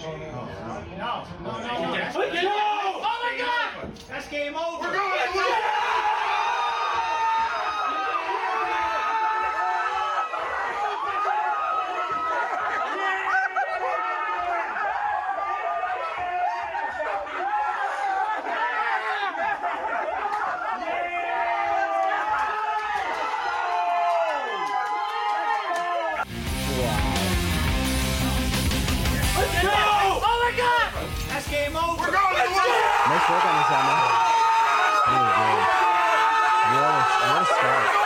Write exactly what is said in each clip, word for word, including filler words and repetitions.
No, no, no, no. Oh my God! That's game over. We're going to win. Game over. We're going to win. Nice work on this one, man. Really good. What a, what a start.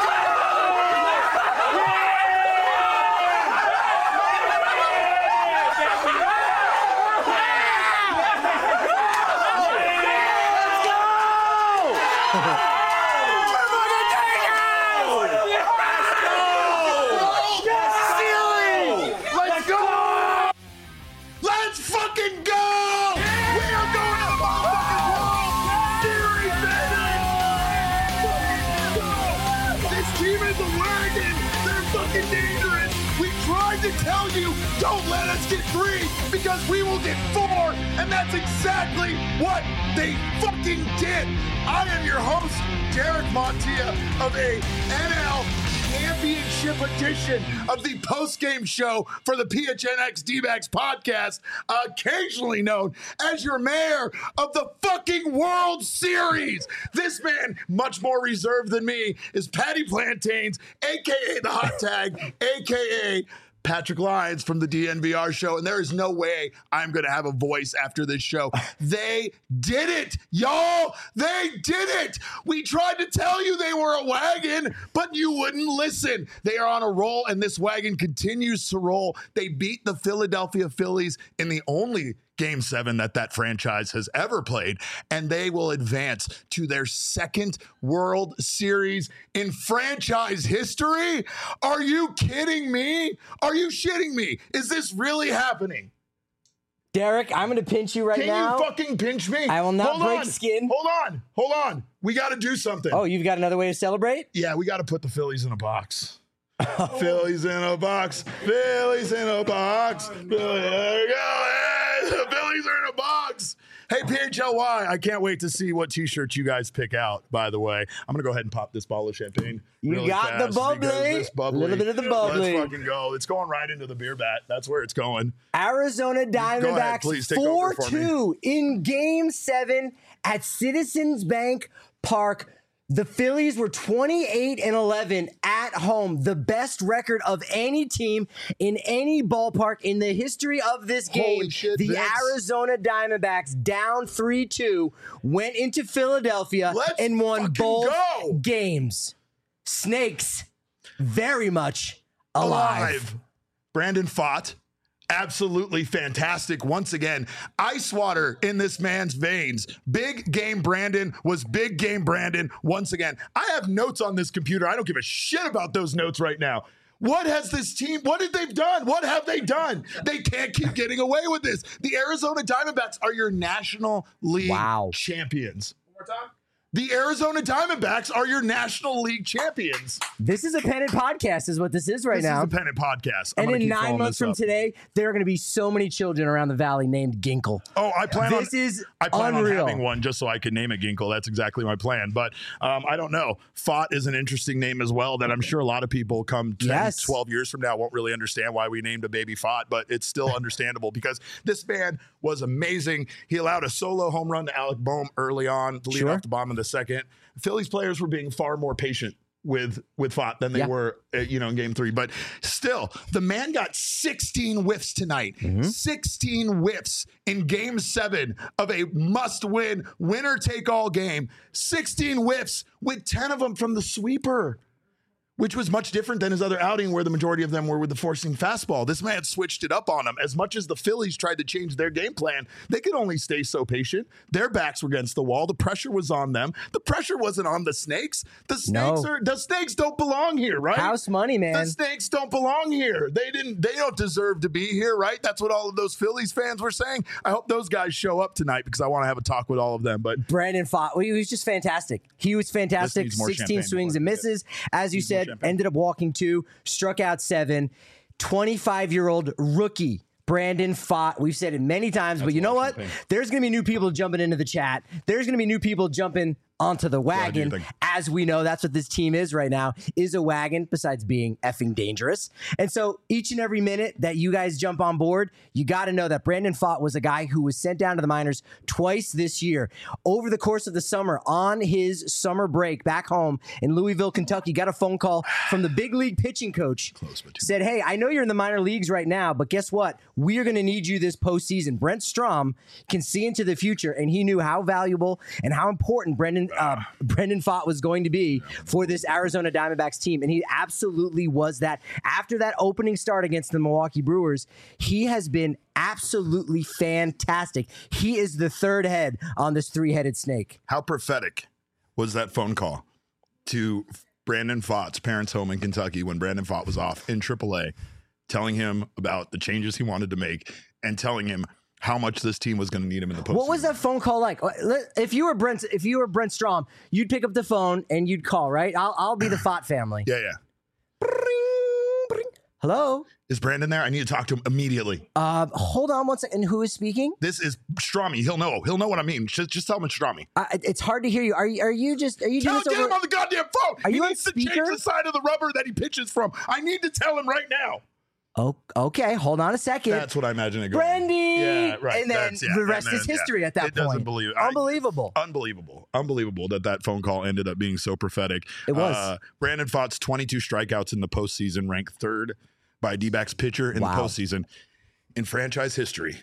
Tell you, don't let us get three because we will get four, and that's exactly what they fucking did. I am your host, Derek Montilla, of a N L Championship edition of the post-game show for the P H N X D-backs podcast, occasionally known as your mayor of the fucking World Series. This man, much more reserved than me, is Patty Plantains, a k a the Hot Tag, a k a Patrick Lyons from the D N V R show, and there is no way I'm going to have a voice after this show. They did it, y'all. They did it. We tried to tell you they were a wagon, but you wouldn't listen. They are on a roll, and this wagon continues to roll. They beat the Philadelphia Phillies in the only Game seven that that franchise has ever played, and they will advance to their second World Series in franchise history. Are you kidding me? Are you shitting me? Is this really happening? Derek, I'm going to pinch you right Can now. Can you fucking pinch me? I will not hold break on. skin. Hold on. Hold on. We got to do something. Oh, you've got another way to celebrate? Yeah, we got to put the Phillies in a box. Phillies in a box. Phillies in a box. There we go. The Phillies are in a box. Hey, P H L Y, I can't wait to see what T-shirts you guys pick out, by the way. I'm going to go ahead and pop this bottle of champagne. You really got the bubbly. A little bit of the bubbly. Let's fucking go. It's going right into the beer bat. That's where it's going. Arizona Diamondbacks four two in Game seven at Citizens Bank Park. The Phillies were twenty-eight and eleven at home, the best record of any team in any ballpark in the history of this game. Holy shit, the Vince. Arizona Diamondbacks, down three two, went into Philadelphia Let's and won both go. games. Snakes, very much alive. alive. Brandon Pfaadt. Absolutely fantastic. Once again, ice water in this man's veins. Big game Brandon was big game Brandon once again. I have notes on this computer. I don't give a shit about those notes right now. What has this team, what have they done? What have they done? They can't keep getting away with this. The Arizona Diamondbacks are your National League wow. champions. One more time. The Arizona Diamondbacks are your National League champions. This is a pennant podcast is what this is right this now. This is a pennant podcast. I'm and in nine months from up. today, there are going to be so many children around the valley named Ginkle. Oh, I plan this on, is I plan unreal. on having one just so I can name it Ginkle. That's exactly my plan. But um, I don't know. Pfaadt is an interesting name as well that I'm sure a lot of people come ten, yes. twelve years from now won't really understand why we named a baby Pfaadt, but it's still understandable because this man was amazing. He allowed a solo home run to Alec Bohm early on to lead sure. off the bomb in the second. The Phillies players were being far more patient with with Pfaadt than they yeah. were, uh, you know, in game three. But still, the man got sixteen whiffs tonight. Mm-hmm. sixteen whiffs in game seven of a must-win, winner-take-all game. sixteen whiffs with ten of them from the sweeper, which was much different than his other outing where the majority of them were with the forcing fastball. This man switched it up on him. As much as the Phillies tried to change their game plan, they could only stay so patient. Their backs were against the wall. The pressure was on them. The pressure wasn't on the Snakes. The Snakes no. are the Snakes don't belong here, right? House money, man. The Snakes don't belong here. They didn't they don't deserve to be here, right? That's what all of those Phillies fans were saying. I hope those guys show up tonight because I want to have a talk with all of them. But Brandon Pfaadt, well, he was just fantastic. He was fantastic. sixteen swings and misses. As you said, ended up walking two, struck out seven. twenty-five-year-old rookie Brandon Pfaadt. We've said it many times, That's but you know what? There's going to be new people jumping into the chat. There's going to be new people jumping onto the wagon. As we know, that's what this team is right now, is a wagon, besides being effing dangerous. And so each and every minute that you guys jump on board, you got to know that Brandon Pfaadt was a guy who was sent down to the minors twice this year. Over the course of the summer, on his summer break back home in Louisville, Kentucky, got a phone call from the big league pitching coach. Said, hey, I know you're in the minor leagues right now, but guess what? We are going to need you this postseason. Brent Strom can see into the future, and he knew how valuable and how important Brendan Uh, Brendan Pfaadt was going to be for this Arizona Diamondbacks team, and he absolutely was that. After that opening start against the Milwaukee Brewers, he has been absolutely fantastic. He is the third head on this three-headed snake. How prophetic was that phone call to Brandon Pfaadt's parents' home in Kentucky when Brandon Pfaadt was off in triple A, telling him about the changes he wanted to make and telling him how much this team was going to need him in the postseason. What was that phone call like? If you were Brent, if you were Brent Strom, you'd pick up the phone and you'd call, right? I'll, I'll be the Pfaadt family. Yeah, yeah. Bring, bring. Hello? Is Brandon there? I need to talk to him immediately. Uh, hold on one second. Who is speaking? This is Stromy. He'll know. He'll know what I mean. Just, just tell him it's Stromy. Uh, it's hard to hear you. Are you? Are you just? Are you tell, doing this get over? him on the goddamn phone. Are he you on needs speaker? to change the side of the rubber that he pitches from. I need to tell him right now. Oh, okay. Hold on a second. That's what I imagine it going. Brandy! Yeah, right. And then yeah, the rest then, is history yeah. at that it point. Doesn't believe it. Unbelievable. I, unbelievable. Unbelievable that that phone call ended up being so prophetic. It was. Uh, Brandon Pfaadt's twenty-two strikeouts in the postseason, ranked third by a D-backs pitcher in wow. the postseason in franchise history.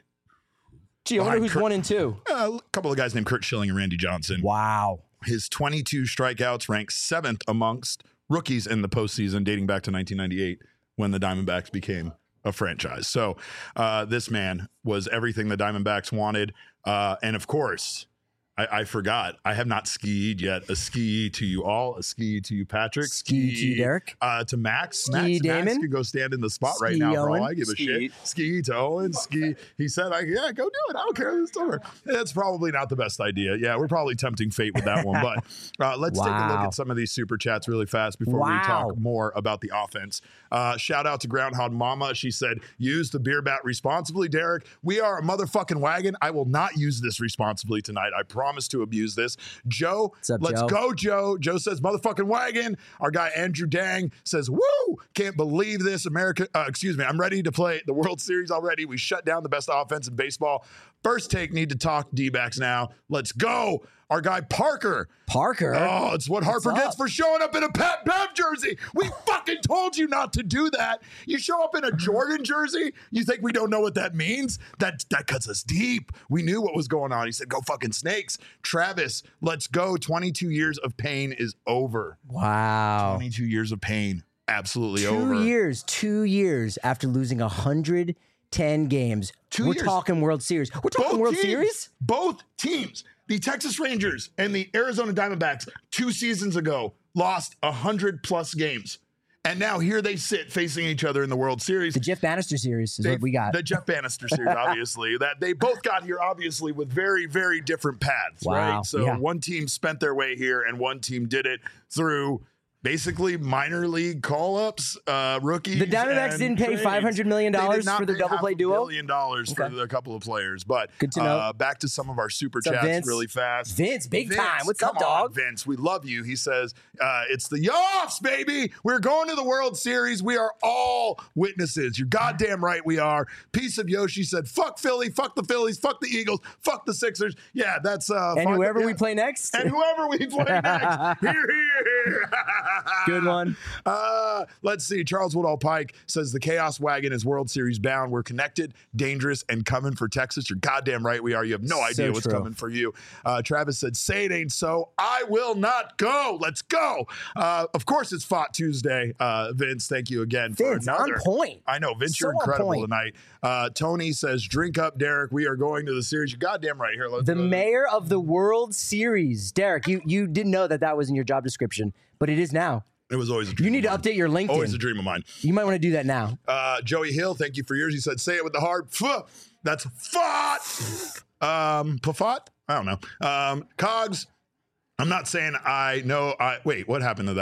Gee, I wonder who's Kurt, one and two. Uh, a couple of guys named Curt Schilling and Randy Johnson. Wow. His twenty-two strikeouts ranked seventh amongst rookies in the postseason, dating back to nineteen ninety-eight when the Diamondbacks became a franchise. So uh, this man was everything the Diamondbacks wanted. Uh, and of course, I, I forgot, I have not skied yet. A ski to you all, a ski to you, Patrick. Ski, ski to you, Derek. Uh, to Max. Ski, Max, Damon. Max can go stand in the spot ski right now Owen. for all I give ski. a shit. Ski to Owen. Ski. He said, I, yeah, go do it. I don't care. It's over. That's probably not the best idea. Yeah, we're probably tempting fate with that one. But uh, let's wow. take a look at some of these super chats really fast before wow. we talk more about the offense. Uh, shout out to Groundhog Mama. She said, use the beer bat responsibly, Derek. We are a motherfucking wagon. I will not use this responsibly tonight. I promise to abuse this. Joe, up, let's Joe? go, Joe. Joe says, motherfucking wagon. Our guy Andrew Dang says, woo, can't believe this. America, uh, excuse me, I'm ready to play the World Series already. We shut down the best offense in baseball. First take, need to talk D-backs now. Let's go. Our guy Parker. Parker? Oh, it's what Harper gets for showing up in a Pat Bev jersey. We fucking told you not to do that. You show up in a Jordan jersey, you think we don't know what that means? That that cuts us deep. We knew what was going on. He said, go fucking Snakes. Travis, let's go. twenty-two years of pain is over. Wow. twenty-two years of pain. Absolutely two over. Two years, two years after losing one hundred ten games. Two We're years. talking World Series. We're talking Both World teams, Series? Both teams. The Texas Rangers and the Arizona Diamondbacks two seasons ago lost one hundred plus games. And now here they sit facing each other in the World Series. The Jeff Bannister series is they, what we got. The Jeff Bannister series, obviously. That they both got here, obviously, with very, very different paths, wow. right? So yeah. one team spent their way here and one team did it through basically minor league call-ups, uh, rookies. The Diamondbacks didn't pay five hundred million dollars for the double play duo? A billion dollars okay. for a couple of players. But good to know. Uh, back to some of our super What's chats up, really fast. Vince, big Vince, time. What's come up, dog? On, Vince, we love you. He says, uh, it's the Yoffs, baby. We're going to the World Series. We are all witnesses. You're goddamn right we are. Piece of Yoshi said, fuck Philly, fuck the Phillies, fuck the Eagles, fuck the Sixers. Yeah, that's... Uh, and whoever yeah. we play next. And whoever we play next. Here, here. Good one. Uh, let's see. Charles Woodall Pike says the Chaos Wagon is World Series bound. We're connected, dangerous, and coming for Texas. You're goddamn right we are. You have no idea so what's true. coming for you. Uh, Travis said, say it ain't so. I will not go. Let's go. Uh, of course, it's Fought Tuesday. Uh, Vince, thank you again for Vince, another. on point. I know. Vince, so you're incredible tonight. Uh, Tony says, drink up, Derek. We are going to the series. You're goddamn right here. Let's the go. mayor of the World Series. Derek, you, you didn't know that that was in your job description, but it is now. It was always a dream. You need of to mine. update your LinkedIn. Always a dream of mine. You might want to do that now. Uh, Joey Hill, thank you for yours. He said, say it with the hard F. That's fought. Um, Pafat? I don't know. Um, Cogs, I'm not saying I know. I Wait, what happened to that one?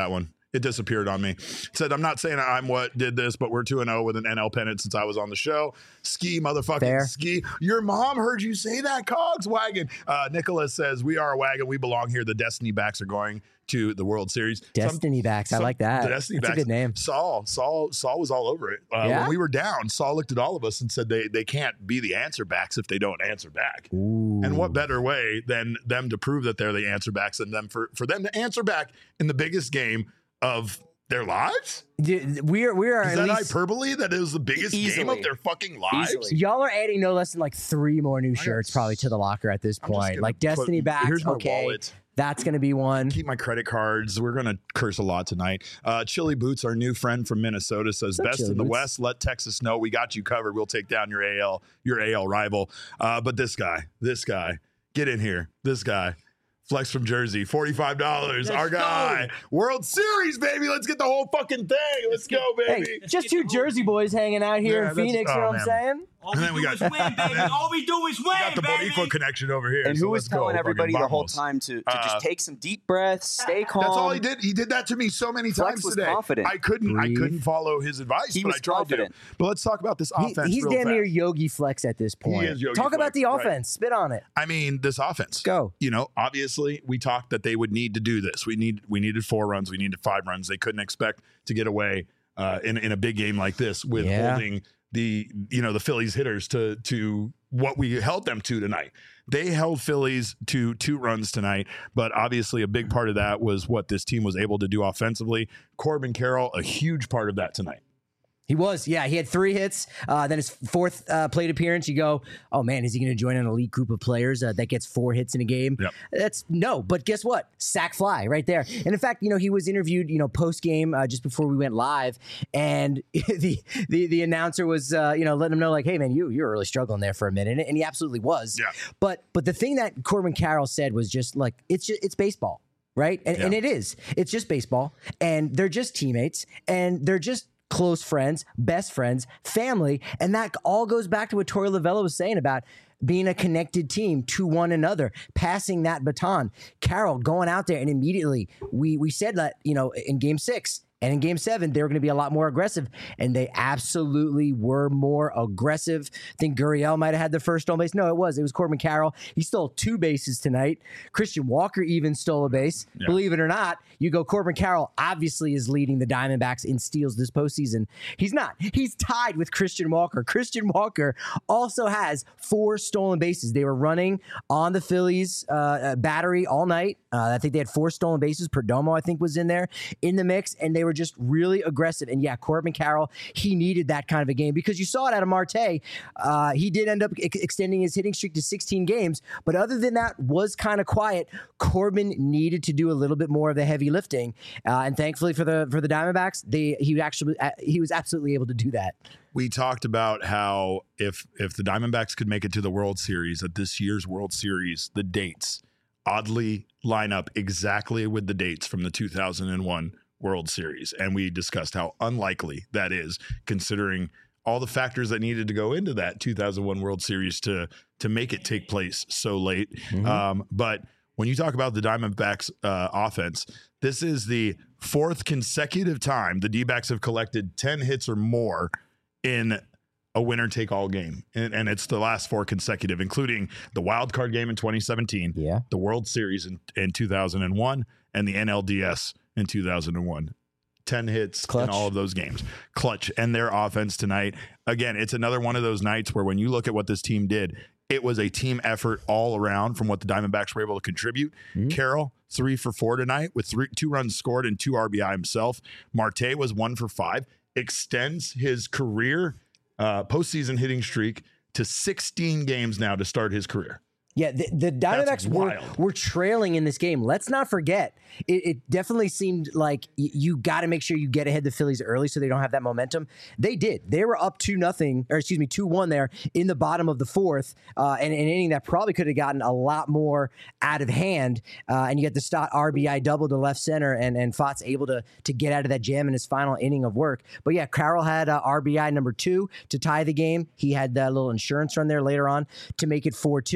It disappeared on me. It said, I'm not saying I'm what did this, but we're two and oh with an N L pennant since I was on the show. Ski, motherfucking Fair. ski. Your mom heard you say that, Cogs Wagon. Uh, Nicholas says, we are a wagon. We belong here. The Destiny backs are going to the World Series. Destiny some, backs. some, I like that. The Destiny That's backs. a good name. Saul, Saul, Saul was all over it. Uh, Yeah? When we were down, Saul looked at all of us and said they, they can't be the answer backs if they don't answer back. Ooh. And what better way than them to prove that they're the answer backs and them for, for them to answer back in the biggest game of their lives? Dude, we are, we are Is at that least, hyperbole? That it was the biggest Easily. game of their fucking lives? Easily. y'all are adding no less than like three more new got shirts probably to the locker at this I'm just point. gonna Like Destiny put- backs, here's my okay, wallet. that's going to be one. Keep my credit cards. We're going to curse a lot tonight. Uh, Chili Boots, our new friend from Minnesota, says, up, best Chili in the Boots? West. Let Texas know. We got you covered. We'll take down your A L, your A L rival. Uh, but this guy, this guy, get in here. This guy. Flex from Jersey, forty-five dollars. Let's Our guy. go. World Series, baby. Let's get the whole fucking thing. Let's go, baby. Hey, just two Jersey boys hanging out here Yeah, in that's- Phoenix, you oh, know what man. I'm saying? All And we then we do got- is win, baby. All we do is win, Got the baby. Boricua connection over here. And so who was let's go, telling fucking everybody the whole vamos. time to, to Uh, just take some deep breaths, stay calm? That's all he did. He did that to me so many Flex times was today. confident. I couldn't. Breathe. I couldn't follow his advice, He but was I tried confident. to. But let's talk about this He- offense. he's real damn near fast. Yogi Flex at this point. is Yogi Talk about Flex, the right. offense. Spit on it. I mean, this offense. Go. You know, obviously, we talked that they would need to do this. We need. We needed four runs. We needed five runs. They couldn't expect to get away uh, in in a big game like this with Yeah. holding the you know the Phillies hitters to to what we held them to tonight. They held Phillies to two runs tonight, but obviously a big part of that was what this team was able to do offensively. Corbin Carroll, a huge part of that tonight. He was, yeah. He had three hits. Uh, then his fourth uh, plate appearance, you go, oh man, is he going to join an elite group of players uh, that gets four hits in a game? Yep. That's no. But guess what? Sack fly right there. And in fact, you know, he was interviewed, you know, post game uh, just before we went live, and the the the announcer was, uh, you know, letting him know like, hey man, you you're really struggling there for a minute, and he absolutely was. Yeah. But but the thing that Corbin Carroll said was just like, it's just, it's baseball. Right. And, Yeah. and it is. It's just baseball. And they're just teammates. And they're just close friends, best friends, family. And that all goes back to what Torey Lovullo was saying about being a connected team to one another, passing that baton. Carroll going out there and immediately, we we said that, you know, in game six and in game seven, they were going to be a lot more aggressive. And they absolutely were more aggressive. I think Gurriel might have had the first stolen base. No, it was. It was Corbin Carroll. He stole two bases tonight. Christian Walker even stole a base. Yeah. Believe it or not, you go Corbin Carroll obviously is leading the Diamondbacks in steals this postseason. He's not. He's tied with Christian Walker. Christian Walker also has four stolen bases. They were running on the Phillies uh, uh, battery all night. Uh, I think they had four stolen bases. Perdomo, I think, was in there in the mix, and they were just really aggressive. And yeah, Corbin Carroll, he needed that kind of a game because you saw it out of Marte. Uh, he did end up ex- extending his hitting streak to sixteen games, but other than that, was kind of quiet. Corbin needed to do a little bit more of the heavy lifting, uh, and thankfully for the for the Diamondbacks, they he actually uh, he was absolutely able to do that. We talked about how if if the Diamondbacks could make it to the World Series, at this year's World Series, the dates oddly line up exactly with the dates from the two thousand one World Series. And we discussed how unlikely that is, considering all the factors that needed to go into that two thousand one World Series to to make it take place so late. Mm-hmm. Um, but when you talk about the Diamondbacks uh, offense, this is the fourth consecutive time the D-backs have collected ten hits or more in a winner-take-all game. And, and it's the last four consecutive, including the wild card game in twenty seventeen, Yeah. the World Series in, in two thousand one, and the N L D S in two thousand one. ten hits Clutch. in all of those games. Clutch. And their offense tonight, again, it's another one of those nights where when you look at what this team did, it was a team effort all around from what the Diamondbacks were able to contribute. Mm-hmm. Carroll, three for four tonight with three, two runs scored and two R B I himself. Marte was one for five, extends his career uh, postseason hitting streak to sixteen games now to start his career. Yeah, the, the Diamondbacks were, wild. were trailing in this game. Let's not forget, it, it definitely seemed like y- you got to make sure you get ahead the Phillies early so they don't have that momentum. They did. They were up two nothing, or excuse me, two one there in the bottom of the fourth, uh, and an inning that probably could have gotten a lot more out of hand. Uh, and you get the Stott R B I double to left center, and and Fox able to to get out of that jam in his final inning of work. But yeah, Carroll had uh, R B I number two to tie the game. He had that little insurance run there later on to make it four two.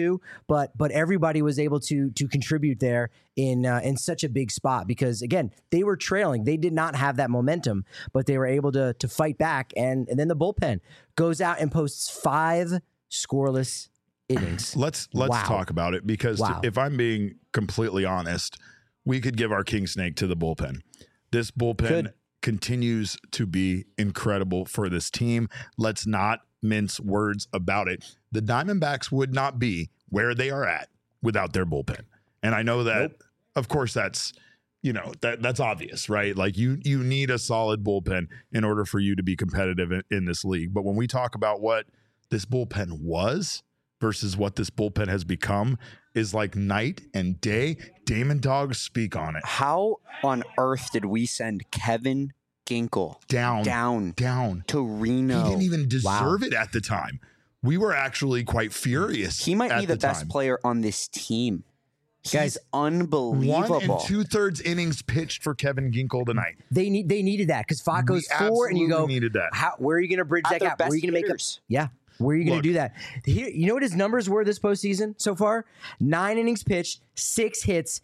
but but everybody was able to to contribute there in uh, in such a big spot because again they were trailing, they did not have that momentum, but they were able to to fight back, and and then the bullpen goes out and posts five scoreless innings. Let's let's wow. talk about it because wow. if I'm being completely honest, we could give our king snake to the bullpen. This bullpen could. continues to be incredible for this team. Let's not mince words about it. The Diamondbacks would not be where they are at without their bullpen. And I know that, nope. of course, that's, you know, that that's obvious, right? Like you you need a solid bullpen in order for you to be competitive in, in this league. But when we talk about what this bullpen was versus what this bullpen has become is like night and day. Damon Dogs speak on it. How on earth did we send Kevin Ginkel down, down, down to Reno? He didn't even deserve wow. it at the time. We were actually quite furious. He might be the, the best time. player on this team. He's Guys, unbelievable. One and two thirds innings pitched for Kevin Ginkel tonight. They need they needed that because Fott goes we four, and you go, needed that. How, where are you going to bridge At that gap? Where are you going to make up? Yeah. Where are you going to do that? Here, you know what his numbers were this postseason so far? Nine innings pitched, six hits,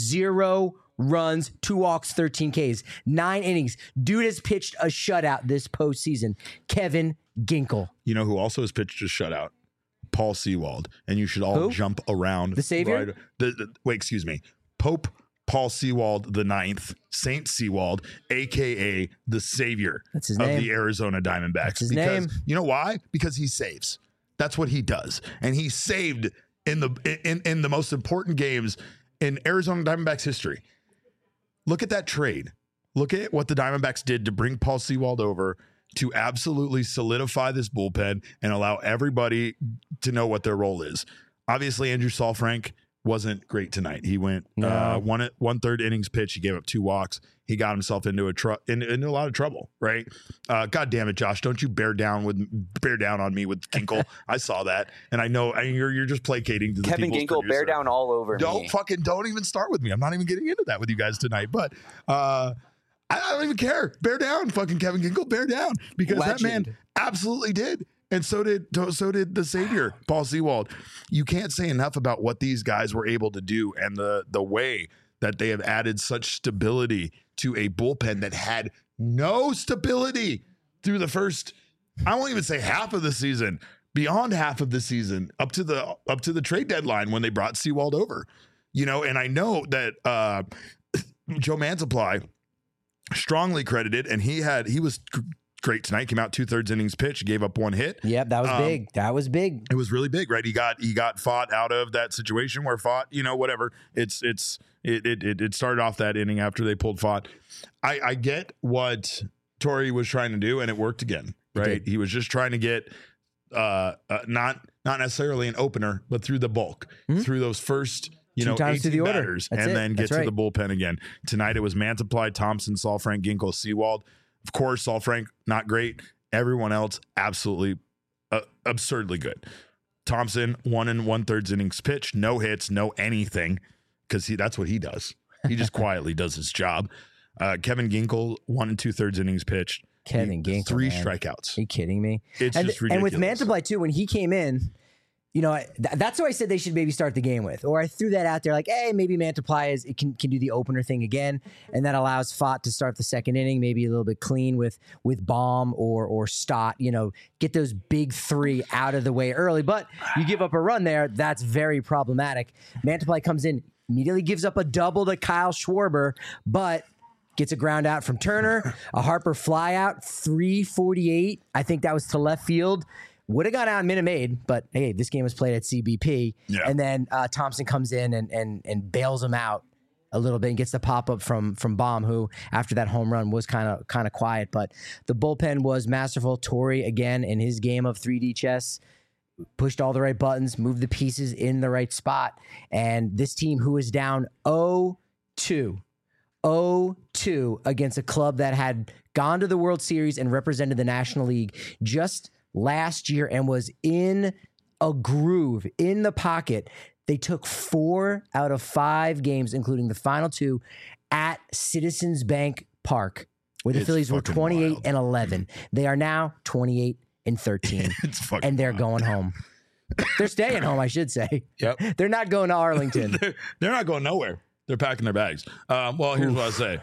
zero runs, two walks, thirteen Ks. Nine innings. Dude has pitched a shutout this postseason. Kevin Ginkel. You know who also has pitched a shutout? Paul Sewald. And you should all Who? jump around. The Savior? Right, the, the, wait, excuse me. Pope Paul Sewald the ninth, Saint Sewald, a k a the savior That's his of name. the Arizona Diamondbacks. That's his because, name. You know why? Because he saves. That's what he does. And he saved in the in, in the most important games in Arizona Diamondbacks history. Look at that trade. Look at what the Diamondbacks did to bring Paul Sewald over to absolutely solidify this bullpen and allow everybody to know what their role is. Obviously, Andrew Saalfrank wasn't great tonight. He went no. uh, one one third innings pitch. He gave up two walks. He got himself into a tr- in, into a lot of trouble. Right? Uh, God damn it, Josh! Don't you bear down with bear down on me with Ginkel. I saw that, and I know I mean, you're you're just placating to the Kevin Ginkel, producer. bear down all over don't me. fucking don't even start with me. I'm not even getting into that with you guys tonight. But uh, I, I don't even care. Bear down, fucking Kevin Ginkel. Bear down because Legend. that man absolutely did. And so did so did the savior, Paul Sewald. You can't say enough about what these guys were able to do and the the way that they have added such stability to a bullpen that had no stability through the first, I won't even say half of the season, beyond half of the season, up to the up to the trade deadline when they brought Sewald over. You know, and I know that uh, Joe Mansupply strongly credited, and he had he was great tonight. Came out two thirds innings pitch, gave up one hit. Yep, that was Um, big. That was big. It was really big, right? He got he got Fott out of that situation where Fott, you know, whatever. It's it's it it it started off that inning after they pulled Fott. I I get what Torey was trying to do, and it worked again, right? He, he was just trying to get uh, uh not not necessarily an opener, but through the bulk, mm-hmm. through those first. You Two know, times to the order. batters, That's and it. then get That's to right. the bullpen again. Tonight it was Mansupply, Thompson, Saalfrank, Ginkel, Sewald. Of course, Saalfrank not great. Everyone else absolutely uh, absurdly good. Thompson one and one thirds innings pitch, no hits, no anything, because he that's what he does. He just quietly does his job. Uh, Kevin Ginkel one and two thirds innings pitched. Kevin he, Ginkel, three man. strikeouts. Are you kidding me? It's and, just and with ridiculous. Mansupply too, when he came in, you know, th- that's who I said they should maybe start the game with. Or I threw that out there like, hey, maybe Mansupply is it can can do the opener thing again, and that allows Fott to start the second inning, maybe a little bit clean with with Baum or or Stott. You know, get those big three out of the way early. But you give up a run there, that's very problematic. Mansupply comes in, immediately gives up a double to Kyle Schwarber, but gets a ground out from Turner, a Harper fly out, three forty-eight. I think that was to left field. Would have gone out in Minute Maid, but hey, this game was played at C B P. Yeah. And then uh, Thompson comes in and and and bails him out a little bit and gets the pop up from from Baum, who after that home run was kind of kind of quiet. But the bullpen was masterful. Torey again in his game of three D chess pushed all the right buttons, moved the pieces in the right spot, and this team who is down oh two oh two against a club that had gone to the World Series and represented the National League just last year and was in a groove, in the pocket. They took four out of five games, including the final two, at Citizens Bank Park, where the It's Phillies were fucking twenty-eight wild. and eleven. They are now twenty-eight and thirteen, It's fucking and they're wild. going home. They're staying home, I should say. Yep. They're not going to Arlington. they're, they're not going nowhere. They're packing their bags. Um, well, here's Oof. what I say.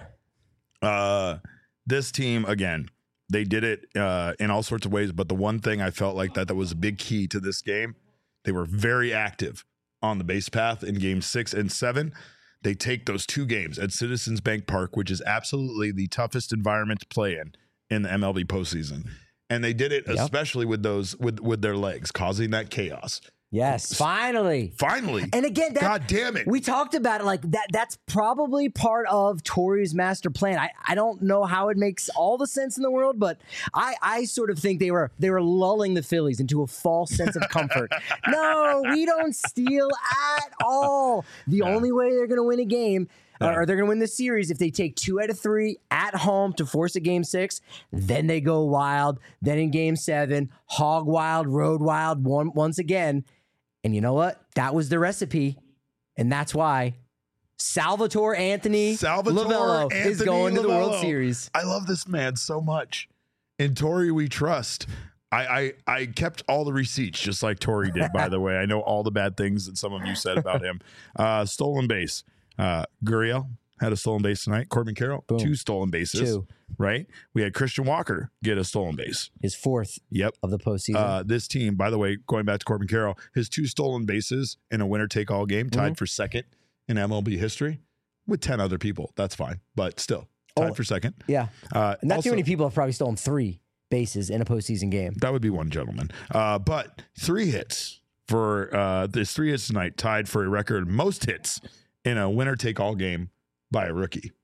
Uh, this team, again, they did it uh, in all sorts of ways. But the one thing I felt like that that was a big key to this game, they were very active on the base path in game six and seven. They take those two games at Citizens Bank Park, which is absolutely the toughest environment to play in in the M L B postseason. And they did it yep. especially with those with, with their legs, causing that chaos. Yes, finally. Finally. And again, that, God damn it. We talked about it like that. That's probably part of Torey's master plan. I, I don't know how it makes all the sense in the world, but I, I sort of think they were they were lulling the Phillies into a false sense of comfort. No, we don't steal at all. The yeah. only way they're going to win a game yeah. or they're going to win the series if they take two out of three at home to force a game six. Then they go wild. Then in game seven, hog wild, road wild one, once again. And you know what? That was the recipe. And that's why Salvatore Anthony Salvatore Lavello Anthony is going Lavello. to the World Series. I love this man so much. In Torey we trust. I, I I kept all the receipts just like Torey did, by the way. I know all the bad things that some of you said about him. Uh, stolen base. Uh, Gurriel had a stolen base tonight. Corbin Carroll, Boom. two stolen bases. Two. Right? We had Christian Walker get a stolen base. His fourth yep. of the postseason. Uh, this team, by the way, going back to Corbin Carroll, his two stolen bases in a winner-take-all game, tied mm-hmm. for second in M L B history with ten other people. That's fine, but still, tied oh, for second. Yeah. Uh, Not also, too many people have probably stolen three bases in a postseason game. That would be one gentleman. Uh, but three hits for uh, this three hits tonight, tied for a record most hits in a winner-take-all game by a rookie.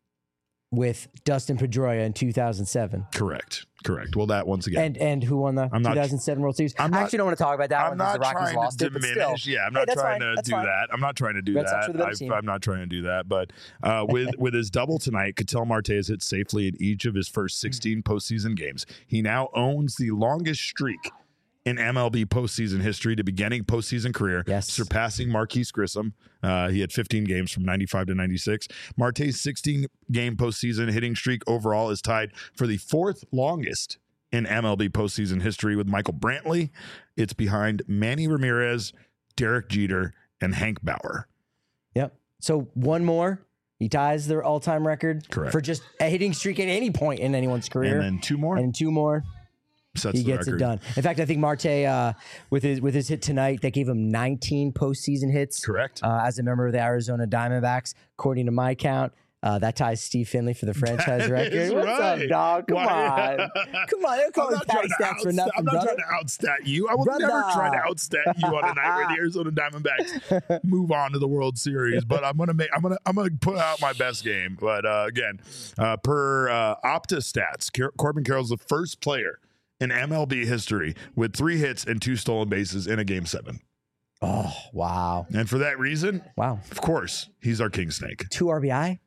With Dustin Pedroia in two thousand seven. Correct. Correct. Well, that once again. And and who won the I'm two thousand seven not, World Series? I'm not, I actually don't want to talk about that I'm one not because the Rockies trying lost to it, but diminish. still. Yeah, I'm hey, not trying fine. to that's do fine. that. I'm not trying to do Red that. I, I'm not trying to do that. But uh, with, with his double tonight, Ketel Marte has hit safely in each of his first sixteen postseason games. He now owns the longest streak in M L B postseason history to beginning postseason career, yes. surpassing Marquise Grissom. Uh, he had fifteen games from ninety-five to ninety-six. Marte's sixteen-game postseason hitting streak overall is tied for the fourth longest in M L B postseason history with Michael Brantley. It's behind Manny Ramirez, Derek Jeter, and Hank Bauer. Yep. So one more. He ties their all-time record Correct. for just a hitting streak at any point in anyone's career. And then two more. And two more. Sets he gets record. it done. In fact, I think Marte, uh, with his with his hit tonight, that gave him nineteen postseason hits. Correct. Uh, as a member of the Arizona Diamondbacks, according to my count, uh, that ties Steve Finley for the franchise that record. What's right. up, dog? Come Why? on, come on. They're calling patty stats for nothing, I'm not brother. trying to outstat you. I will brother. never try to outstat you on a night where the Arizona Diamondbacks move on to the World Series. But I'm gonna make. I'm gonna. I'm gonna put out my best game. But uh, again, uh, per uh, Opta stats, Car- Corbin Carroll's the first player in M L B history with three hits and two stolen bases in a game seven. Oh, wow. And for that reason, wow, of course, he's our king snake. Two R B I,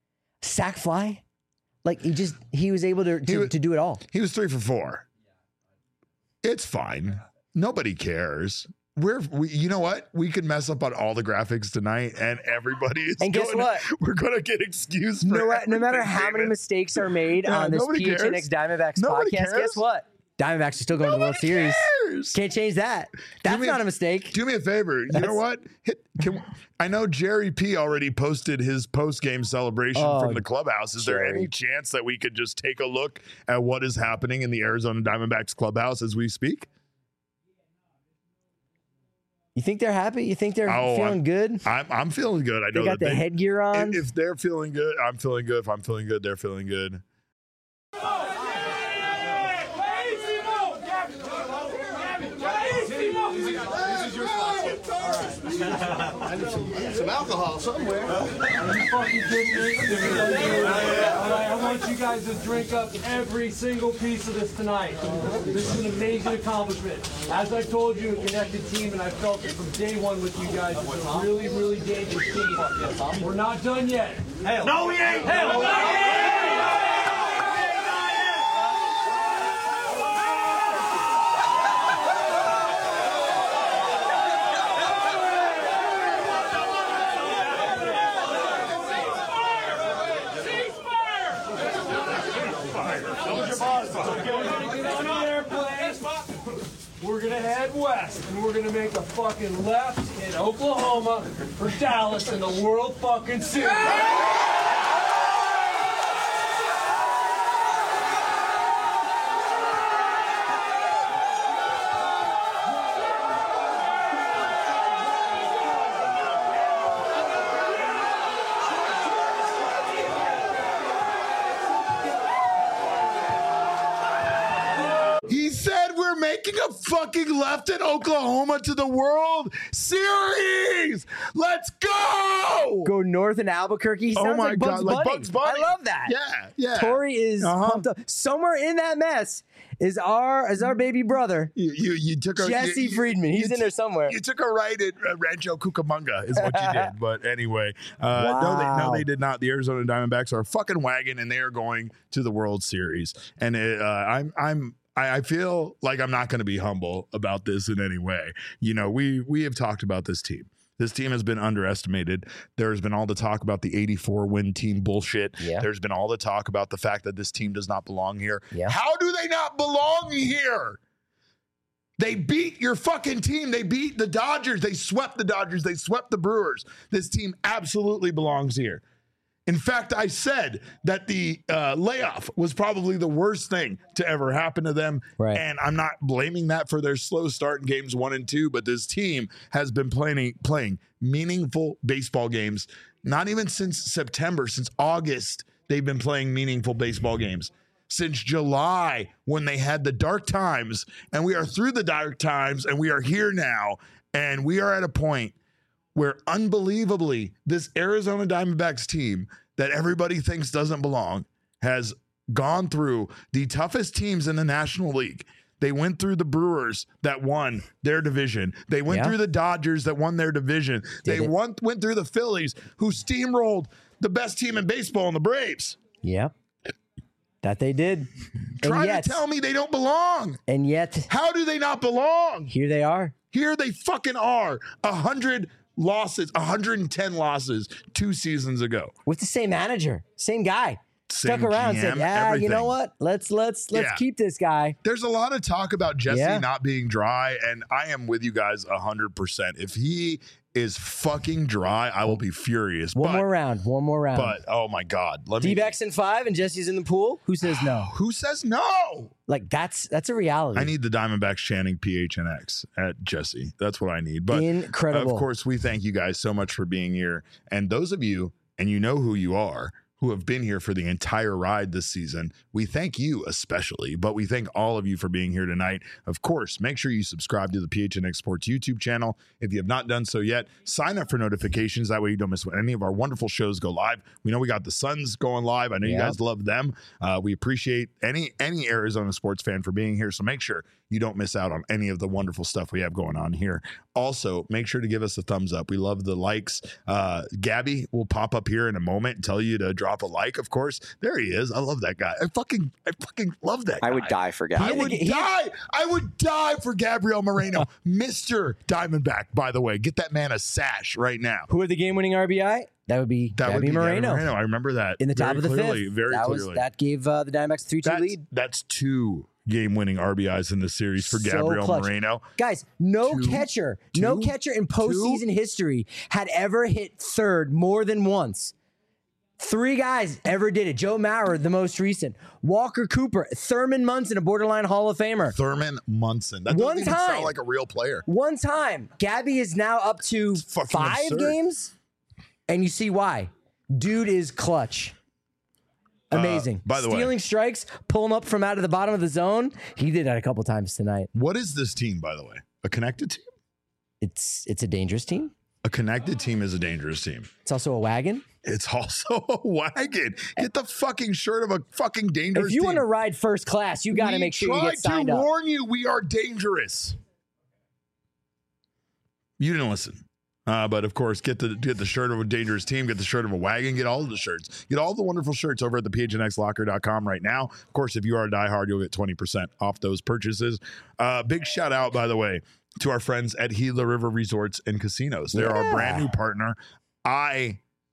sack fly. Like he just, he was able to, to, was, to do it all. He was three for four. It's fine. Nobody cares. We're, we, you know what? We could mess up on all the graphics tonight, and everybody is. And guess going, what? We're going to get excused. For no, no matter how many mistakes are made yeah, on this P H N X Diamondbacks nobody podcast, cares. Guess what? Diamondbacks are still going nobody to the World Series. Cares. Can't change that. That's not a, a mistake. Do me a favor. You That's, know what? Hit, can, I know Jerry P already posted his post-game celebration oh, from the clubhouse. Is Jerry. there any chance that we could just take a look at what is happening in the Arizona Diamondbacks clubhouse as we speak? You think they're happy? You think they're oh, feeling I'm, good? I'm, I'm feeling good. I know they got that the they, headgear on. If, if they're feeling good, I'm feeling good. If I'm feeling good, they're feeling good. I need some, I need some alcohol somewhere. Are you fucking kidding me? Alright, I want you guys to drink up every single piece of this tonight. This is an amazing accomplishment. As I told you, a connected team, and I felt it from day one with you guys. It's a really, really dangerous team. We're not done yet. Hell. No, we ain't. Hell. No. We're gonna head west, and we're gonna make a fucking left in Oklahoma for Dallas in the World fucking Series. He said we're making a fucking left in Oklahoma to the World Series. Let's go. Go north in Albuquerque. He Oh sounds my like Bugs God, like Bunny. Bugs Bunny. I love that. Yeah, yeah. Tori is Uh-huh. pumped up. Somewhere in that mess is our is our baby brother, You you, you took a Jesse you, you- Friedman. He's you in there t- somewhere. You took a right at uh, Rancho Cucamonga is what you did. But anyway, uh, no, they, no, Wow. they did not. The Arizona Diamondbacks are a fucking wagon, and they are going to the World Series. And it, uh, I'm I'm. I I feel like I'm not going to be humble about this in any way. You know, we we have talked about this team. This team has been underestimated. There's been all the talk about the eighty-four win team bullshit. Yeah. There's been all the talk about the fact that this team does not belong here. Yeah. How do they not belong here? They beat your fucking team. They beat the Dodgers. They swept the Dodgers. They swept the Brewers. This team absolutely belongs here. In fact, I said that the uh, layoff was probably the worst thing to ever happen to them. Right. And I'm not blaming that for their slow start in games one and two, but this team has been playing, playing meaningful baseball games, not even since September, since August, they've been playing meaningful baseball games. Since July, when they had the dark times, and we are through the dark times, and we are here now, and we are at a point where unbelievably this Arizona Diamondbacks team that everybody thinks doesn't belong has gone through the toughest teams in the National League. They went through the Brewers that won their division. They went Yeah. through the Dodgers that won their division. Did they it. won, went through the Phillies, who steamrolled the best team in baseball in the Braves. Yeah, that they did. Try and yet, to tell me they don't belong. and yet, How do they not belong? here they are. Here they fucking are. A hundred losses, one hundred ten losses two seasons ago. With the same manager, same guy. Stuck Same around, G said, M, "Yeah, you know everything. what? Let's let's let's Yeah. keep this guy." There's a lot of talk about Jesse Yeah. not being dry, and I am with you guys one hundred percent. If he is fucking dry, I will be furious. One but, more round. One more round. But, oh my God. Let me. D-backs in five, and Jesse's in the pool. Who says no? Who says no? Like that's that's a reality. I need the Diamondbacks chanting P H N X at Jesse. That's what I need. But Incredible. of course, we thank you guys so much for being here. And those of you, and you know who you are, who have been here for the entire ride this season, we thank you especially, but we thank all of you for being here tonight. Of course, make sure you subscribe to the P H N X Sports YouTube channel. If you have not done so yet, sign up for notifications. That way you don't miss when any of our wonderful shows go live. We know we got the Suns going live. I know you Yeah. guys love them. Uh, we appreciate any any Arizona sports fan for being here. So make sure you don't miss out on any of the wonderful stuff we have going on here. Also, make sure to give us a thumbs up. We love the likes. Uh, Gabby will pop up here in a moment and tell you to drop a like, of course. There he is. I love that guy. I fucking I fucking love that guy. I would die for I Gabby. would He- die. I would die for Gabriel Moreno. Mister Diamondback, by the way. Get that man a sash right now. Who had the game-winning R B I? That would be That Gabby would be Moreno. Gabby Moreno. I remember that. In the top very of the clearly, fifth. Very that clearly. Was, that gave uh, the Diamondbacks a three two that's, lead. that's two game-winning R B Is in the series for So Gabriel clutch. Moreno. Guys, no Two, catcher, no two, catcher in postseason history had ever hit third more than once. Three guys ever did it. Joe Mauer, the most recent. Walker Cooper, Thurman Munson, a borderline Hall of Famer. Thurman Munson. That doesn't One even time. sound like a real player. One time. Gabby is now up to fucking five absurd. games, and you see why. Dude is clutch. Amazing. by the way- Stealing strikes, pulling up from out of the bottom of the zone. He did that a couple times tonight. What is this team, by the way? A connected team? It's it's a dangerous team. A connected team is a dangerous team. It's also a wagon. It's also a wagon. Get the fucking shirt of a fucking dangerous If you team. want to ride first class, you got to We make sure you get signed tried to up. warn you, we are dangerous. You didn't listen. Uh, but of course, get the get the shirt of a dangerous team, get the shirt of a wagon, get all of the shirts. Get all the wonderful shirts over at the P H N X locker dot com right now. Of course, if you are a diehard, you'll get twenty percent off those purchases. Uh, big shout out, by the way, to our friends at Gila River Resorts and Casinos. They're our Yeah. brand new partner. I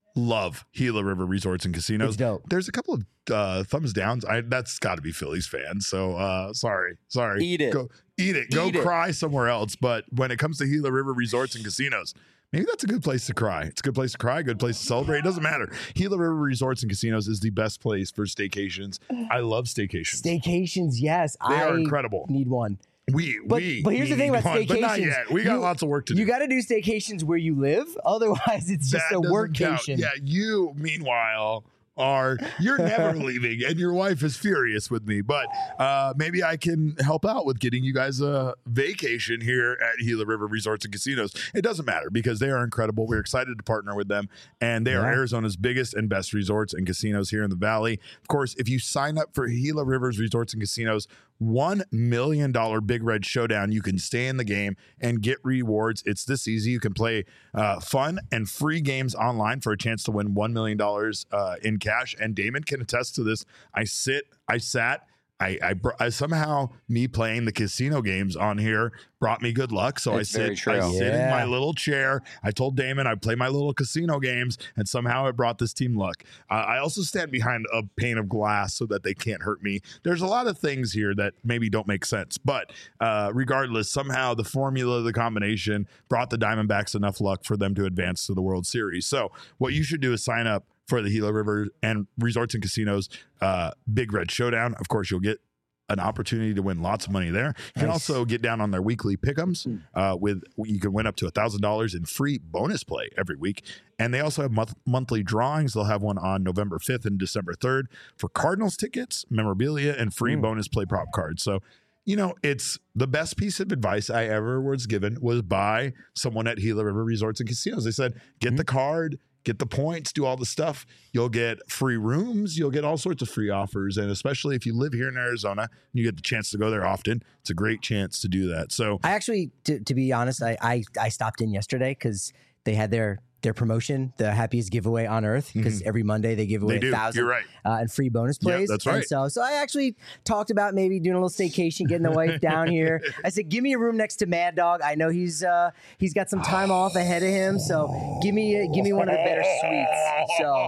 love Gila River Resorts and Casinos. It's dope. There's a couple of uh, thumbs downs. I that's got to be Phillies fans. So uh, sorry, sorry. Eat it. Go eat it. Go Eat it. cry somewhere else. But when it comes to Gila River Resorts and Casinos, maybe that's a good place to cry. It's a good place to cry, good place to celebrate. It doesn't matter. Gila River Resorts and Casinos is the best place for staycations. I love staycations. Staycations, yes. They I are incredible. Need one. We, But, we, but here's we the thing about need one, staycations. But not yet. We got You- lots of work to do. You got to do staycations where you live. Otherwise, it's just That a doesn't workcation. count. Yeah, you, meanwhile, are you're never leaving, and your wife is furious with me. But uh, maybe I can help out with getting you guys a vacation here at Gila River Resorts and Casinos. It doesn't matter because they are incredible. We're excited to partner with them, and they are Yeah. Arizona's biggest and best resorts and casinos here in the Valley. Of course, if you sign up for Gila Rivers Resorts and Casinos, one million dollars Big Red Showdown, you can stay in the game and get rewards. It's this easy. You can play uh, fun and free games online for a chance to win one million dollars uh, in cash. And Damon can attest to this. I sit, I sat, I, I, br- I somehow me playing the casino games on here brought me good luck. So It's I very sit, true. I sit in Yeah. my little chair. I told Damon I play my little casino games, and somehow it brought this team luck. Uh, I also stand behind a pane of glass so that they can't hurt me. There's a lot of things here that maybe don't make sense, but uh, regardless, somehow the formula, the combination brought the Diamondbacks enough luck for them to advance to the World Series. So what you should do is sign up for the Gila River and Resorts and Casinos uh, Big Red Showdown. Of course, you'll get an opportunity to win lots of money there. You can Nice. also get down on their weekly pick'ems uh, with you can win up to a thousand dollars in free bonus play every week. And they also have month- monthly drawings. They'll have one on November fifth and December third for Cardinals tickets, memorabilia, and free Mm. bonus play prop cards. So, you know, it's the best piece of advice I ever was given was by someone at Gila River Resorts and Casinos. They said, get the card, get the points, do all the stuff. You'll get free rooms. You'll get all sorts of free offers. And especially if you live here in Arizona, and you get the chance to go there often, it's a great chance to do that. So I actually, to, to be honest, I, I I stopped in yesterday because they had their their promotion, the happiest giveaway on earth, because every Monday they give away They do. a thousand You're right. uh, and free bonus Yeah, plays. that's And right. so, so I actually talked about maybe doing a little staycation, getting the wife down here. I said, give me a room next to Mad Dog. I know he's uh, he's got some time off ahead of him, so give me a, give me one of the better suites. So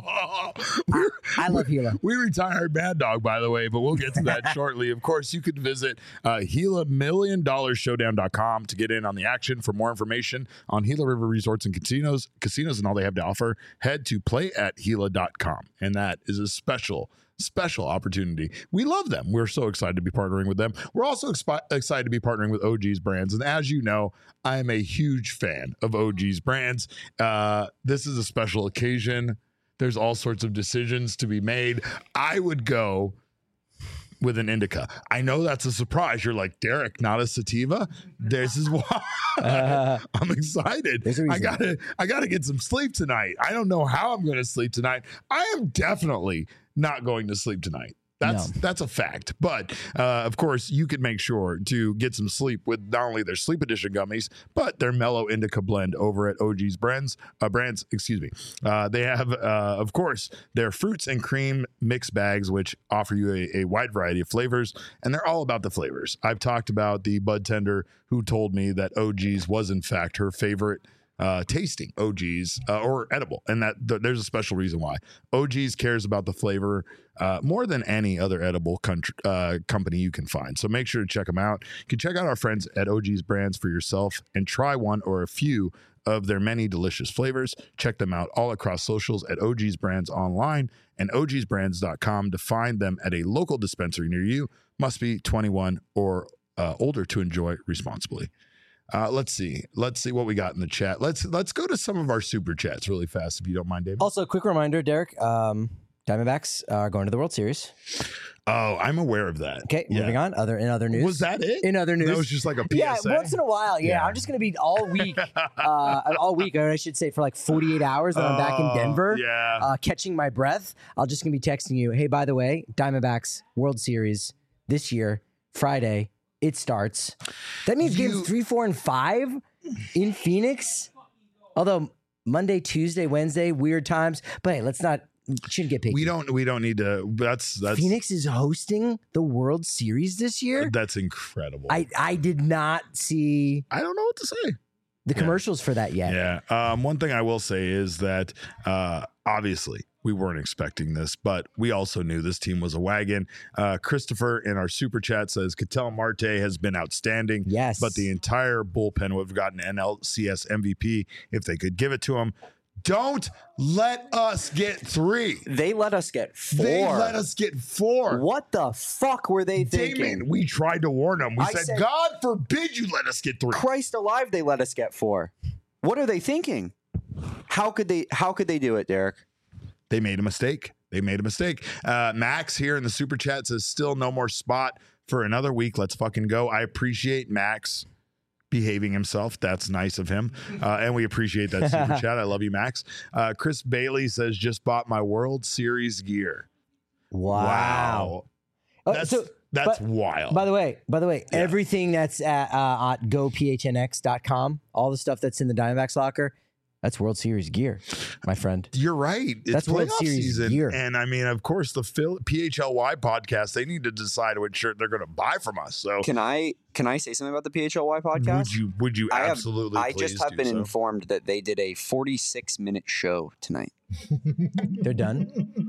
I, I love Gila. We retired Mad Dog, by the way, but we'll get to that shortly. Of course, you could visit uh, Gila Million Dollar Showdown dot com to get in on the action. For more information on Gila River Resorts and Casinos, casinos and all they have to offer, head to play at Gila dot com. And that is a special, special opportunity. We love them. We're so excited to be partnering with them. We're also expi- excited to be partnering with O G's Brands. And as you know, I am a huge fan of O G's Brands. Uh, this is a special occasion. There's all sorts of decisions to be made. I would go with an indica. I know that's a surprise. You're like, Derek, not a sativa? This is why Uh, I'm excited. There's a I reason. gotta I gotta get some sleep tonight. I don't know how I'm gonna sleep tonight. I am definitely not going to sleep tonight. That's No. that's a fact. But uh, of course, you can make sure to get some sleep with not only their sleep edition gummies, but their mellow indica blend over at O G's Brands. Uh, brands, excuse me. Uh, they have, uh, of course, their fruits and cream mix bags, which offer you a, a wide variety of flavors, and they're all about the flavors. I've talked about the bud tender who told me that O G's was in fact her favorite uh, tasting O G's uh, or edible, and that th- there's a special reason why. O G's cares about the flavor uh, more than any other edible country, uh, company you can find. So make sure to check them out. You can check out our friends at O G's Brands for yourself and try one or a few of their many delicious flavors. Check them out all across socials at O G's Brands online and O G's brands dot com to find them at a local dispensary near you. Must be twenty-one or uh, older to enjoy responsibly. Uh, let's see. Let's see what we got in the chat. Let's let's go to some of our super chats really fast, if you don't mind, David. also, quick reminder, Derek. Um, Diamondbacks are going to the World Series. Oh, I'm aware of that. Okay, Yeah. moving on. Other in other news. Was that it? In other news. That was just like a P S A. Yeah, once in a while. Yeah, Yeah. I'm just gonna be all week, uh, all week, or I should say, for like forty-eight hours. Then I'm back in Oh, Denver, yeah. uh, catching my breath. I'll just gonna be texting you. Hey, by the way, Diamondbacks World Series this year, Friday. It starts. That means You- games three, four, and five in Phoenix. Although Monday, Tuesday, Wednesday, weird times. But hey, let's not. Shouldn't get picky. We don't. We don't need to. That's that's Phoenix is hosting the World Series this year. That's incredible. I I did not see. I don't know what to say. the commercials yeah. for that yet. Yeah. Um, one thing I will say is that uh, obviously we weren't expecting this, but we also knew this team was a wagon. Uh, Christopher in our super chat says Ketel Marte has been outstanding. Yes. But the entire bullpen would have gotten N L C S M V P if they could give it to him. Don't let us get three. They let us get four. They let us get four. What the fuck were they thinking? Damon, we tried to warn them. We said, said, God forbid you let us get three. Christ alive, they let us get four. What are they thinking? How could they how could they do it, Derek? They made a mistake. They made a mistake. Uh, Max here in the super chat says, still no more spot for another week. Let's fucking go. I appreciate Max behaving himself. That's nice of him. Uh, and we appreciate that super chat. I love you, Max. Uh, Chris Bailey says, just bought my World Series gear. Wow. Wow. Uh, that's so, that's but, wild. By the way, by the way, yeah. everything that's at, uh, at go P H N X dot com, all the stuff that's in the Diamondbacks locker, that's World Series gear, my friend. You're right. It's That's World Series season. gear. And I mean, of course, the Phil- P H L Y podcast, they need to decide what shirt they're going to buy from us. So Can I can I say something about the P H L Y podcast? Would you would you I absolutely have, I please just have do been so? informed that they did a forty-six minute show tonight. They're done.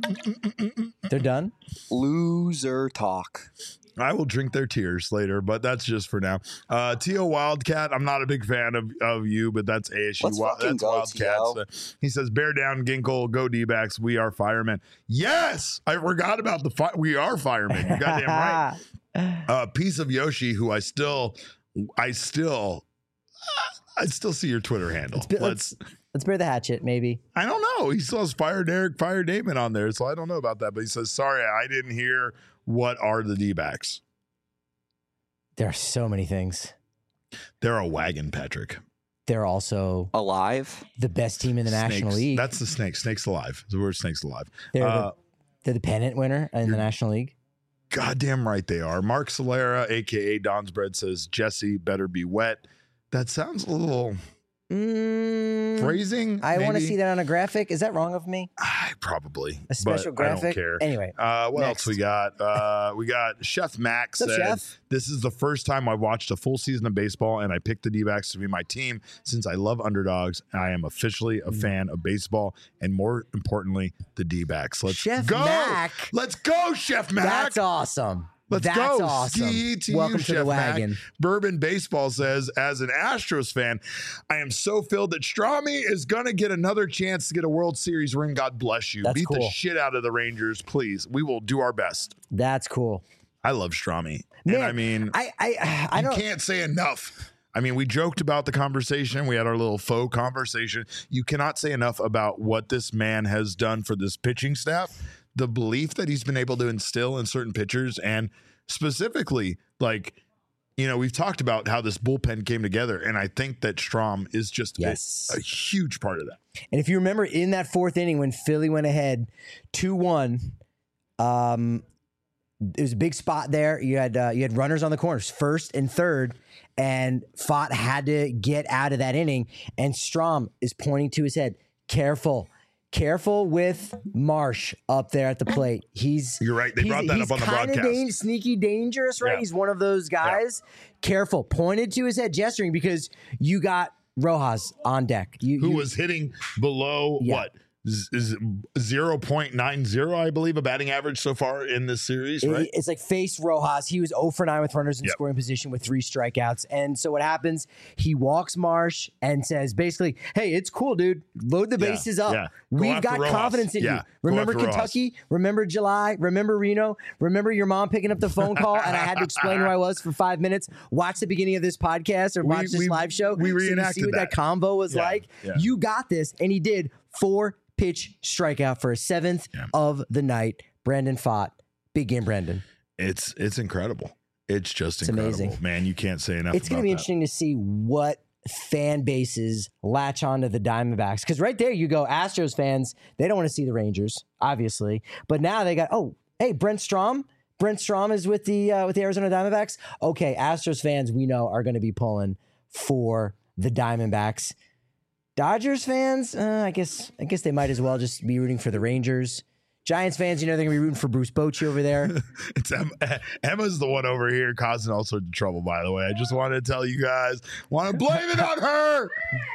They're done. Loser talk. I will drink their tears later, but that's just for now. Uh, T O Wildcat, I'm not a big fan of, of you, but that's A S U. Let's fucking that's go, Wildcats. T O. Uh, he says, bear down, Ginkle, go D-backs. We are firemen. Yes! I forgot about the fi- we are firemen. You goddamn right. Uh, piece of Yoshi, who I still, I still, I still see your Twitter handle. Let's, be, let's, let's bear the hatchet, maybe. I don't know. He still has Fire Derek, Fire Damon on there, so I don't know about that. But he says, sorry, I didn't hear what are the D-backs. There are so many things. They're a wagon, Patrick. They're also alive. The best team in the Snakes. National League. That's the Snakes. Snakes alive. The word Snakes alive. They're, uh, the, they're the pennant winner in the National League. Goddamn right they are. Mark Solera, a k a. Don's Bread, says, Jesse better be wet. That sounds a little mm, phrasing. I want to maybe? see that on a graphic. Is that wrong of me? I probably. A special but graphic? I don't care. Anyway. Uh, what next. else we got? Uh, we got Chef Max What's said, up, Chef? This is the first time I watched a full season of baseball, and I picked the D-backs to be my team since I love underdogs. I am officially a fan of baseball, and more importantly, the D-backs. Let's Chef go. Mac. Let's go, Chef Mac. That's awesome. Let's That's go. awesome. Ski to Welcome you, to Chef the wagon. Mac. Bourbon Baseball says, as an Astros fan, I am so filled that Strami is going to get another chance to get a World Series ring. God bless you. That's Beat cool. the shit out of the Rangers, please. We will do our best. That's cool. I love Strami. Man, and I mean, I I, I you don't. can't say enough. I mean, we joked about the conversation. We had our little faux conversation. You cannot say enough about what this man has done for this pitching staff, the belief that he's been able to instill in certain pitchers, and specifically, like, you know, we've talked about how this bullpen came together, and I think that Strom is just Yes. a, a huge part of that. And if you remember in that fourth inning when Philly went ahead two one, um, it was a big spot there. You had uh, you had runners on the corners, first and third, and Fott had to get out of that inning. And Strom is pointing to his head, careful. Careful with Marsh up there at the plate. He's You're right. They he's- brought that he's up on the kinda broadcast. Dan- sneaky dangerous, right? Yeah. He's one of those guys. Careful. Pointed to his head, gesturing because you got Rojas on deck. You, Who you- was hitting below Yeah. what? Z- is zero point nine zero, I believe, a batting average so far in this series, right? It- It's like face Rojas. He was zero for nine with runners in Yep. scoring position with three strikeouts. And so what happens? He walks Marsh and says basically, hey, it's cool, dude. Load the Yeah, bases up. yeah. Go We've after got Rojas. confidence in Yeah, you. go Remember after Rojas. Kentucky? Remember July? Remember Reno? Remember your mom picking up the phone call and I had to explain who I was for five minutes? Watch the beginning of this podcast or We- watch this we- live show. we so you see reenacted what that, that. combo was Yeah, like. yeah. You got this. And he did four pitch strikeout for a seventh Yeah. of the night. Brandon Fott. Big game, Brandon. It's it's incredible. It's just It's incredible, amazing. man. You can't say enough. It's going to about be that. interesting to see what fan bases latch onto the Diamondbacks. Because right there, you go, Astros fans, they don't want to see the Rangers, obviously. But now they got, oh, hey, Brent Strom. Brent Strom is with the uh, with the Arizona Diamondbacks. Okay, Astros fans, we know, are going to be pulling for the Diamondbacks. Dodgers fans, uh, I guess I guess they might as well just be rooting for the Rangers. Giants fans, you know they're gonna be rooting for Bruce Bochy over there. It's Emma, Emma's the one over here causing all sorts of trouble, by the way. I just wanted to tell you guys, want to blame it on her.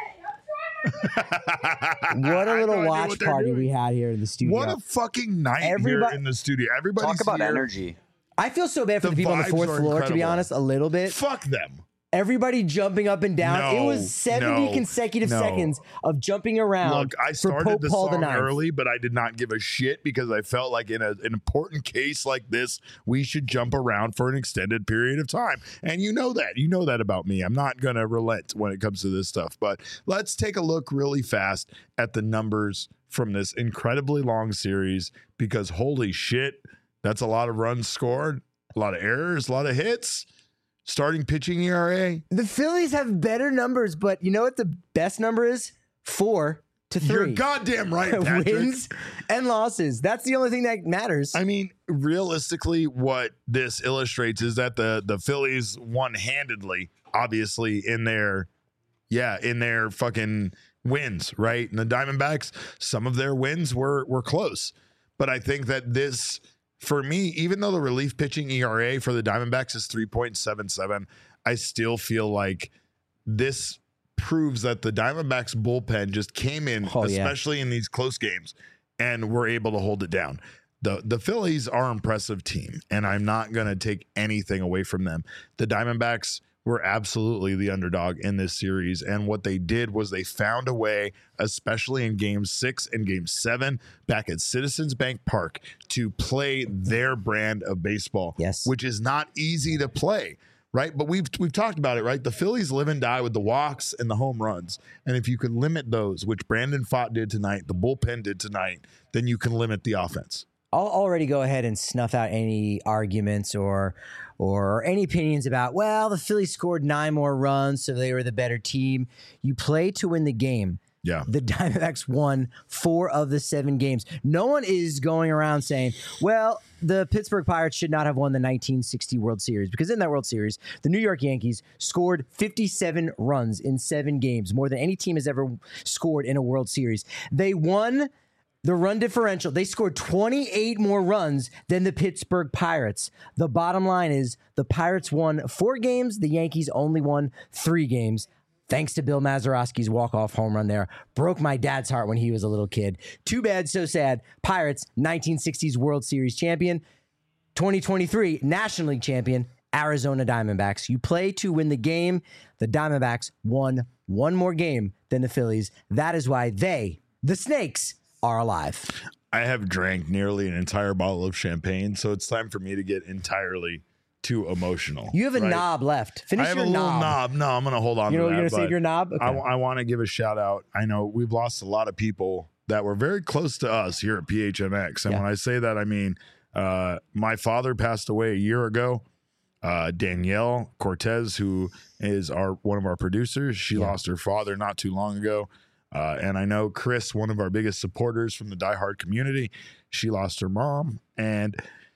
What a little no watch party doing. we had here in the studio. What a fucking night Everybody, here in the studio. Everybody's Talk about here. energy. I feel so bad for the, the people on the fourth floor, incredible. to be honest, a little bit. Fuck them. Everybody jumping up and down. No, it was seventy no, consecutive no. seconds of jumping around. Look, I started for Pope the Paul song the early, but I did not give a shit because I felt like in a, an important case like this, we should jump around for an extended period of time. And you know that. You know that about me. I'm not going to relent when it comes to this stuff. But let's take a look really fast at the numbers from this incredibly long series because holy shit, that's a lot of runs scored, a lot of errors, a lot of hits. Starting pitching E R A. The Phillies have better numbers, but you know what the best number is? Four to three. You're goddamn right, Patrick. Wins and losses. That's the only thing that matters. I mean, realistically, what this illustrates is that the the Phillies won handedly, obviously, in their, yeah, in their fucking wins, right? And the Diamondbacks, some of their wins were were close. But I think that this... For me, even though the relief pitching E R A for the Diamondbacks is three point seven seven, I still feel like this proves that the Diamondbacks bullpen just came in, oh, especially yeah. in these close games, and were able to hold it down. The the Phillies are an impressive team, and I'm not going to take anything away from them. The Diamondbacks were absolutely the underdog in this series. And what they did was they found a way, especially in game six and game seven back at Citizens Bank Park, to play their brand of baseball, yes, which is not easy to play. Right. But we've we've talked about it. Right. The Phillies live and die with the walks and the home runs. And if you can limit those, which Brandon Pfaadt did tonight, the bullpen did tonight, then you can limit the offense. I'll already go ahead and snuff out any arguments or or any opinions about, well, the Phillies scored nine more runs, so they were the better team. You play to win the game. Yeah. The Diamondbacks won four of the seven games. No one is going around saying, well, the Pittsburgh Pirates should not have won the nineteen sixty World Series, because in that World Series, the New York Yankees scored fifty-seven runs in seven games, more than any team has ever scored in a World Series. They won the run differential. They scored twenty-eight more runs than the Pittsburgh Pirates. The bottom line is the Pirates won four games. The Yankees only won three games. Thanks to Bill Mazeroski's walk-off home run there. Broke my dad's heart when he was a little kid. Too bad, so sad. Pirates, nineteen sixties World Series champion. twenty twenty-three National League champion, Arizona Diamondbacks. You play to win the game. The Diamondbacks won one more game than the Phillies. That is why they, the Snakes, are alive. I have drank nearly an entire bottle of champagne, so it's time for me to get entirely too emotional. You have a right? knob left. Finish I have your a little knob. knob. No, I'm going to hold on you know, to that. You're going to save your knob? Okay. I, I want to give a shout out. I know we've lost a lot of people that were very close to us here at P H M X. And yeah. when I say that, I mean, uh, my father passed away a year ago. Uh, Danielle Cortez, who is our one of our producers, she yeah. lost her father not too long ago. Uh, and I know Chris, one of our biggest supporters from the Die Hard community, she lost her mom. And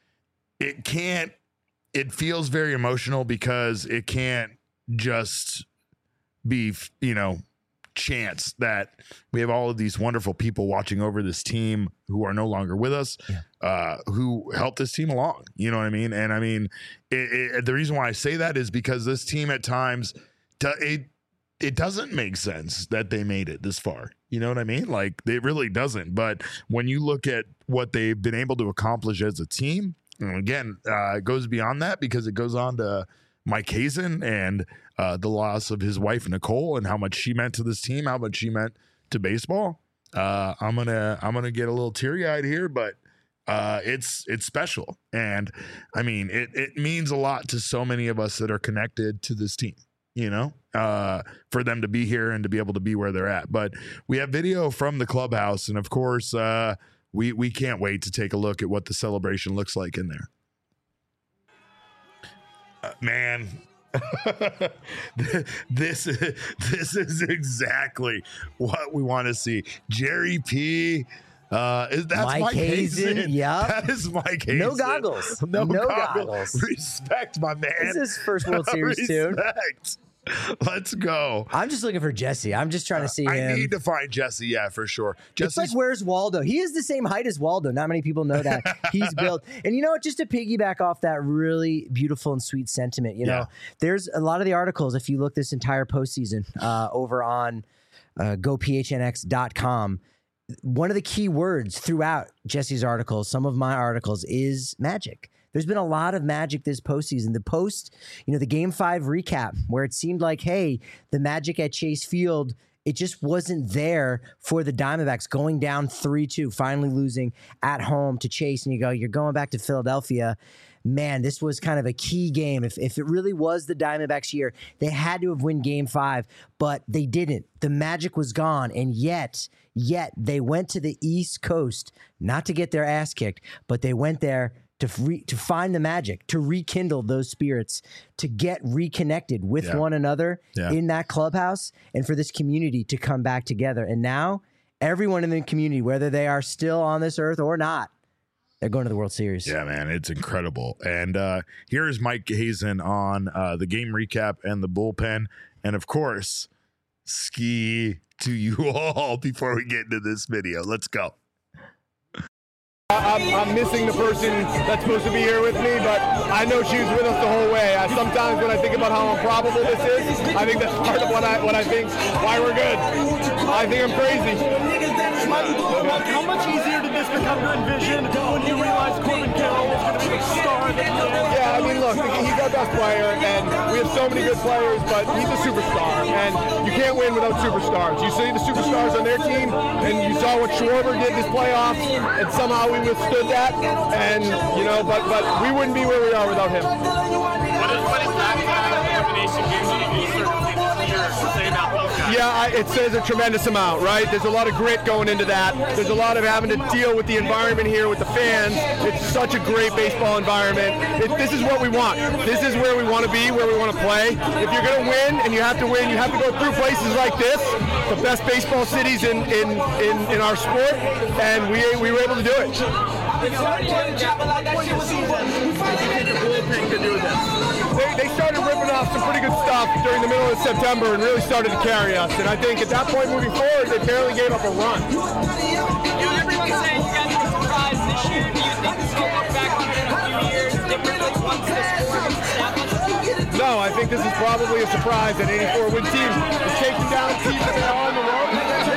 it can't, it feels very emotional because it can't just be, you know, chance that we have all of these wonderful people watching over this team who are no longer with us, yeah. uh, who helped this team along. You know what I mean? And I mean, it, it, the reason why I say that is because this team at times, it, it doesn't make sense that they made it this far. You know what I mean? Like, it really doesn't. But when you look at what they've been able to accomplish as a team, and again, uh, it goes beyond that because it goes on to Mike Hazen and uh, the loss of his wife, Nicole, and how much she meant to this team, how much she meant to baseball. Uh, I'm gonna I'm gonna get a little teary eyed here, but uh, it's it's special, and I mean it it means a lot to so many of us that are connected to this team. You know, uh, for them to be here and to be able to be where they're at. But we have video from the clubhouse, and of course, uh, we we can't wait to take a look at what the celebration looks like in there. Uh, man, this this is exactly what we want to see. Jerry P. Uh, is that's Mike, Mike Hazen? Hazen. Yeah, that is Mike Hazen. No goggles. No, no goggles. goggles. Respect, my man. This is his first World Series too. Respect. Let's go. I'm just looking for Jesse. I'm just trying to see I him. need to find Jesse, yeah, for sure. It's like, where's Waldo? He is the same height as Waldo. Not many people know that. He's built. And you know what? Just to piggyback off that really beautiful and sweet sentiment, you know, Yeah. there's a lot of the articles, if you look this entire postseason uh, over on uh, go P H N X dot com, one of the key words throughout Jesse's articles, some of my articles, is magic. There's been a lot of magic this postseason. The post, you know, the game five recap where it seemed like, hey, the magic at Chase Field, it just wasn't there for the Diamondbacks going down three two, finally losing at home to Chase. And you go, you're going back to Philadelphia. Man, this was kind of a key game. If, if it really was the Diamondbacks year, they had to have won game five, but they didn't. The magic was gone. And yet, yet they went to the East Coast, not to get their ass kicked, but they went there to re, to find the magic, to rekindle those spirits, to get reconnected with Yeah. one another Yeah. in that clubhouse, and for this community to come back together. And now, everyone in the community, whether they are still on this earth or not, they're going to the World Series. Yeah, man, it's incredible. And uh, here's Mike Hazen on uh, the game recap and the bullpen. And of course, ski to you all before we get into this video. Let's go. I'm, I'm missing the person that's supposed to be here with me, but I know she was with us the whole way. I, sometimes when I think about how improbable this is, I think that's part of what I what I think why we're good. I think I'm crazy. Mike, how much easier did this become to envision when you realized Corbin Carroll was going to be the star of the game? Yeah, I mean, look, he's our best player, and we have so many good players, but he's a superstar, and you can't win without superstars. You see the superstars on their team, and you saw what Schwarber did this playoffs, and somehow we withstood that, and, you know, but but we wouldn't be where we are without him. What is, what is that kind of combination gives you to do certain things here to say about these guys? Yeah, I, it says a tremendous amount, right? There's a lot of grit going into that. There's a lot of having to deal with the environment here with the fans. It's such a great baseball environment. It, this is what we want. This is where we want to be, where we want to play. If you're going to win, and you have to win, you have to go through places like this, the best baseball cities in, in, in, in our sport, and we, we were able to do it. They, they started ripping off some pretty good stuff during the middle of September and really started to carry us. And I think at that point moving forward, they barely gave up a run. You know, everyone's saying you guys are surprised this year. Do you think this will look back on it in a few years differently once this score is established? No, I think this is probably a surprise. An eighty-four win team is taking down teams that are on the road.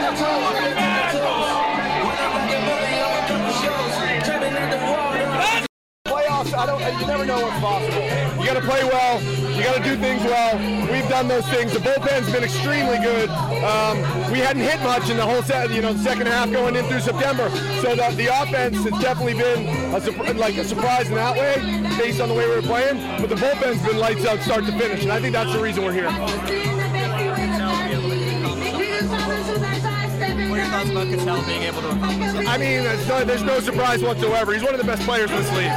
Playoffs, I don't. You never know what's possible. You got to play well. You got to do things well. We've done those things. The bullpen's been extremely good. Um, we hadn't hit much in the whole set, you know, the second half going in through September. So the, the offense has definitely been a, like a surprise in that way, based on the way we were playing. But the bullpen's been lights out, start to finish, and I think that's the reason we're here. What are your thoughts about Cattell being able to accomplish that? I mean, there's no, there's no surprise whatsoever. He's one of the best players in this league.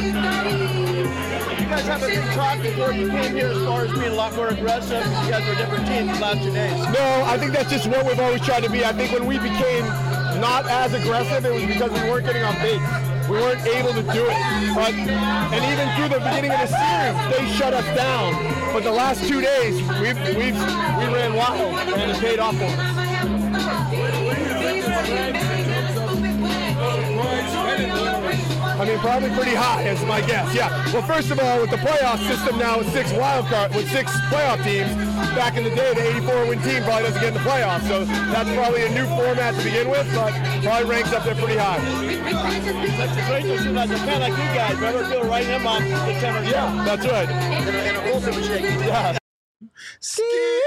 You guys have a big talk before you came here as far as being a lot more aggressive. You guys were a different team the last two days. No, I think that's just what we've always tried to be. I think when we became not as aggressive, it was because we weren't getting on base. We weren't able to do it. But, and even through the beginning of the series, they shut us down. But the last two days, we've, we've, we ran wild, and it paid off for us. I mean, probably pretty high, is my guess. Yeah. Well, first of all, with the playoff system now with six wild card, with six playoff teams, back in the day, the eighty-four win team probably doesn't get in the playoffs. So that's probably a new format to begin with, but probably ranks up there pretty high. That's great to see like a fan like you guys. Remember, feel right in on September. Yeah, that's right. And a ultimate shake. Yeah. Ski!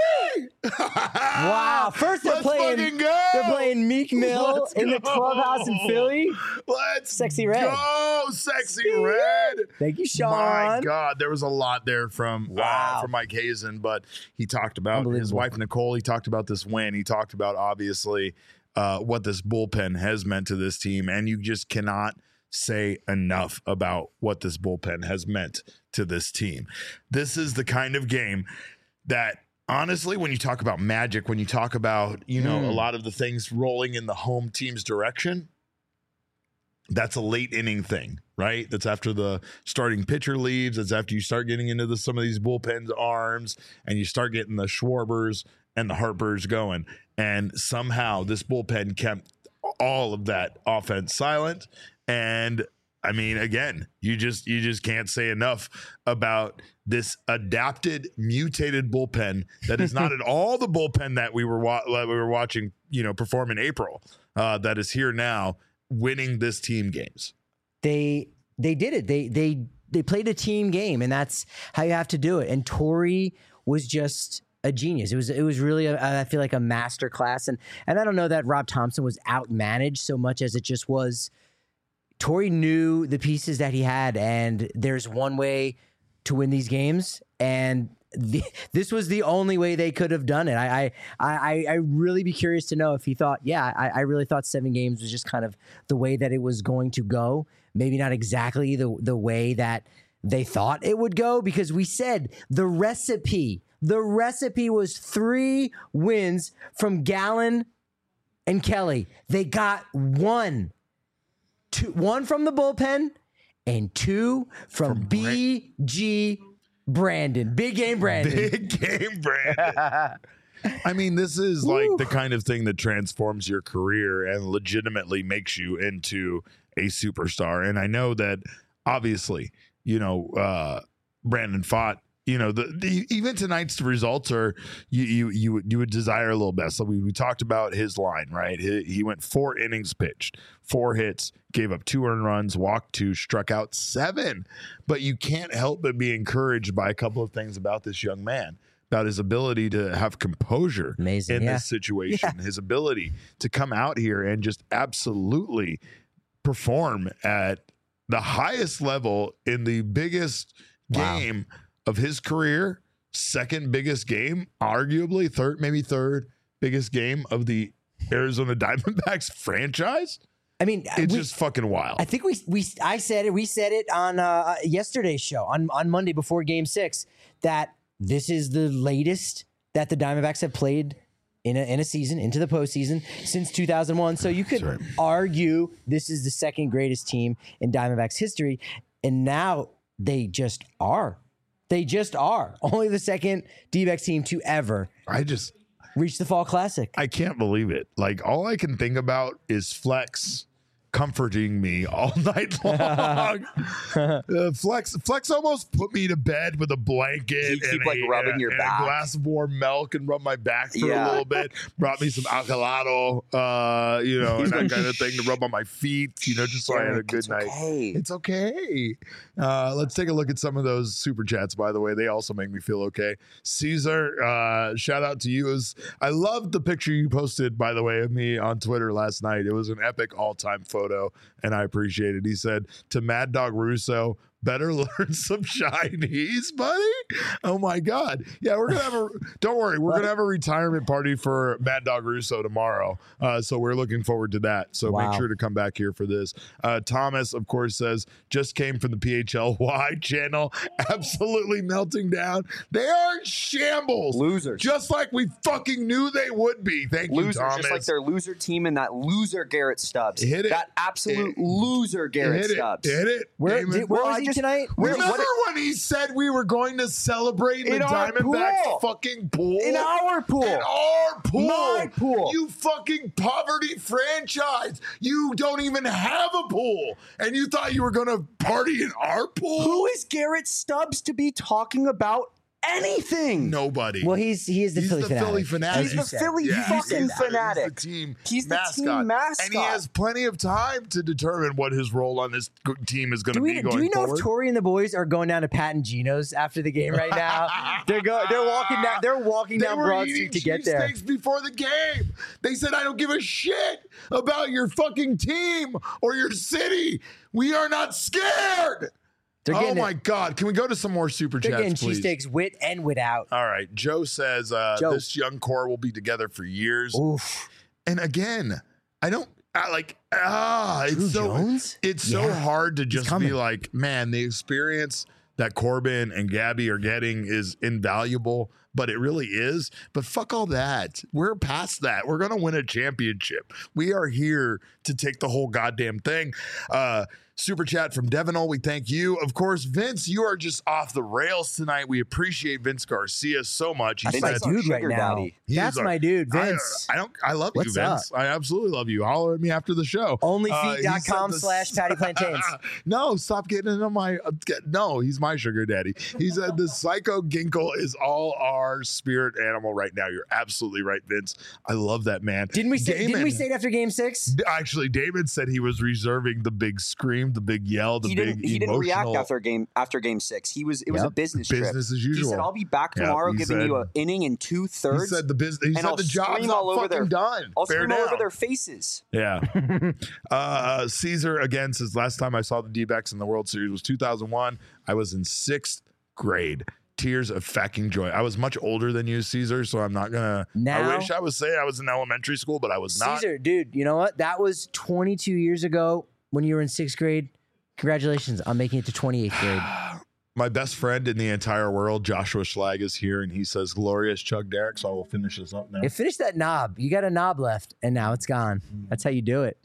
Wow! First they're Let's playing. fucking go! They're playing Meek Mill Let's in the go! clubhouse in Philly. Let's Sexy Red. go, Sexy Red. Thank you, Sean. My God, there was a lot there from Wow. uh, from Mike Hazen, but he talked about his Unbelievable. wife Nicole. He talked about this win. He talked about obviously uh, what this bullpen has meant to this team, and you just cannot say enough about what this bullpen has meant to this team. This is the kind of game that, honestly, when you talk about magic, when you talk about, you know, Mm. a lot of the things rolling in the home team's direction, that's a late inning thing, right? That's after the starting pitcher leaves. That's after you start getting into the, some of these bullpens arms and you start getting the Schwarbers and the Harpers going. And somehow this bullpen kept all of that offense silent. And I mean, again, you just you just can't say enough about this adapted, mutated bullpen that is not at all the bullpen that we were wa- that we were watching, you know, perform in April. Uh, that is here now, winning this team games. They they did it. They they they played a team game, and that's how you have to do it. And Torey was just a genius. It was it was really a, I feel like a master class. And and I don't know that Rob Thompson was outmanaged so much as it just was. Torey knew the pieces that he had, and there's one way to win these games, and the, this was the only way they could have done it. I I I, I really be curious to know if he thought, yeah, I, I really thought seven games was just kind of the way that it was going to go. Maybe not exactly the the way that they thought it would go, because we said the recipe, the recipe was three wins from Gallen and Kelly. They got one. Two, one from the bullpen and two from, from B G Brandon. Big game Brandon. Big game Brandon. I mean, this is Woo. like the kind of thing that transforms your career and legitimately makes you into a superstar. And I know that obviously, you know, uh, Brandon fought. You know, the, the even tonight's results are you you you would you would desire a little best. So we, we talked about his line, right? He, he went four innings pitched, four hits, gave up two earned runs, walked two, struck out seven. But you can't help but be encouraged by a couple of things about this young man, about his ability to have composure Amazing, in yeah. this situation, yeah. his ability to come out here and just absolutely perform at the highest level in the biggest wow. game of his career, second biggest game, arguably third, maybe third biggest game of the Arizona Diamondbacks franchise. I mean, it's we, just fucking wild. I think we we I said it. We said it on uh, yesterday's show on on Monday before Game Six that this is the latest that the Diamondbacks have played in a in a season into the postseason since two thousand one. So you could right. argue this is the second greatest team in Diamondbacks history, and now they just are. They just are only the second D-backs team to ever. I just reach the Fall Classic. I can't believe it. Like, all I can think about is Flex comforting me all night long. uh, Flex Flex almost put me to bed with a blanket keep, and, like, a, rubbing and, your and back. a glass of warm milk and rub my back for yeah. a little bit. Brought me some Alcalado, uh, you know, and that kind of thing to rub on my feet, you know, just so I had a good it's night. Okay. It's okay. Uh, let's take a look at some of those super chats, by the way. They also make me feel okay. Caesar, uh, shout out to you. It was, I loved the picture you posted, by the way, of me on Twitter last night. It was an epic all-time photo, and I appreciate it. He said to Mad Dog Russo, better learn some Chinese, buddy. Oh my God. Yeah, we're gonna have a don't worry, we're gonna have a retirement party for Mad Dog Russo tomorrow. Uh, so we're looking forward to that. So wow. make sure to come back here for this. Uh, Thomas, of course, says just came from the P H L Y channel, absolutely melting down. They are in shambles. Losers. Just like we fucking knew they would be. Thank losers, you, Thomas. just like their loser team and that loser Garrett Stubbs. Hit it. That absolute It, loser Garrett hit Stubbs. It. Hit it. Where, Damon. did, where Well, was I he just- tonight? Where- Remember what- when he said we were going to celebrate in In the our Diamondbacks pool. fucking pool? In our pool. In our pool. My pool. You fucking poverty franchise. You don't even have a pool. And you thought you were going to party in our pool? Who is Garrett Stubbs to be talking about anything? Nobody. Well, he's he is the He's Philly the fanatic. Philly fanatic. as you He's the said. Philly Yeah, fucking he's the- fanatic. He's the team He's the mascot. team mascot. And he has plenty of time to determine what his role on this g- team is going to Do be we, going do we know forward. if Torey and the boys are going down to Pat and Gino's after the game right now? they're go, They're walking down. They're walking They down were Broad eating Street to get there. cheesesteaks before the game. They said, I don't give a shit about your fucking team or your city. We are not scared. They're Oh getting my it. God. Can we go to some more super They're getting chats, please? cheesesteaks with and without. All right. Joe says uh, Joe. this young core will be together for years. Oof. And again, I don't I like ah Drew it's so Jones? it's so Yeah. hard to just be coming. like, man, the experience that Corbin and Gabby are getting is invaluable. but it really is. But fuck all that. We're past that. We're going to win a championship. We are here to take the whole goddamn thing. Uh, Super chat from Devinol. We thank you. Of course, Vince, you are just off the rails tonight. We appreciate Vince Garcia so much. He That's said, my dude right now. Daddy. That's our- my dude, Vince. I, I don't. I love What's you, Vince. I absolutely love you. Holler at me after the show. Onlyfeet dot com Uh, he said slash the- Patty Plantains. No, stop getting into my. Uh, get, no, he's my sugar daddy. He said the Psycho Ginkle is all our spirit animal right now. You're absolutely right, Vince. I love that man. Didn't we say? Damon, Didn't we say it after Game Six? Actually, David said he was reserving the big scream, the big yell, the He big didn't. He didn't react emotional after game after game six. He was. It was Yep. a business trip. business as He usual. said, "I'll be back Yeah, tomorrow, he giving said- you an inning and two He thirds. said the business. He and said I'll the job's scream not all over fucking their- done. I'll Fair scream all over now. their faces." Yeah. uh, Caesar again says last time I saw the D-backs in the World Series was two thousand one. I was in sixth grade. Tears of fucking joy. I was much older than you, Caesar, so I'm not gonna. Now- I wish I was saying I was in elementary school, but I was not. Caesar, dude, you know what? That was twenty-two years ago when you were in sixth grade. Congratulations on making it to twenty-eighth grade. My best friend in the entire world, Joshua Schlag, is here, and he says, "Glorious Chuck Derrick." So I will finish this up now. Hey, finish that knob. You got a knob left, and now it's gone. That's how you do it.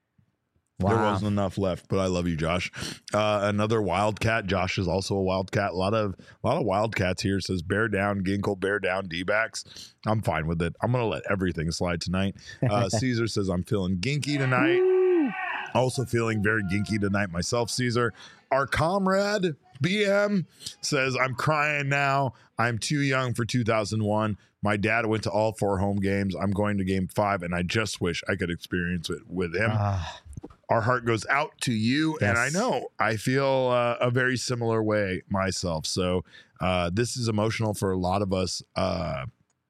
Wow. There wasn't enough left, but I love you, Josh. Uh, another Wildcat. Josh is also a Wildcat. A lot of a lot of Wildcats here. Says bear down, Ginkle, bear down, D-backs. I'm fine with it. I'm gonna let everything slide tonight. Uh, Caesar says I'm feeling ginky tonight. Also feeling very ginky tonight myself, Caesar. Our comrade B M says I'm crying now. I'm too young for two thousand one. My dad went to all four home games. I'm going to game five, and I just wish I could experience it with him. Ah. Our heart goes out to you, and I Yes. know I feel uh, a very similar way myself. So uh, this is emotional for a lot of us. Uh,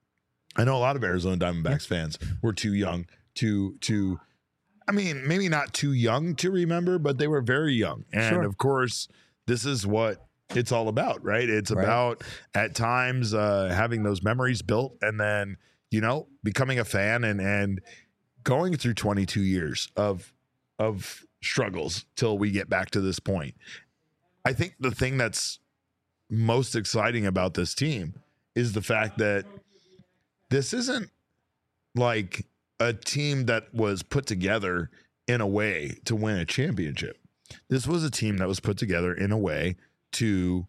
I know a lot of Arizona Diamondbacks fans were too young to to. I mean, maybe not too young to remember, but they were very young, and Sure. of course, this is what it's all about, right? It's Right. about at times uh, having those memories built, and then you know becoming a fan and and going through twenty-two years of of struggles till we get back to this point. I think the thing that's most exciting about this team is the fact that this isn't like a team that was put together in a way to win a championship. This was a team that was put together in a way to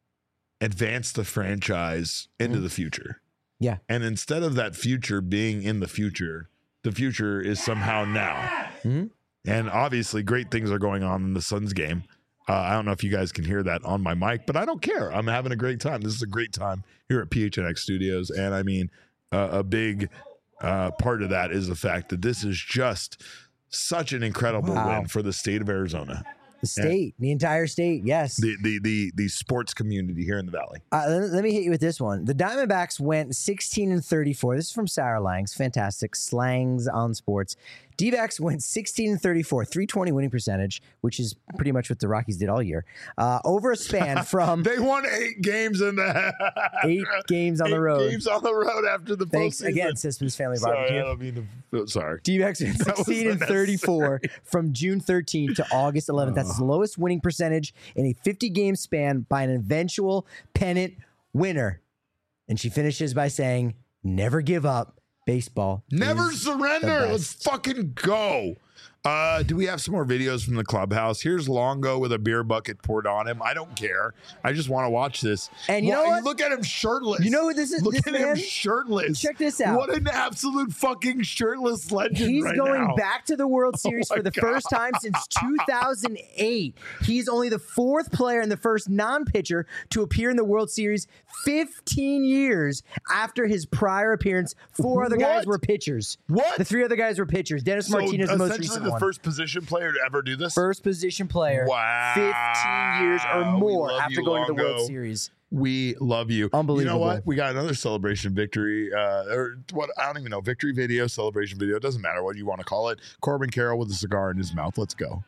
advance the franchise into the future. Yeah. And instead of that future being in the future, the future is somehow now. Mhm. And obviously, great things are going on in the Suns game. Uh, I don't know if you guys can hear that on my mic, but I don't care. I'm having a great time. This is a great time here at P H N X Studios. And I mean, uh, a big uh, part of that is the fact that this is just such an incredible Wow. win for the state of Arizona, The state, the entire state, yes. the, the the the sports community here in the Valley. Uh, let, let me hit you with this one. The Diamondbacks went sixteen and thirty-four. This is from Sarah Langs. Fantastic. Slangs on sports. D-backs went sixteen and thirty-four, three twenty winning percentage, which is pretty much what the Rockies did all year. Uh, over a span from They won eight games in the eight games on the eight road. Games on the road after the Thanks postseason. again, Sisman's Family Sorry, Barbecue. I don't mean to, sorry. D-backs went That was sixteen and thirty-four from June thirteenth to August eleventh. That's his lowest winning percentage in a fifty-game span by an eventual pennant winner. And she finishes by saying, never give up. Baseball. Never is surrender. the Let's best. fucking go. Uh, do we have some more videos from the clubhouse? Here's Longo with a beer bucket poured on him. I don't care. I just want to watch this. And you know Why- what? Look at him shirtless. You know who this is- Look this at man- him shirtless. Check this out. What an absolute fucking shirtless legend He's right going now. Oh back to the World Series my for the God. first time since two thousand eight. He's only the fourth player and the first non-pitcher to appear in the World Series fifteen years after his prior appearance. Four other guys What? were pitchers. What? The three other guys were pitchers. Dennis So Martinez, the most essentially recent the one. first position player to ever do this? First position player. Wow. fifteen years or We more love after you, going to the Longo. World Series. We love you. Unbelievable. You know what? We got another celebration victory, uh, or what? I don't even know. Victory video, celebration video. It doesn't matter what you want to call it. Corbin Carroll with a cigar in his mouth. Let's go.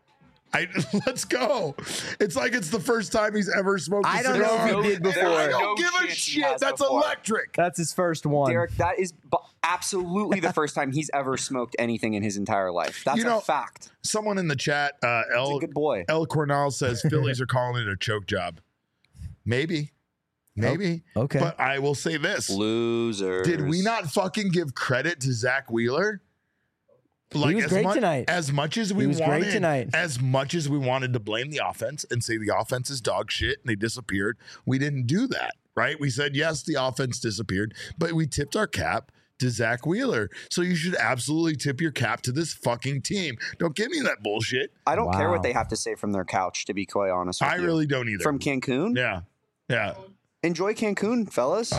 I let's go. It's like it's the first time he's ever smoked a I don't cigar. know if he did And I before. don't No give a chance he shit. has That's before. electric. That's his first one. Derek, that is bu- absolutely the first time he's ever smoked anything in his entire life. That's You know- a fact. Someone in the chat, uh, He's El a good boy. El Cornell says Phillies are calling it a choke job. Maybe. Maybe. Oh, okay. But I will say this. Losers. Did we not fucking give credit to Zach Wheeler? Like, he was as great much, tonight. As much as we he was wanted, great tonight. as much as we wanted to blame the offense and say the offense is dog shit and they disappeared, we didn't do that, right? We said, yes, the offense disappeared, but we tipped our cap to Zach Wheeler. So you should absolutely tip your cap to this fucking team. Don't give me that bullshit. I don't Wow. care what they have to say from their couch, to be quite honest with I you. really don't either. From Cancun? Yeah. Yeah. Enjoy Cancun, fellas.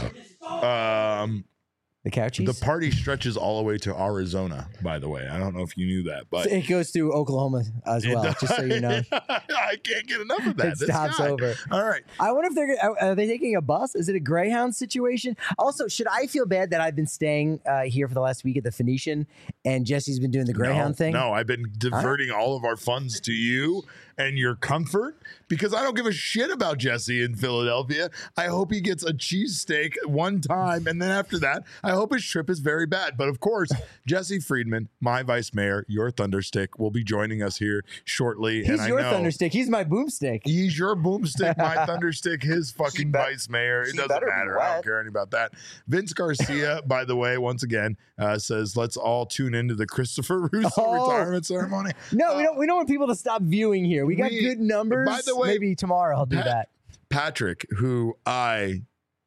Um, The couchies. the party stretches all the way to Arizona, by the way. I don't know if you knew that, but it goes through Oklahoma as it well, does- just so you know. I can't get enough of that. It This stops guy. over. All right. I wonder if they're are are they taking a bus? Is it a Greyhound situation? Also, should I feel bad that I've been staying uh, here for the last week at the Phoenician and Jesse's been doing the Greyhound no, thing? No, I've been diverting all of our funds to you and your comfort because I don't give a shit about Jesse in Philadelphia. I hope he gets a cheesesteak one time, and then after that, I hope his trip is very bad. But of course, Jesse Friedman, my vice mayor, your thunderstick, will be joining us here shortly. He's and your I know thunderstick. He's my boomstick. He's your boomstick, my thunderstick, his fucking be- vice mayor. It he doesn't better be matter. I don't wet. care anything about that. Vince Garcia, by the way, once again, uh, says, let's all tune into the Christopher Russo Oh. retirement ceremony. No, Uh, we don't. We don't want people to stop viewing here. We got we- good numbers. by the way, maybe tomorrow I'll do Pat- that. Patrick, who I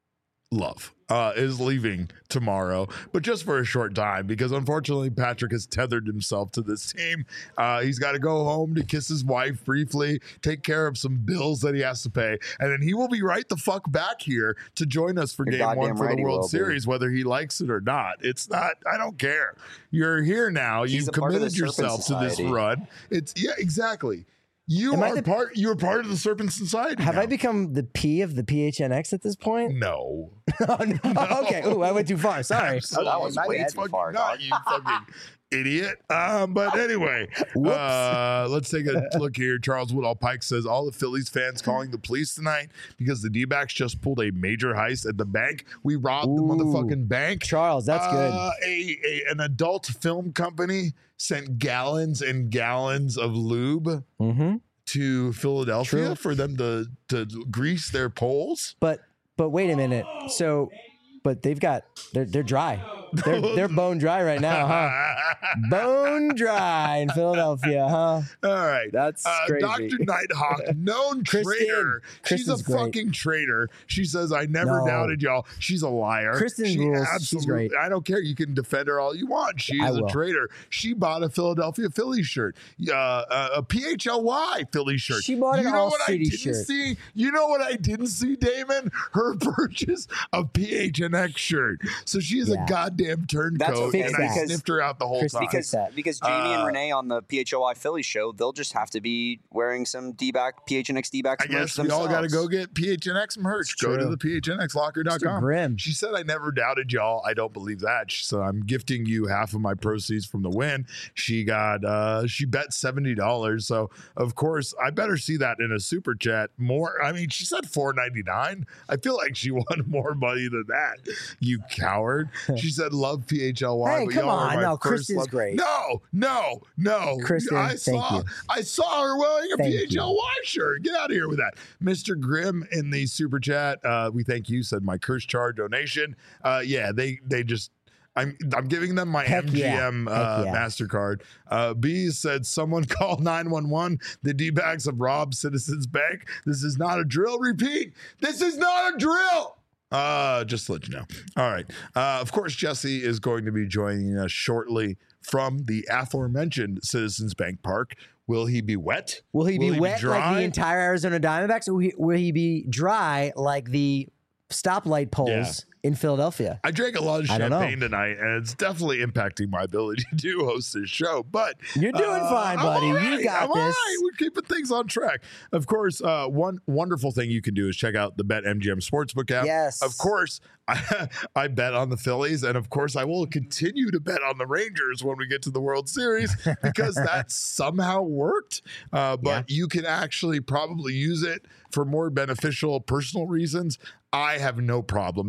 love, uh, is leaving tomorrow, but just for a short time because unfortunately Patrick has tethered himself to this team. Uh, he's got to go home to kiss his wife briefly, take care of some bills that he has to pay, and then he will be right the fuck back here to join us for You're game one goddamn for right the he will World be. Series, whether he likes it or not. It's not, I don't care. You're here now. He's You've a part of the committed Serpent yourself to this Society. run. It's, yeah, exactly. You Am I are the- part, you're part of the Serpent Society. Have now. I become the P of the P H N X at this point? No. Oh, no. Okay. Ooh, I went too far. Sorry. Absolutely. that was My way bad. too far, Not dog. you fucking idiot. Um, but anyway, Whoops. uh, let's take a look here. Charles Woodall Pike says all the Phillies fans calling the police tonight because the D-backs just pulled a major heist at the bank. We robbed the Ooh. motherfucking bank. Charles, that's good. Uh, a, a an adult film company sent gallons and gallons of lube Mm-hmm. to Philadelphia True. for them to to grease their poles. But but wait a minute. So, but they've got they're they're dry. They're they're bone dry right now, huh? Bone dry in Philadelphia, huh? All right. That's Uh, crazy. Doctor Nighthawk, known Kristen. traitor. She's a Kristen's great. fucking traitor. She says, I never No. doubted y'all. She's a liar. Kristen she rules. She's absolutely- great. I don't care. You can defend her all you want. She I is a will. traitor. She bought a Philadelphia Phillies shirt, uh, uh, a P H L Y Philly shirt. She bought an you know All what I City didn't shirt. see? You know what I didn't see, Damon? Her purchase of P H N X shirt. So she is Yeah. a goddamn turncoat, okay, and I because- sniffed her out the whole Kristen, time. fix that. Because Jamie Uh, and Renee on the P H O I Philly show, they'll just have to be wearing some D-back, P H N X D-backs I merch guess we all got to themselves. go get P H N X merch. Go to true. the P H N X locker dot com. Mister Grimm. She said, I never doubted y'all. I don't believe that. She said, I'm gifting you half of my proceeds from the win. She got, uh, she bet seventy dollars. So, of course, I better see that in a super chat more. I mean, she said four ninety-nine. I feel like she won more money than that, you coward. She said, love P H L Y. Hey, but come y'all are on. my No, first Kristen's love. great. No, no, no. Kristen, I thank saw, you. I saw her wearing a Thank P H L Y shirt. Get out of here with that. Mister Grimm in the super chat, uh, we thank you, said my curse charge donation. Uh, yeah, they they just I'm I'm giving them my Heck yeah. M G M uh, Heck yeah. MasterCard. Uh, B said someone call nine one one. The D-backs have robbed Citizens Bank. This is not a drill. Repeat. This is not a drill. Uh, just to let you know. All right. Uh, of course, Jesse is going to be joining us shortly from the aforementioned Citizens Bank Park. Will he be wet? Will he be wet like dry? the entire Arizona Diamondbacks, or will he, will he be dry like the stoplight poles in Philadelphia? I drank a lot of I don't know. champagne tonight, and it's definitely impacting my ability to host this show. But You're doing uh, fine, I'm buddy. all You right. got I'm all this. right. We're keeping things on track. Of course, uh, one wonderful thing you can do is check out the BetMGM Sportsbook app. Yes. Of course, I, I bet on the Phillies, and of course, I will continue to bet on the Rangers when we get to the World Series because that somehow worked. Uh, but you can actually probably use it for more beneficial personal reasons. I have no problem donating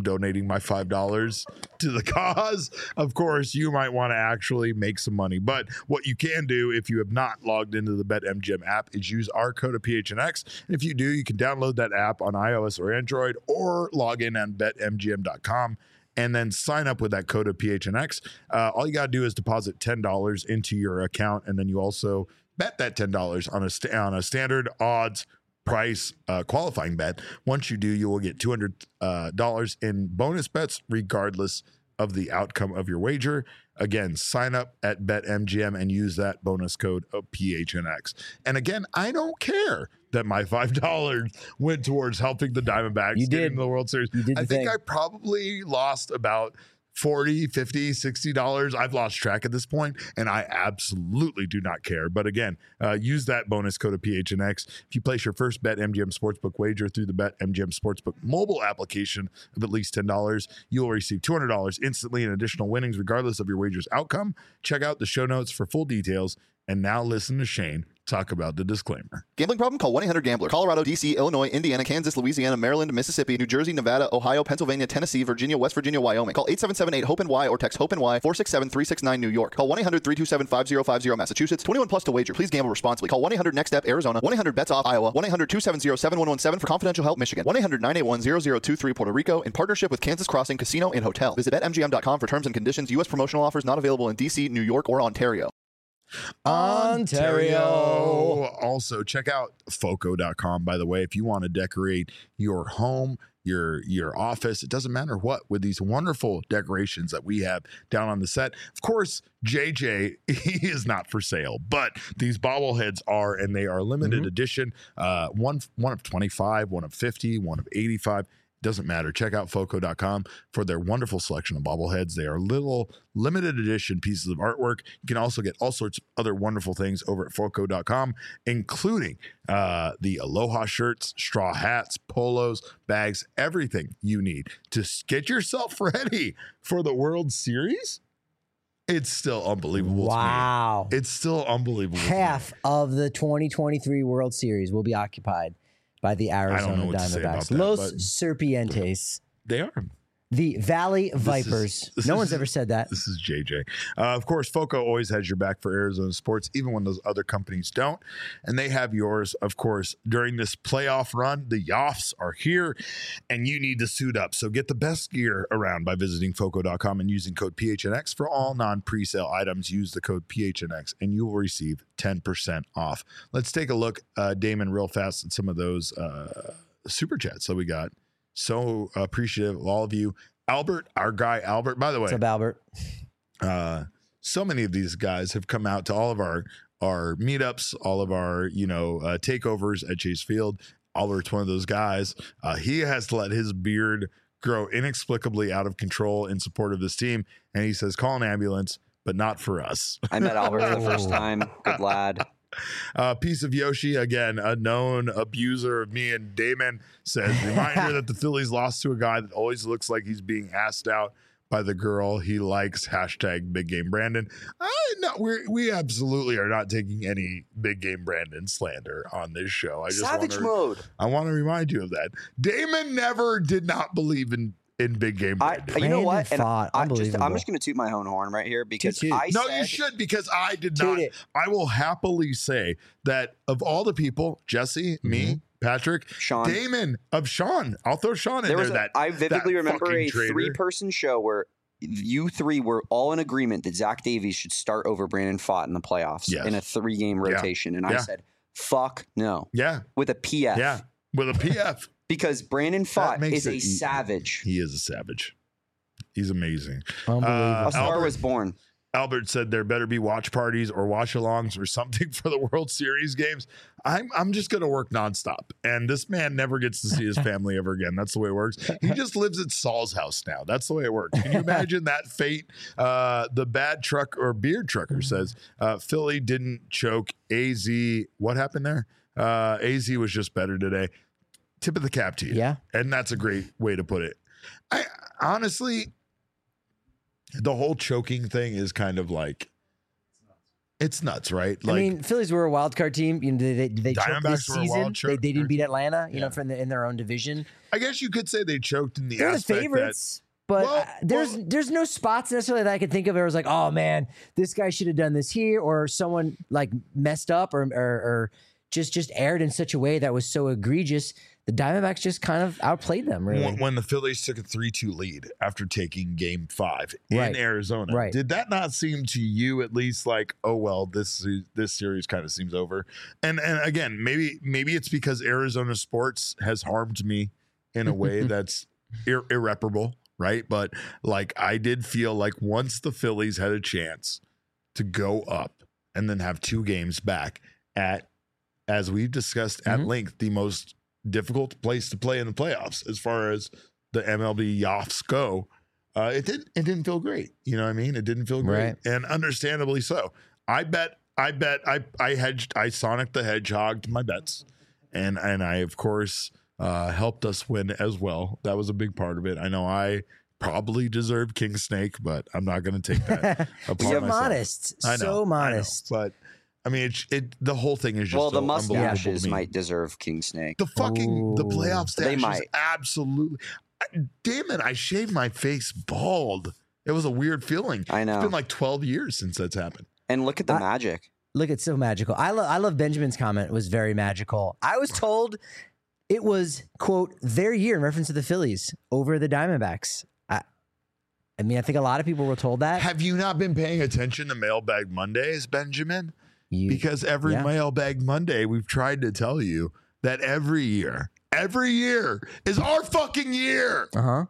donating my five dollars to the cause. Of course, you might want to actually make some money. But what you can do if you have not logged into the BetMGM app is use our code of P H N X. And if you do, you can download that app on iOS or Android or log in on bet M G M dot com and then sign up with that code of P H N X. Uh, all you got to do is deposit ten dollars into your account, and then you also bet that ten dollars on a, st- on a standard odds price uh, qualifying bet. Once you do, you will get two hundred dollars uh, in bonus bets regardless of the outcome of your wager. Again, sign up at BetMGM and use that bonus code of P H N X. And again, I don't care that my five dollars went towards helping the Diamondbacks You get did. into the World Series. You did the I think thing. I probably lost about forty, fifty, sixty dollars. I've lost track at this point, and I absolutely do not care. But again, uh, use that bonus code of P H N X. If you place your first BetMGM Sportsbook wager through the BetMGM Sportsbook mobile application of at least ten dollars, you will receive two hundred dollars instantly in additional winnings regardless of your wager's outcome. Check out the show notes for full details. And now listen to Shane talk about the disclaimer. Gambling problem? Call one eight hundred gambler. Colorado, D C, Illinois, Indiana, Kansas, Louisiana, Maryland, Mississippi, New Jersey, Nevada, Ohio, Pennsylvania, Tennessee, Virginia, West Virginia, Wyoming. Call eight seven seven eight hope N Y or text HOPE-N Y four six seven three six nine New York. Call one eight hundred three two seven five zero five zero Massachusetts. twenty-one plus to wager. Please gamble responsibly. Call one eight hundred next step Arizona. one eight hundred bets off Iowa. one eight hundred two seven zero seven one one seven for confidential help Michigan. one eight hundred nine eight one zero zero two three Puerto Rico in partnership with Kansas Crossing Casino and Hotel. Visit bet M G M dot com for terms and conditions. U S promotional offers not available in D C, New York, or Ontario. Ontario. Also, check out foco dot com, by the way, if you want to decorate your home, your your office, it doesn't matter what, with these wonderful decorations that we have down on the set. Of course, J J, he is not for sale, but these bobbleheads are, and they are limited Mm-hmm. edition. Uh, one, one of twenty-five, one of fifty, one of eighty-five. Doesn't matter. Check out foco dot com for their wonderful selection of bobbleheads. They are little limited edition pieces of artwork. You can also get all sorts of other wonderful things over at foco dot com, including uh, the Aloha shirts, straw hats, polos, bags, everything you need to s- get yourself ready for the World Series. It's still unbelievable. Wow. To me. It's still unbelievable. to me. Half of the twenty twenty-three World Series will be occupied by the Arizona what to say about Diamondbacks. that, Los but- Serpientes. They are. The Valley This is- Vipers. this no is- one's ever said that. This is J J. Uh, of course, Foco always has your back for Arizona sports, even when those other companies don't. And they have yours, of course, during this playoff run. The Yoffs are here, and you need to suit up. So get the best gear around by visiting foco dot com and using code P H N X for all non-presale items. Use the code P H N X, and you will receive ten percent off. Let's take a look, uh, Damon, real fast at some of those uh, super chats that we got. So appreciative of all of you. Albert, our guy Albert, by the way, What's up, Albert? uh, so many of these guys have come out to all of our our meetups, all of our you know uh, takeovers at Chase Field. Albert's one of those guys. Uh, he has let his beard grow inexplicably out of control in support of this team, and he says, "Call an ambulance, but not for us." I met Albert for the first time. Good lad. Uh, Piece of Yoshi, again, a known abuser of me and Damon, says, reminder that the Phillies lost to a guy that always looks like he's being asked out by the girl he likes. Hashtag Big Game Brandon. I no, we we absolutely are not taking any Big Game Brandon slander on this show. I just Savage wanna, mode. I want to remind you of that. Damon never did not believe in in Big Game I, Brandon. you know what? Brandon And Pfaadt, I just, I'm unbelievable. just going to toot my own horn right here because Toot, toot. I No, said, you should, because I did Toot not. it. I will happily say that of all the people, Jesse, me, Patrick, Sean. Damon, of Sean, I'll throw Sean in there there. was a, that I vividly that remember fucking a traitor. three-person show where you three were all in agreement that Zach Davies should start over Brandon Pfaadt in the playoffs Yes. in a three-game Yeah. rotation, and I Yeah. said, "Fuck no," Yeah, with a P F. yeah, with a P F. Because Brandon That Pfaadt makes is it a e- savage. He is a savage. He's amazing. Unbelievable. Uh, A star Albert- was born. Albert said there better be watch parties or watch-alongs or something for the World Series games. I'm I'm just going to work nonstop. And this man never gets to see his family ever again. That's the way it works. He just lives at Saul's house now. That's the way it works. Can you imagine that fate? Uh, the bad truck or beard trucker says uh, Philly didn't choke A Z. What happened there? Uh, A Z was just better today. Tip of the cap to you. Yeah. And that's a great way to put it. I honestly, the whole choking thing is kind of like, it's nuts, right? Like, I mean, Phillies were a wild card team. You know, they they, they choked this Diamondbacks were a wild season. They, choke- they didn't beat Atlanta. You Yeah. know, from the, in their own division. I guess you could say they choked in the They're the aspect favorites. But Well, uh, there's well- there's no spots necessarily that I could think of where it was like, oh man, this guy should have done this here, or someone like messed up or or, or just just aired in such a way that was so egregious. The Diamondbacks just kind of outplayed them, really. When, when the Phillies took a three two lead after taking game five in Right. Arizona, Right. did that not seem to you at least like, oh, well, this this series kind of seems over? And and again, maybe maybe it's because Arizona sports has harmed me in a way that's ir- irreparable, right? But like I did feel like once the Phillies had a chance to go up and then have two games back at, as we've discussed at Mhm. length, the most difficult place to play in the playoffs as far as the M L B Yoffs go. Uh, it didn't. It didn't feel great. You know what I mean? It didn't feel great, Right. and understandably so. I bet. I bet. I I hedged. I Sonic the Hedgehog my bets, and and I of course uh, helped us win as well. That was a big part of it. I know I probably deserved King Snake, but I'm not going to take that upon You're myself. modest, I know, so I know, modest. but I mean, it, it. The whole thing is just Well, the so unbelievable to mustaches me. might deserve King Snake. The fucking the Ooh. playoff stash They is might. absolutely. I, damn it! I shaved my face bald. It was a weird feeling. I know. It's been like twelve years since that's happened. And look at the I- magic. Look, it's so magical. I love I love Benjamin's comment. It was very magical. I was told it was, quote, their year in reference to the Phillies over the Diamondbacks. I, I mean, I think a lot of people were told that. Have you not been paying attention to Mailbag Mondays, Benjamin? You- Because every yeah. Mailbag Monday, we've tried to tell you that every year, every year is our fucking year. uh-huh.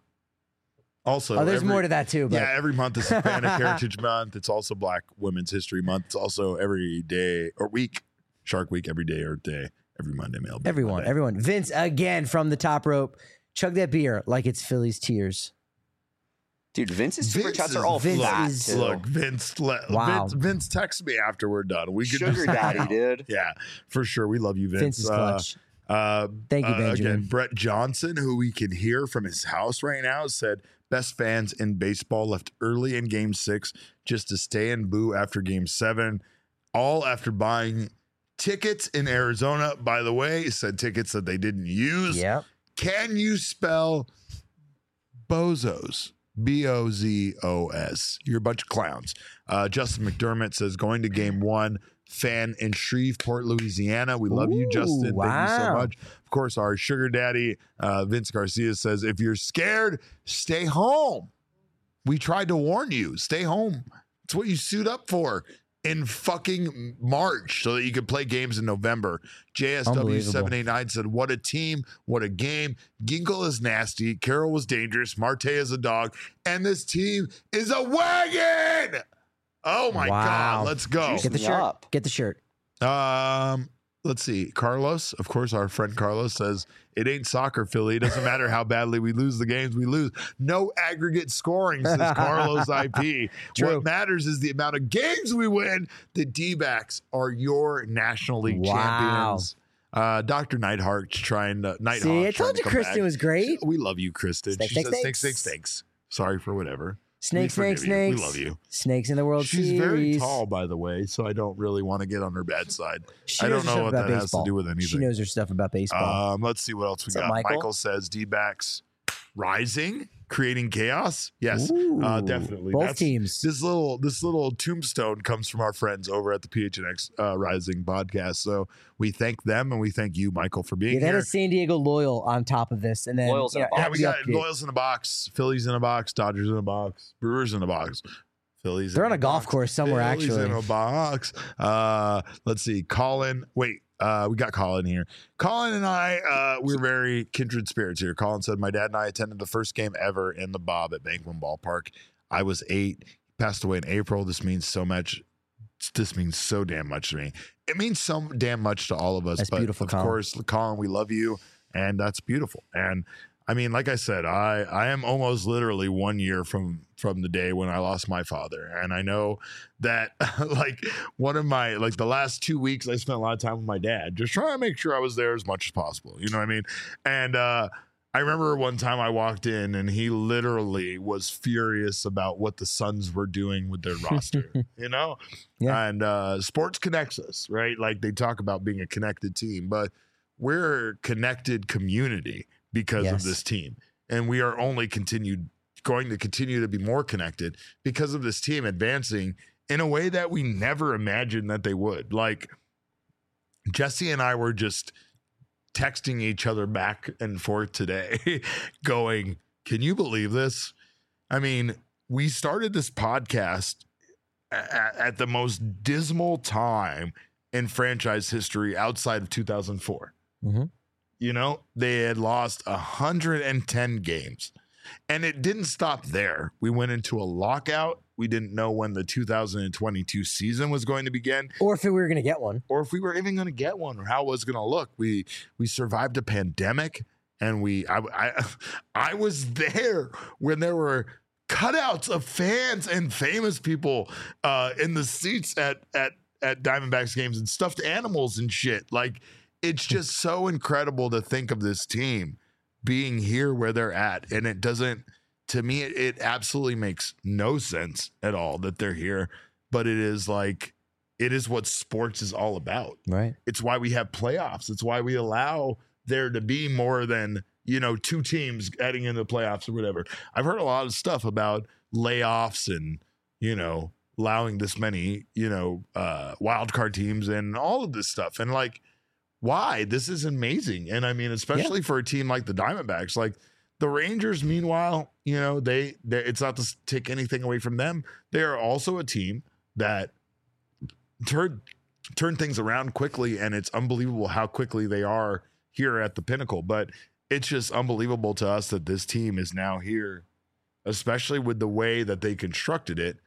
Also, Oh, there's every- more to that too. But Yeah, every month is Hispanic Heritage Month. It's also Black Women's History Month. It's also every day or week, Shark Week, every day or day, every Monday Mailbag everyone, Monday. everyone. Vince, again, from the top rope. Chug that beer like it's Philly's tears. Dude, Vince's super Vince chats is- are all Vince fat, is- too. Look, Vince, let, Wow. Vince, Vince, text me after we're done. We could Sugar just daddy, dude. Yeah, for sure. We love you, Vince. Vince is Uh, clutch. Uh, Thank you, uh, Benjamin. Again, Brett Johnson, who we can hear from his house right now, said best fans in baseball left early in game six just to stay and boo after game seven, all after buying tickets in Arizona. By the way, said tickets that they didn't use. Yep. Can you spell bozos? B O Z O S. You're a bunch of clowns. Uh, Justin McDermott says going to game one. Fan in Shreveport, Louisiana. We love you, Ooh, Justin. Thank you so wow. much. Of course, our sugar daddy, uh, Vince Garcia, says if you're scared, stay home. We tried to warn you. Stay home. It's what you suit up for in fucking March so that you could play games in November. J S W Unbelievable. seven eight nine said, what a team, what a game. Ginkle is nasty. Carroll was dangerous. Marte is a dog. And this team is a wagon. Oh my Wow. God. Let's go. Juice Get the me shirt. up. Get the shirt. Um, let's see. Carlos, of course, our friend Carlos says it ain't soccer, Philly. It doesn't matter how badly we lose the games, we lose. No aggregate scoring, says Carlos I P. True. What matters is the amount of games we win. The D-backs are your National League Wow. champions. Uh, Doctor Nightheart's trying to. Nighthawk See, I trying told to you come Kristen back. was great. We love you, Kristen. Snakes, she snakes, says snakes, snakes. snakes, snakes. Sorry for whatever. Snakes, We snakes, forgive you. snakes. We love you. Snakes in the World She's Series. very tall, by the way, so I don't really want to get on her bad side. She I knows don't her know stuff what about that baseball. has to do with anything. She knows her stuff about baseball. Um, let's see what else we What's up, got. Michael? Michael says D-backs rising, creating chaos. Yes, uh, Ooh, definitely. Both That's- teams. This little this little tombstone comes from our friends over at the P H N X uh, Rising podcast. So we thank them and we thank you, Michael, for being Yeah, that here. is San Diego Loyal on top of this, and then Loyal's you know, in a box. Yeah, add we the got update. Loyals in a box, Phillies in a box, Dodgers in a box, Brewers in a box. Phillies. They're in on a golf box, course somewhere, Phillies actually. in a box. Uh, let's see. Colin. Wait, uh, we got Colin here. Colin and I, uh, we're very kindred spirits here. Colin said, my dad and I attended the first game ever in the Bob at Banquet Ballpark. I was eight. He passed away in April. This means so much. This means so damn much to me. It means so damn much to all of us. That's but beautiful, of Colin. course, Colin, we love you, and that's beautiful. And I mean, like I said, I I am almost literally one year from from the day when I lost my father, and I know that like one of my like the last two weeks I spent a lot of time with my dad, just trying to make sure I was there as much as possible. You know what I mean? And uh, I remember one time I walked in and he literally was furious about what the Suns were doing with their roster. You know, Yeah. and uh, sports connects us, right? Like they talk about being a connected team, but we're a connected community because of Yes. this team, and we are only continued going to continue to be more connected because of this team advancing in a way that we never imagined that they would. Like, Jesse and I were just texting each other back and forth today going, can you believe this? I mean, we started this podcast at, at the most dismal time in franchise history outside of two thousand four. Mm-hmm. You know, they had lost one hundred ten games. And it didn't stop there. We went into a lockout. We didn't know when the two thousand twenty-two season was going to begin. Or if we were going to get one. Or if we were even going to get one, or how it was going to look. We we survived a pandemic, and we I, I, I was there when there were cutouts of fans and famous people uh, in the seats at, at, at Diamondbacks games and stuffed animals and shit. Like, it's just so incredible to think of this team being here where they're at. And it doesn't, to me, it, it absolutely makes no sense at all that they're here. But it is like, it is what sports is all about. Right. It's why we have playoffs. It's why we allow there to be more than, you know, two teams heading into the playoffs or whatever. I've heard a lot of stuff about layoffs and, you know, allowing this many, you know, uh, wild card teams and all of this stuff. And like, why? This is amazing. And I mean, especially yeah. for a team like the Diamondbacks, like the Rangers, meanwhile, you know, they, they it's not to take anything away from them. They are also a team that turned turn things around quickly, and it's unbelievable how quickly they are here at the pinnacle. But it's just unbelievable to us that this team is now here, especially with the way that they constructed it,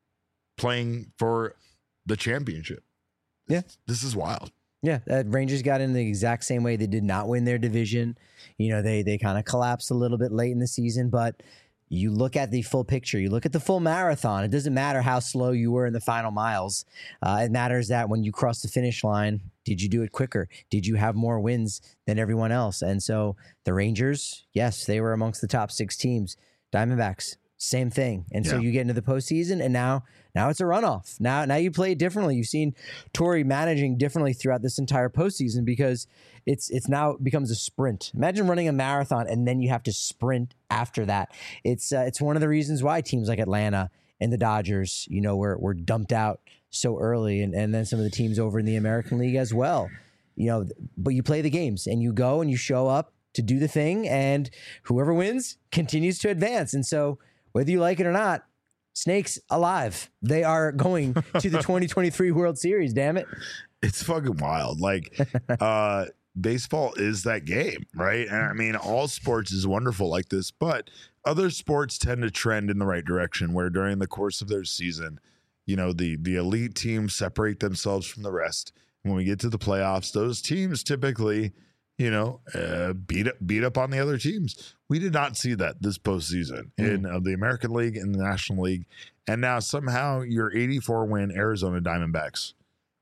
playing for the championship. Yeah. This is wild. Yeah, uh, Rangers got in the exact same way. They did not win their division. You know, they they kind of collapsed a little bit late in the season, but you look at the full picture. You look at the full marathon. It doesn't matter how slow you were in the final miles. Uh, it matters that when you cross the finish line, did you do it quicker? Did you have more wins than everyone else? And so the Rangers, yes, they were amongst the top six teams. Diamondbacks, same thing. And yeah. so you get into the postseason, and now now it's a runoff. Now now you play it differently. You've seen Torey managing differently throughout this entire postseason because it's it's now it becomes a sprint. Imagine running a marathon and then you have to sprint after that. It's uh, it's one of the reasons why teams like Atlanta and the Dodgers, you know, were were dumped out so early, and, and then some of the teams over in the American League as well. You know, but you play the games and you go and you show up to do the thing, and whoever wins continues to advance. And so whether you like it or not, Snakes alive. They are going to the twenty twenty-three World Series, damn it. It's fucking wild. Like, uh, baseball is that game, right? And I mean, all sports is wonderful like this, but other sports tend to trend in the right direction where during the course of their season, you know, the, the elite teams separate themselves from the rest. When we get to the playoffs, those teams typically, you know, uh, beat up, beat up on the other teams. We did not see that this postseason mm. in uh, the American League and the National League. And now somehow your eighty-four win Arizona Diamondbacks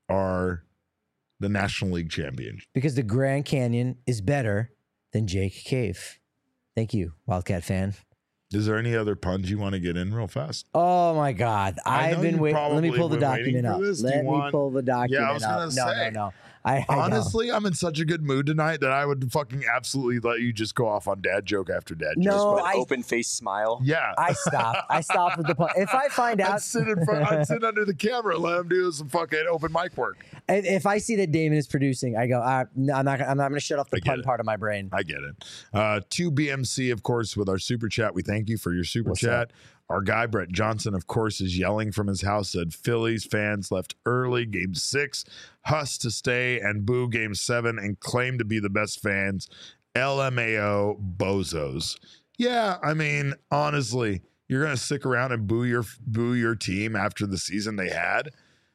are the National League champion. Because the Grand Canyon is better than Jake Cave. Thank you, Wildcat fan. Is there any other puns you want to get in real fast? Oh my God. I've been waiting. Let me pull the document up. Let me want... pull the document yeah, I was up. gonna No, say. no, no. I, I Honestly, know. I'm in such a good mood tonight that I would fucking absolutely let you just go off on dad joke after dad joke. No, With an I, open face smile. Yeah. I stopped. I stopped with the pun. If I find out. I'd sit, in front, I'd sit under the camera and let him do some fucking open mic work. And if I see that Damon is producing, I go, uh, no, I'm not, I'm not going to shut off the pun it. part of my brain. I get it. Uh, to B M C, of course, with our super chat. We thank you for your super What's chat. up? Our guy, Brett Johnson, of course, is yelling from his house, said Phillies fans left early, game six, Huss to stay and boo game seven and claim to be the best fans. L M A O bozos. Yeah, I mean, honestly, you're going to stick around and boo your boo your team after the season they had?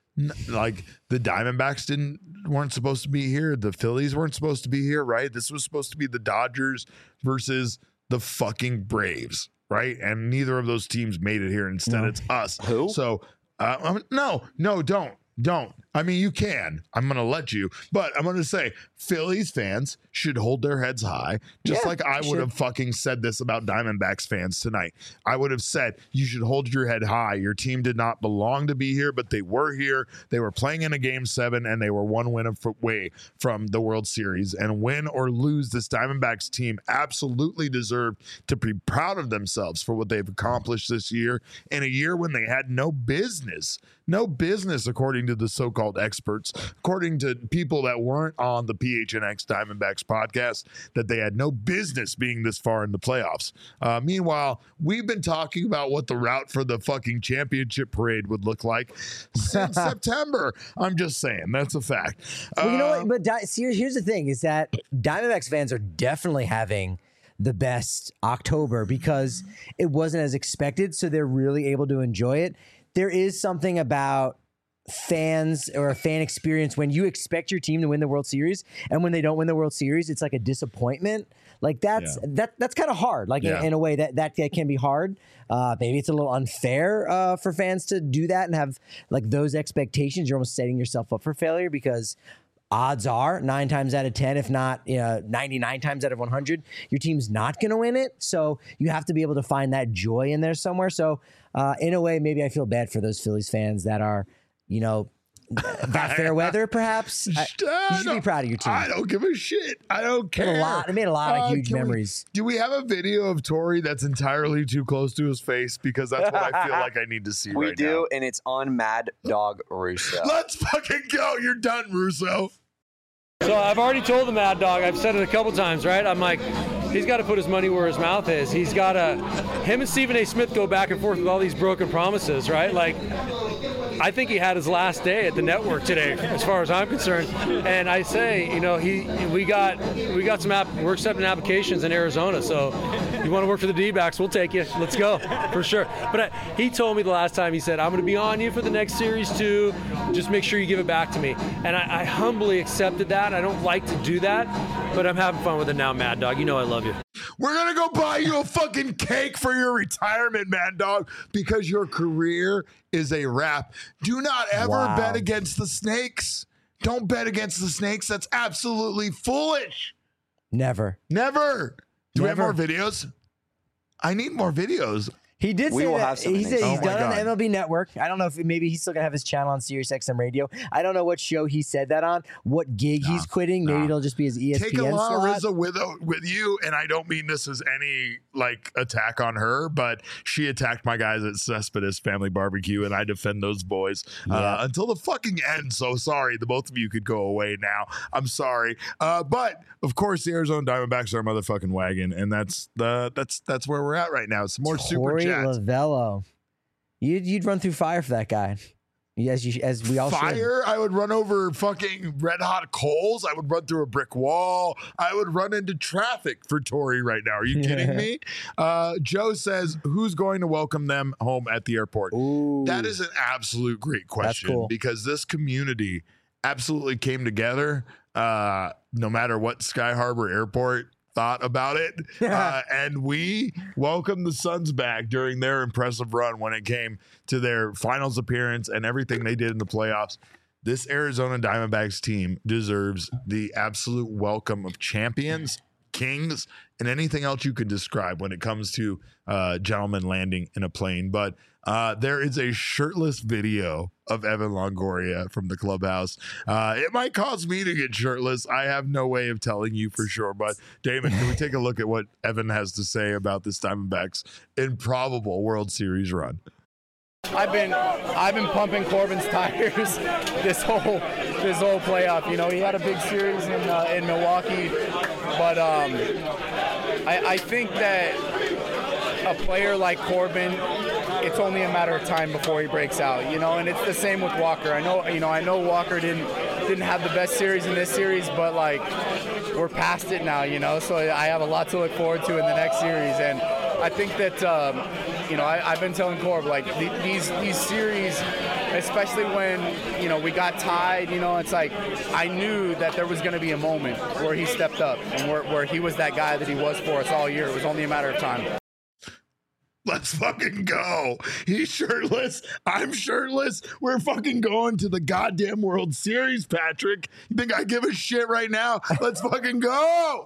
Like, the Diamondbacks didn't weren't supposed to be here. The Phillies weren't supposed to be here, right? This was supposed to be the Dodgers versus the fucking Braves. Right, and neither of those teams made it here. Instead, No. it's us. Who? So, uh, um, no, no, don't. Don't. I mean, you can. I'm going to let you. But I'm going to say Phillies fans should hold their heads high, just Yeah, like I would should. have fucking said this about Diamondbacks fans tonight. I would have said, you should hold your head high. Your team did not belong to be here, but they were here. They were playing in a game seven, and they were one win away from the World Series. And win or lose, this Diamondbacks team absolutely deserved to be proud of themselves for what they've accomplished this year in a year when they had no business. No business, according to the so-called experts, according to people that weren't on the P H N X Diamondbacks podcast, that they had no business being this far in the playoffs. Uh, meanwhile, we've been talking about what the route for the fucking championship parade would look like since September. I'm just saying, that's a fact. Well, you know Uh, what? But Di- see, here's the thing: is that Diamondbacks fans are definitely having the best October because it wasn't as expected, so they're really able to enjoy it. There is something about fans or a fan experience when you expect your team to win the World Series, and when they don't win the World Series, it's like a disappointment. Like that's Yeah. that that's kind of hard. Like Yeah. in, in a way that, that that can be hard. Uh, maybe it's a little unfair uh, for fans to do that and have like those expectations. You're almost setting yourself up for failure because odds are nine times out of ten, if not you know, ninety-nine times out of one hundred, your team's not going to win it. So you have to be able to find that joy in there somewhere. So uh, in a way, maybe I feel bad for those Phillies fans that are, you know, that fair weather, perhaps. I, you should be proud of your team. I don't give a shit. I don't It care. made a lot, it made a lot of Uh, huge can we- memories. do we have a video of Tori that's entirely too close to his face? Because that's what I feel like I need to see We right do, and it's on Mad Dog Russo. now. Let's fucking go. You're done, Russo. So I've already told the Mad Dog, I've said it a couple times, right? I'm like, he's got to put his money where his mouth is. He's got to, him and Stephen A. Smith go back and forth with all these broken promises, right? Like, I think he had his last day at the network today, as far as I'm concerned. And I say, you know, he we got we got some app, we're accepting applications in Arizona. So you want to work for the D-backs, we'll take you. Let's go for sure. But I, he told me the last time, he said, I'm going to be on you for the next series too. Just make sure you give it back to me. And I, I humbly accepted that. I don't like to do that, but I'm having fun with it now, Mad Dog. You know I love you. We're going to go buy you a fucking cake for your retirement, Mad Dog, because your career is a wrap. Do not ever Wow. bet against the snakes. Don't bet against the snakes. That's absolutely foolish. Never. Never. Do we have Never. more videos? I need more videos. He did We say will that. have some He in said it. he's Oh my done on the God. M L B Network. I don't know if maybe he's still gonna have his channel on Sirius X M Radio. I don't know what show he said that on, what gig he's quitting. Maybe nah. it'll just be his E S P N Take Alana slot. Rizzo with with you, and I don't mean this as any like attack on her, but she attacked my guys at Cespedes Family Barbecue, and I defend those boys uh, Yeah. until the fucking end. So sorry, the both of you could go away now. I'm sorry, uh, but of course the Arizona Diamondbacks are a motherfucking wagon, and that's the that's that's where we're at right now. Some more super Torey chats. Lavello. You'd you'd run through fire for that guy. As you as we all should. Fire, I would run over fucking red hot coals. I would run through a brick wall. I would run into traffic for Tori right now. Are you kidding me? Uh, Joe says, who's going to welcome them home at the airport? Ooh. That is an absolute great question cool. because this community absolutely came together uh, no matter what Sky Harbor Airport thought about it. uh, and we welcomed the Suns back during their impressive run when it came to their finals appearance and everything they did in the playoffs. This Arizona Diamondbacks team deserves the absolute welcome of champions, kings, and anything else you could describe when it comes to uh, gentlemen landing in a plane. But uh, there is a shirtless video of Evan Longoria from the clubhouse. Uh, it might cause me to get shirtless. I have no way of telling you for sure. But Damon, can we take a look at what Evan has to say about this Diamondbacks improbable World Series run? I've been I've been pumping Corbin's tires this whole this whole playoff. You know, he had a big series in uh, in Milwaukee, but um, I, I think that a player like Corbin, it's only a matter of time before he breaks out. You know, and it's the same with Walker. I know you know I know Walker didn't didn't have the best series in this series, but like we're past it now. You know, so I have a lot to look forward to in the next series, and I think that. Um, You know, I, I've been telling Corb, like, the, these these series, especially when, you know, we got tied, you know, it's like, I knew that there was going to be a moment where he stepped up and where, where he was that guy that he was for us all year. It was only a matter of time. Let's fucking go. He's shirtless. I'm shirtless. We're fucking going to the goddamn World Series, Patrick. You think I give a shit right now? Let's fucking go.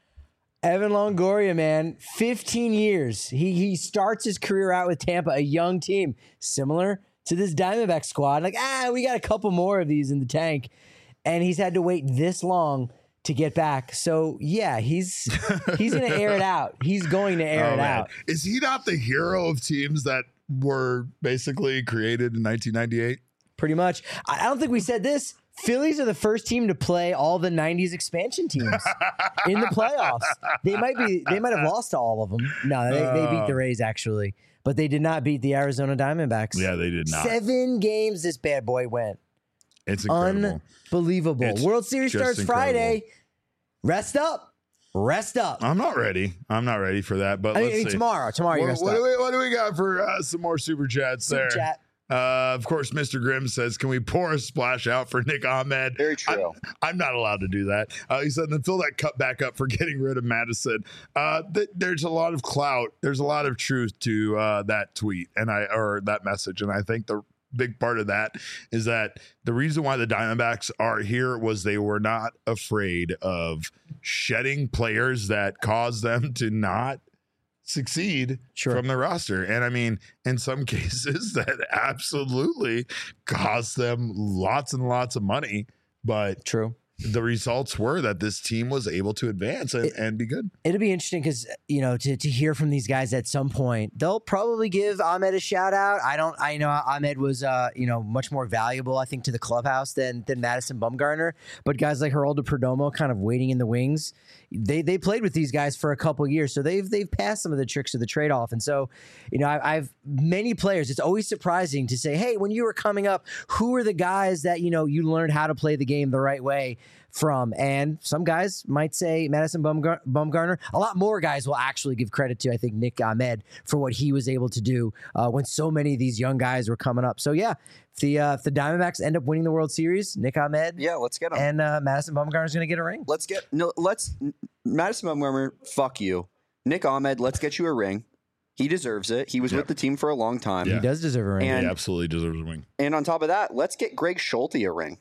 Evan Longoria, man, fifteen years. He he starts his career out with Tampa, a young team, similar to this Diamondback squad. Like, ah, we got a couple more of these in the tank. And he's had to wait this long to get back. So, yeah, he's he's going to air it out. He's going to air oh, it man. out. Is he not the hero of teams that were basically created in nineteen ninety-eight? Pretty much. I don't think we said this. Phillies are the first team to play all the nineties expansion teams in the playoffs. They might be. They might have lost to all of them. No, they, they beat the Rays, actually. But they did not beat the Arizona Diamondbacks. Yeah, they did not. Seven games this bad boy went. It's incredible. Unbelievable. It's World Series starts incredible. Friday. Rest up. Rest up. I'm not ready. I'm not ready for that. But I let's mean, see. tomorrow. Tomorrow What, you're what, gonna do start. we, what do we got for uh, some more super chats Super there? chat. Uh, of course, Mister Grimm says, can we pour a splash out for Nick Ahmed? Very true. I'm, I'm not allowed to do that. Uh, he said, then fill that cup back up for getting rid of Madison. Uh, th- there's a lot of clout. There's a lot of truth to uh, that tweet and I or that message. And I think the big part of that is that the reason why the Diamondbacks are here was they were not afraid of shedding players that caused them to not succeed Sure. from the roster. And I mean, in some cases that absolutely cost them lots and lots of money, but True. the results were that this team was able to advance and, It- and be good. It'll be interesting because, you know, to, to hear from these guys at some point, they'll probably give Ahmed a shout out. I don't, I know Ahmed was, uh, you know, much more valuable, I think, to the clubhouse than than Madison Bumgarner. But guys like Geraldo Perdomo kind of waiting in the wings. They they played with these guys for a couple years, so they've they've passed some of the tricks of the trade off. And so, you know, I, I've many players. It's always surprising to say, hey, when you were coming up, who are the guys that you know you learned how to play the game the right way from? And some guys might say Madison Bumgar- Bumgarner. A lot more guys will actually give credit to, I think, Nick Ahmed for what he was able to do uh, when so many of these young guys were coming up. So yeah, if the uh, if the Diamondbacks end up winning the World Series, Nick Ahmed, Yeah, let's get him. and uh, Madison Bumgarner is going to get a ring. Let's get no. Let's Madison Bumgarner. Fuck you, Nick Ahmed. Let's get you a ring. He deserves it. He was Yep. with the team for a long time. Yeah. He does deserve a ring. And- He absolutely deserves a wing. And on top of that, let's get Greg Schulte a ring.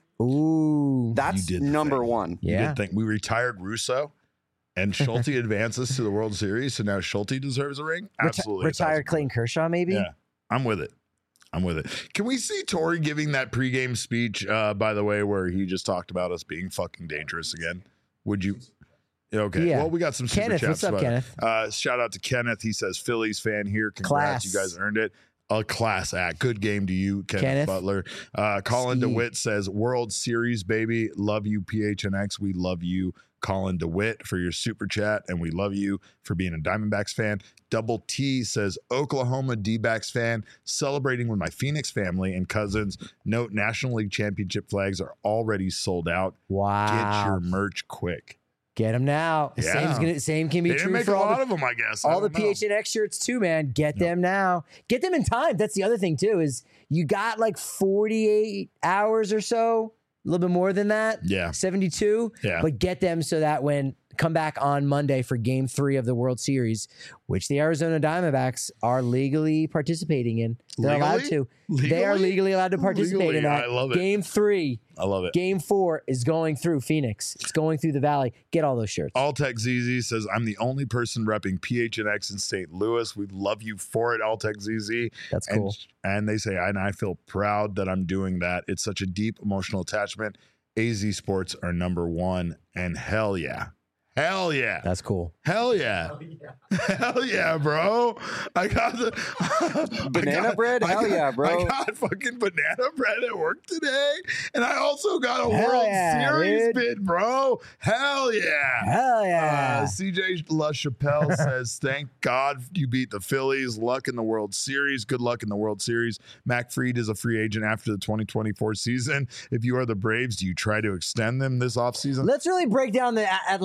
Ooh, That's You did the number thing. one. You yeah. did think we retired Russo and Schulte advances to the World Series, so now Schulte deserves a ring? Reti- Absolutely. retired Clayton Kershaw, maybe. Yeah, I'm with it. I'm with it. Can we see Torrey giving that pregame speech, uh, by the way, where he just talked about us being fucking dangerous again? Would you? Okay. Yeah. Well, we got some super Kenneth, chats. what's up, about it. Kenneth? Uh, shout out to Kenneth. He says, Phillies fan here. Congrats. Class. You guys earned it. A class act. Good game to you, Kenneth, Kenneth. Butler. Uh, Colin Steve. DeWitt says, World Series, baby. Love you, P H N X. We love you, Colin DeWitt, for your super chat. And we love you for being a Diamondbacks fan. Double T says, Oklahoma D-backs fan, celebrating with my Phoenix family and cousins. Note, National League Championship flags are already sold out. Wow. Get your merch quick. Get them now. Yeah. Same's gonna, same can be They didn't true make for a all lot the, of them, I guess. I all the don't know. P H N X shirts too, man. Get them now. Get them in time. That's the other thing too. Is you got like forty-eight hours or so, a little bit more than that. Yeah. seventy-two. Yeah. But get them so that when come back on Monday for Game Three of the World Series, which the Arizona Diamondbacks are legally participating in. They're allowed Legally? to. They are Legally? legally allowed to participate Legally, in that. I love it. Game Three. I love it. Game Four is going through Phoenix. It's going through the Valley. Get all those shirts. Alltech Z Z says, I'm the only person repping P H N X in Saint Louis. We love you for it, Alltech Z Z. That's And, cool. and they say, and I feel proud that I'm doing that. It's such a deep emotional attachment. A Z Sports are number one. And hell yeah. Hell yeah. That's cool. Hell yeah. Hell yeah, bro. I got the Banana I got- bread? I Hell got- yeah, bro. I got fucking banana bread at work today. And I also got a Hell World yeah, Series dude. bid, bro. Hell yeah. Hell yeah. Uh, C J LaChapelle says, thank God you beat the Phillies. Luck in the World Series. Good luck in the World Series. Mac Fried is a free agent after the twenty twenty-four season. If you are the Braves, do you try to extend them this offseason? Let's really break down the A- Atlanta's roster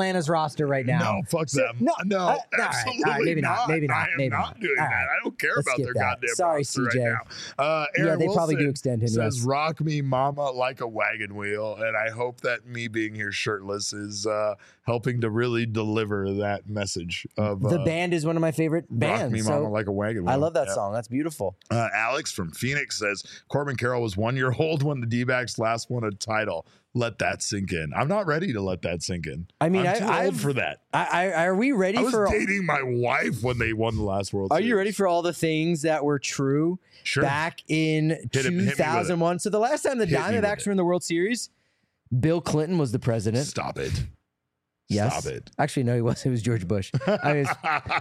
roster right now. No, fuck So- them. No, no, uh, all right, absolutely all right, maybe not, not. maybe not, I am maybe not not. doing All that. right. I don't care Let's about skip their that. goddamn Sorry, roster C J. right now. Uh, Aaron Yeah, they probably do Wilson extend him, says, yes. "Rock me, mama, like a wagon wheel," and I hope that me being here shirtless is uh, helping to really deliver that message of The uh, band is one of my favorite Rock bands. Me, so Mama, like a wagon wheel. I love that Yeah. song. That's beautiful. Uh, Alex from Phoenix says Corbin Carroll was one year old when the D-backs last won a title. Let that sink in. I'm not ready to let that sink in. I mean, I'm I, too I've, old for that. I, I, are we ready I was for? dating my wife when they won the last World Are Series. you ready for all the things that were true Sure. back in Hit it- hit me with two it. thousand one? So the last time the Hit me with Diamondbacks it. were in the World Series, Bill Clinton was the president. Stop it. Yes. Stop it. Actually, no, he was. It was George Bush. I mean, it's-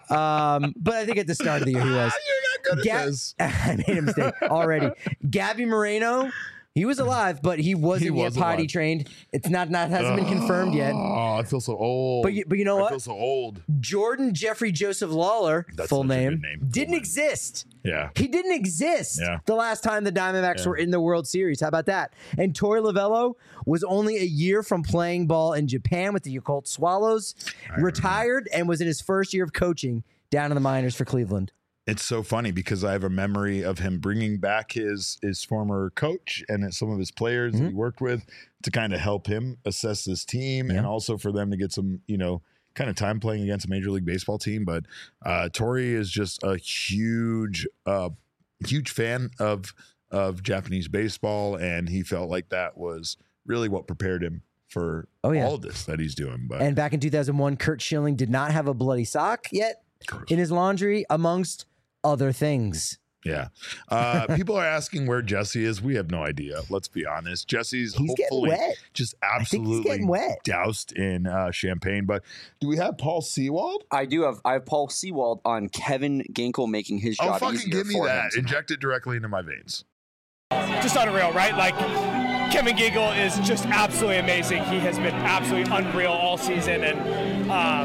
um, but I think at the start of the year he was. You're not good at Ga- this. I made a mistake already. Gabby Moreno, he was alive, but he wasn't He yet was potty alive. trained. It's not not hasn't been confirmed yet. Oh, I feel so old. But you, but you know I what? feel so old. Jordan Jeffrey Joseph Lawler, That's full such a name, good name. Full didn't name. exist. Yeah. He didn't exist Yeah. the last time the Diamondbacks Yeah. were in the World Series. How about that? And Torey Lovello was only a year from playing ball in Japan with the Yakult Swallows, retired, and was in his first year of coaching down in the minors for Cleveland. It's so funny because I have a memory of him bringing back his his former coach and some of his players Mm-hmm. that he worked with to kind of help him assess this team Yeah. and also for them to get some, you know, kind of time playing against a Major League Baseball team. But uh, Torey is just a huge, uh, huge fan of of Japanese baseball, and he felt like that was really what prepared him for Oh, yeah. all of this that he's doing. But And back in two thousand one, Kurt Schilling did not have a bloody sock yet in his laundry, amongst other things. yeah. Uh, people are asking where Jesse is. We have no idea. Let's be honest. Jesse's He's getting hopefully wet. just think he's absolutely getting wet. doused in uh, champagne. But do we have Paul Sewald? I do have I have Paul Sewald on Kevin Ginkel making his Oh, job fucking easier give me for him that. tonight. Inject it directly into my veins. Just unreal, right? Like, Kevin Ginkel is just absolutely amazing. He has been absolutely unreal all season. And, um,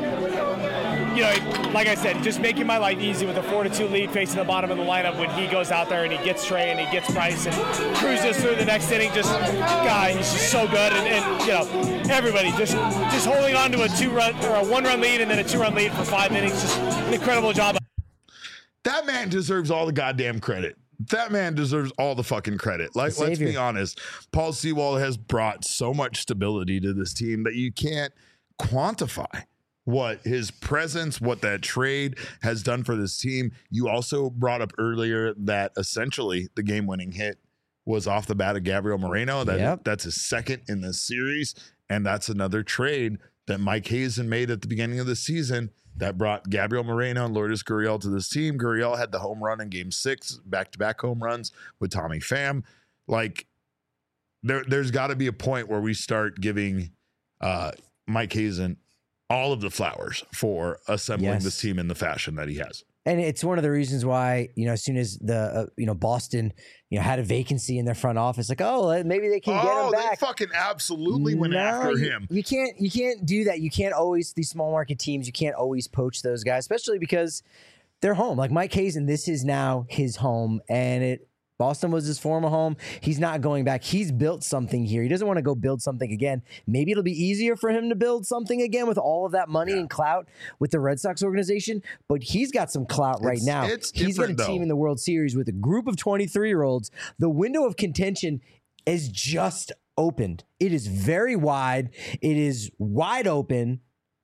you know, like I said, just making my life easy with a four to two lead facing the bottom of the lineup when he goes out there and he gets Trey and he gets Bryce and cruises through the next inning. Just, God, he's just so good. And, and you know, everybody just just holding on to a two-run or a one-run lead and then a two-run lead for five innings. Just an incredible job. That man deserves all the goddamn credit. That man deserves all the fucking credit. Like, let's savior. be honest. Paul Sewald has brought so much stability to this team that you can't quantify what his presence, what that trade has done for this team. You also brought up earlier that essentially the game-winning hit was off the bat of Gabriel Moreno. That Yep. that's his second in this series, and that's another trade that Mike Hazen made at the beginning of the season that brought Gabriel Moreno and Lourdes Gurriel to this team. Gurriel had the home run in Game Six, back-to-back home runs with Tommy Pham. Like, there, there's got to be a point where we start giving uh, Mike Hazen all of the flowers for assembling Yes. this team in the fashion that he has. And it's one of the reasons why, you know, as soon as the, uh, you know, Boston, you know, had a vacancy in their front office, like, oh, maybe they can get Oh, him they back. fucking absolutely went No, after you, him. You can't, you can't do that. You can't always, these small market teams, you can't always poach those guys, especially because they're home. Like Mike Hazen, this is now his home, and it, Boston was his former home. He's not going back. He's built something here. He doesn't want to go build something again. Maybe it'll be easier for him to build something again with all of that money Yeah. and clout with the Red Sox organization. But he's got some clout right It's- now. it's He's got a different, team though. in the World Series with a group of twenty-three-year-olds. The window of contention is just opened. It is very wide. It is wide open.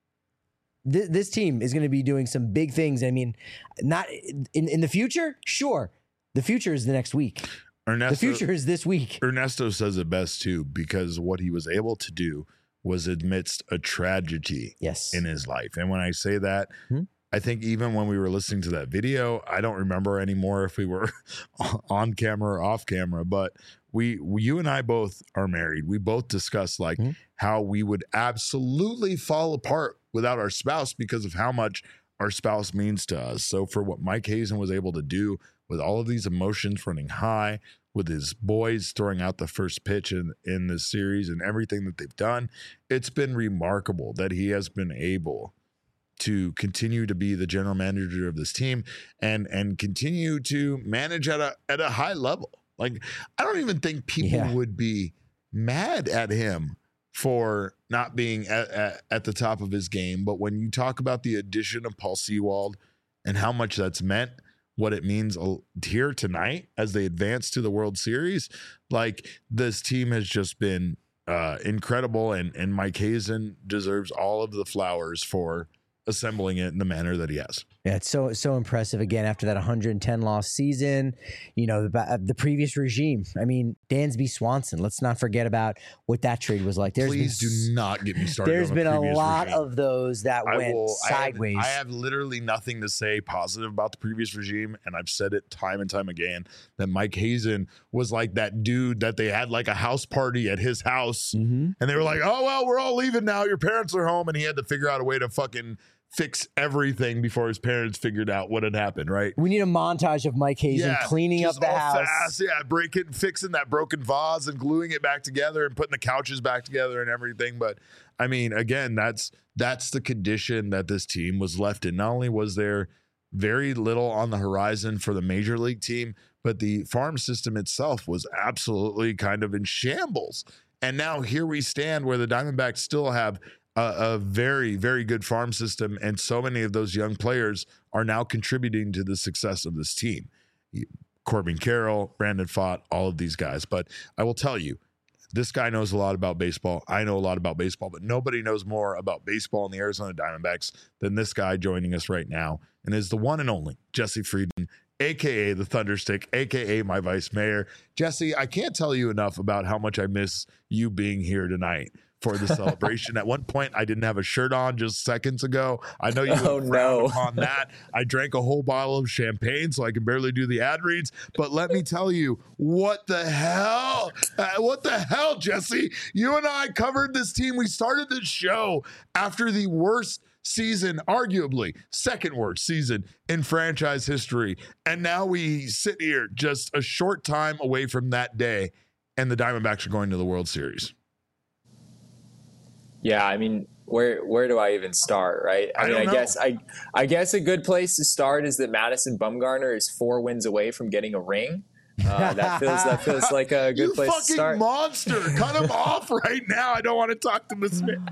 Th- this team is going to be doing some big things. I mean, not in, in the future, sure. The future is the next week. Ernesto, The future is this week. Ernesto says it best too, because what he was able to do was amidst a tragedy Yes. in his life. And when I say that, Hmm? I think even when we were listening to that video, I don't remember anymore if we were on camera or off camera, but we, you and I both are married. We both discussed like Hmm? how we would absolutely fall apart without our spouse because of how much our spouse means to us. So for what Mike Hazen was able to do with all of these emotions running high, with his boys throwing out the first pitch in, in this series and everything that they've done, it's been remarkable that he has been able to continue to be the general manager of this team and and continue to manage at a at a high level. Like, I don't even think people Yeah. would be mad at him for not being at, at, at the top of his game. But when you talk about the addition of Paul Sewald and how much that's meant, what it means here tonight as they advance to the World Series, like this team has just been uh, incredible. And, and Mike Hazen deserves all of the flowers for assembling it in the manner that he has. Yeah, it's so so impressive again after that one hundred ten loss season. You know, the, the previous regime. I mean, Dansby Swanson. Let's not forget about what that trade was like. There's Please been, do not get me started. There's on been a, a lot regime. of those that I went will, sideways. I have, I have literally nothing to say positive about the previous regime, and I've said it time and time again that Mike Hazen was like that dude that they had like a house party at his house, mm-hmm. and they were like, "Oh well, we're all leaving now. Your parents are home," and he had to figure out a way to fucking fix everything before his parents figured out what had happened, right? We need a montage of Mike Hazen yeah, cleaning up the house. Fast, yeah, breaking, fixing that broken vase and gluing it back together and putting the couches back together and everything. But I mean, again, that's that's the condition that this team was left in. Not only was there very little on the horizon for the major league team, but the farm system itself was absolutely kind of in shambles. And now here we stand where the Diamondbacks still have A, a very, very good farm system, and so many of those young players are now contributing to the success of this team. Corbin Carroll, Brandon Pfaadt, all of these guys. But I will tell you, this guy knows a lot about baseball. I know a lot about baseball, but nobody knows more about baseball in the Arizona Diamondbacks than this guy joining us right now, and is the one and only Jesse Friedman, a k a the Thunderstick, a k a my vice mayor. Jesse, I can't tell you enough about how much I miss you being here tonight for the celebration. At one point, I didn't have a shirt on just seconds ago. I know you oh, would frown no. upon that. I drank a whole bottle of champagne, so I can barely do the ad reads. But let me tell you, what the hell? Uh, what the hell, Jesse? You and I covered this team. We started this show after the worst season, arguably second worst season in franchise history. And now we sit here just a short time away from that day, and the Diamondbacks are going to the World Series. Yeah, I mean, where where do I even start, right? I, I mean, I know. guess I I guess a good place to start is that Madison Bumgarner is four wins away from getting a ring. Uh, that feels that feels like a good you place to start. You fucking monster! Cut him off right now. I don't want to talk to this man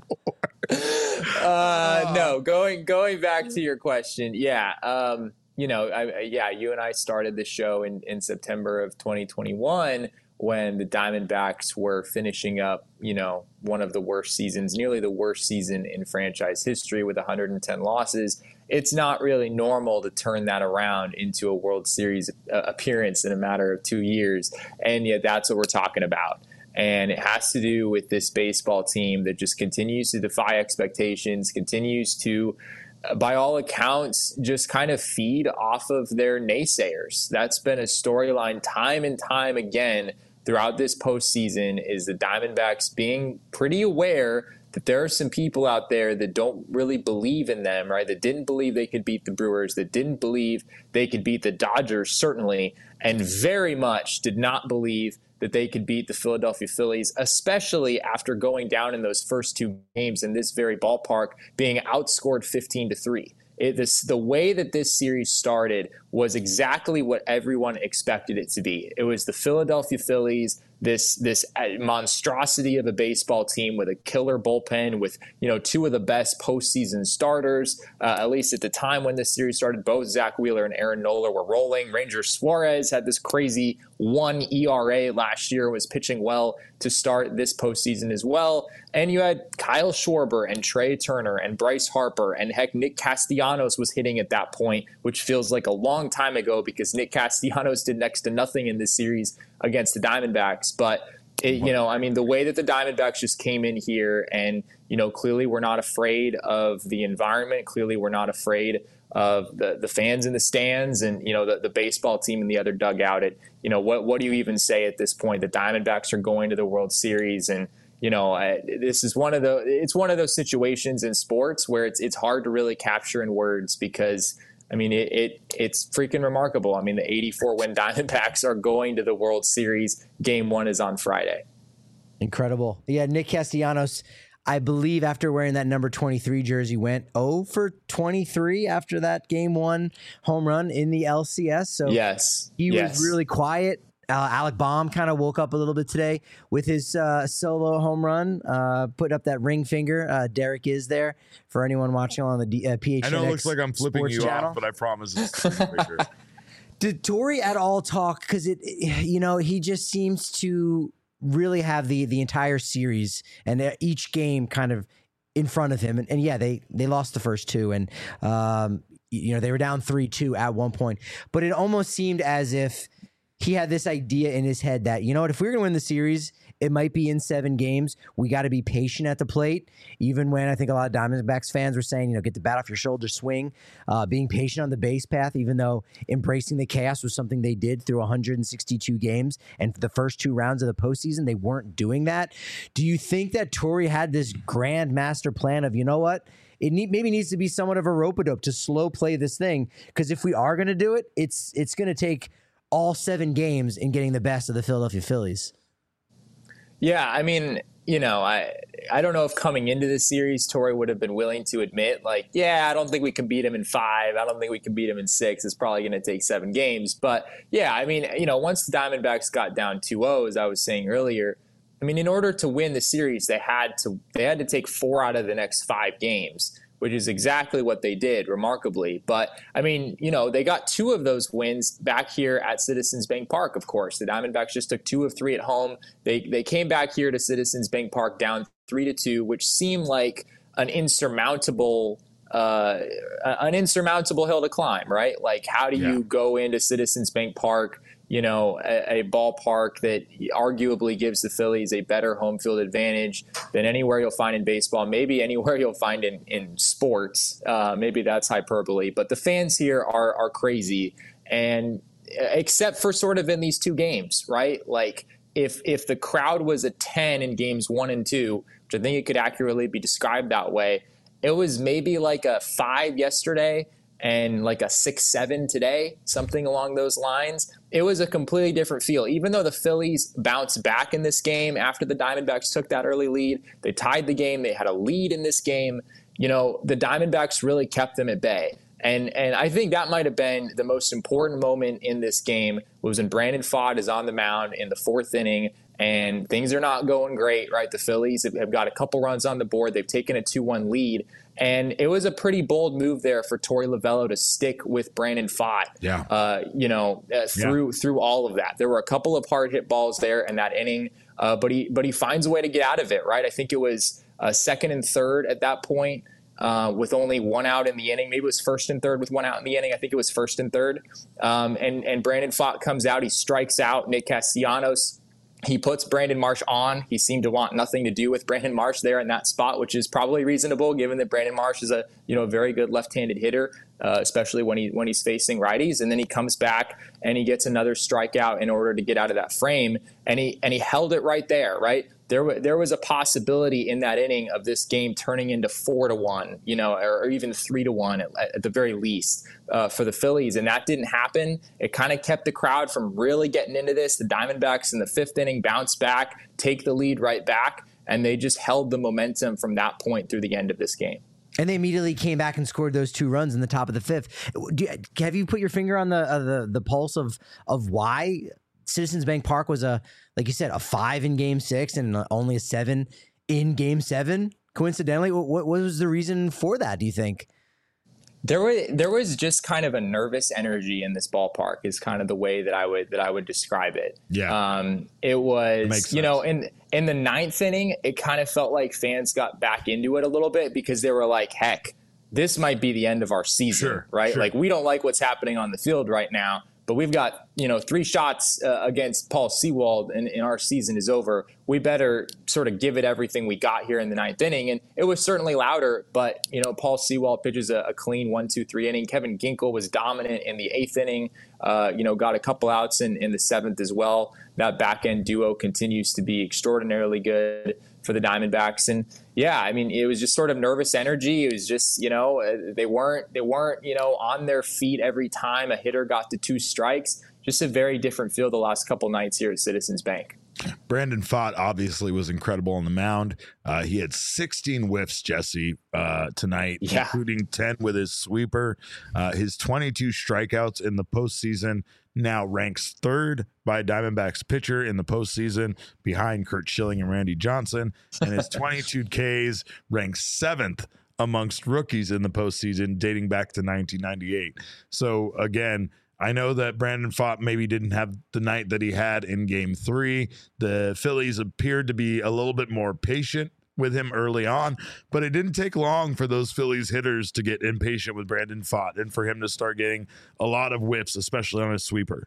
anymore. uh, no, going going back to your question, yeah, um, you know, I, yeah, you and I started the show in in September of twenty twenty-one. When the Diamondbacks were finishing up, you know, one of the worst seasons, nearly the worst season in franchise history with one hundred ten losses. It's not really normal to turn that around into a World Series uh, appearance in a matter of two years. And yet that's what we're talking about. And it has to do with this baseball team that just continues to defy expectations, continues to, by all accounts, just kind of feed off of their naysayers. That's been a storyline time and time again throughout this postseason, is the Diamondbacks being pretty aware that there are some people out there that don't really believe in them, right? That didn't believe they could beat the Brewers, that didn't believe they could beat the Dodgers, certainly, and very much did not believe that they could beat the Philadelphia Phillies, especially after going down in those first two games in this very ballpark, being outscored fifteen to three. It, this, the way that this series started was exactly what everyone expected it to be. It was the Philadelphia Phillies, this this monstrosity of a baseball team with a killer bullpen, with, you know, two of the best postseason starters, uh, at least at the time when this series started. Both Zach Wheeler and Aaron Nola were rolling. Ranger Suarez had this crazy one E R A last year, was pitching well to start this postseason as well. And you had Kyle Schwarber and Trey Turner and Bryce Harper, and heck, Nick Castellanos was hitting at that point, which feels like a long time ago because Nick Castellanos did next to nothing in this series against the Diamondbacks. But, it, you know, I mean, the way that the Diamondbacks just came in here and, you know, clearly we're not afraid of the environment. Clearly we're not afraid of the, the fans in the stands and, you know, the, the baseball team in the other dugout. It, you know, what, what do you even say at this point? The Diamondbacks are going to the World Series, and, you know, I, this is one of the, it's one of those situations in sports where it's, it's hard to really capture in words because, I mean, it, it it's freaking remarkable. I mean, the eighty-four win Diamondbacks are going to the World Series. Game one is on Friday. Incredible. Yeah, Nick Castellanos, I believe after wearing that number twenty-three jersey, went oh for twenty-three after that game one home run in the L C S. So yes, he yes. was really quiet Uh, Alec Baum kind of woke up a little bit today with his uh, solo home run, uh, put up that ring finger. Uh, Derek is there for anyone watching on the D- uh, P H N X. I know it looks like I'm flipping Sports you channel. off, but I promise it's the ring finger. Did Torey at all talk? Because it, you know, he just seems to really have the the entire series and each game kind of in front of him. And, and yeah, they they lost the first two, and um, you know they were down three two at one point. But it almost seemed as if he had this idea in his head that, you know what, if we're going to win the series, it might be in seven games. We got to be patient at the plate, even when I think a lot of Diamondbacks fans were saying, you know, get the bat off your shoulder, swing, uh, being patient on the base path, even though embracing the chaos was something they did through one hundred sixty-two games. And for the first two rounds of the postseason, they weren't doing that. Do you think that Torey had this grand master plan of, you know what, it need, maybe needs to be somewhat of a rope-a-dope to slow play this thing? Because if we are going to do it, it's it's going to take all seven games in getting the best of the Philadelphia Phillies. Yeah, I mean, you know, I I don't know if coming into this series, Torey would have been willing to admit, like, yeah, I don't think we can beat him in five. I don't think we can beat him in six. It's probably going to take seven games. But, yeah, I mean, you know, once the Diamondbacks got down two oh, as I was saying earlier, I mean, in order to win the series, they had to they had to take four out of the next five games, which is exactly what they did, remarkably. But, I mean, you know, they got two of those wins back here at Citizens Bank Park, of course. The Diamondbacks just took two of three at home. They they came back here to Citizens Bank Park down three to two, which seemed like an insurmountable uh, an insurmountable hill to climb, right? Like, how do you yeah. go into Citizens Bank Park, you know, a, a ballpark that arguably gives the Phillies a better home field advantage than anywhere you'll find in baseball, maybe anywhere you'll find in, in sports. Uh, maybe that's hyperbole, but the fans here are are crazy. And except for sort of in these two games, right? Like if if the crowd was a ten in games one and two, which I think it could accurately be described that way, it was maybe like a five yesterday and like a six seven today, something along those lines. It was a completely different feel. Even though the Phillies bounced back in this game after the Diamondbacks took that early lead, they tied the game, they had a lead in this game, you know, the Diamondbacks really kept them at bay. And and I think that might have been the most important moment in this game, was when Brandon Pfaadt is on the mound in the fourth inning and things are not going great, right? The Phillies have, have got a couple runs on the board. They've taken a two one lead. And it was a pretty bold move there for Torey Lovullo to stick with Brandon Pfaadt, yeah. uh, you know, uh, through yeah. through all of that. There were a couple of hard hit balls there in that inning, uh, but he but he finds a way to get out of it, right? I think it was uh, second and third at that point uh, with only one out in the inning. Maybe it was first and third with one out in the inning. I think it was first and third. Um, and, and Brandon Pfaadt comes out. He strikes out Nick Castellanos. He puts Brandon Marsh on. He seemed to want nothing to do with Brandon Marsh there in that spot, which is probably reasonable given that Brandon Marsh is a you know very good left-handed hitter, uh, especially when he when he's facing righties. And then he comes back and he gets another strikeout in order to get out of that frame, and he and he held it right there, right? There, w- there was a possibility in that inning of this game turning into four to one, you know, or, or even three to one at, at the very least uh, for the Phillies, and that didn't happen. It kind of kept the crowd from really getting into this. The Diamondbacks in the fifth inning bounce back, take the lead right back, and they just held the momentum from that point through the end of this game. And they immediately came back and scored those two runs in the top of the fifth. Do you, have you put your finger on the uh, the the pulse of of why Citizens Bank Park was a, like you said, a five in game six and only a seven in game seven? Coincidentally, what, what was the reason for that, do you think? There was there was just kind of a nervous energy in this ballpark, is kind of the way that I would that I would describe it. Yeah. Um, it was, you know, in in the ninth inning, it kind of felt like fans got back into it a little bit because they were like, heck, this might be the end of our season, sure, right? Sure. Like, we don't like what's happening on the field right now, but we've got, you know, three shots uh, against Paul Sewald and, and our season is over. We better sort of give it everything we got here in the ninth inning. And it was certainly louder, but, you know, Paul Sewald pitches a, a clean one, two, three inning. Kevin Ginkel was dominant in the eighth inning, uh, you know, got a couple outs in, in the seventh as well. That back end duo continues to be extraordinarily good for the Diamondbacks. And yeah, I mean, it was just sort of nervous energy. It was just, you know, they weren't, they weren't, you know, on their feet every time a hitter got to two strikes. Just a very different feel the last couple nights here at Citizens Bank. Brandon Pfaadt obviously was incredible on the mound. Uh, he had sixteen whiffs, Jesse, uh, tonight, yeah. including ten with his sweeper. Uh, his twenty-two strikeouts in the postseason now ranks third by Diamondbacks pitcher in the postseason behind Curt Schilling and Randy Johnson, and his twenty-two Ks ranks seventh amongst rookies in the postseason dating back to nineteen ninety-eight. So again, I know that Brandon Pfaadt maybe didn't have the night that he had in game three. The Phillies appeared to be a little bit more patient with him early on, but it didn't take long for those Phillies hitters to get impatient with Brandon Pfaadt and for him to start getting a lot of whiffs, especially on a sweeper.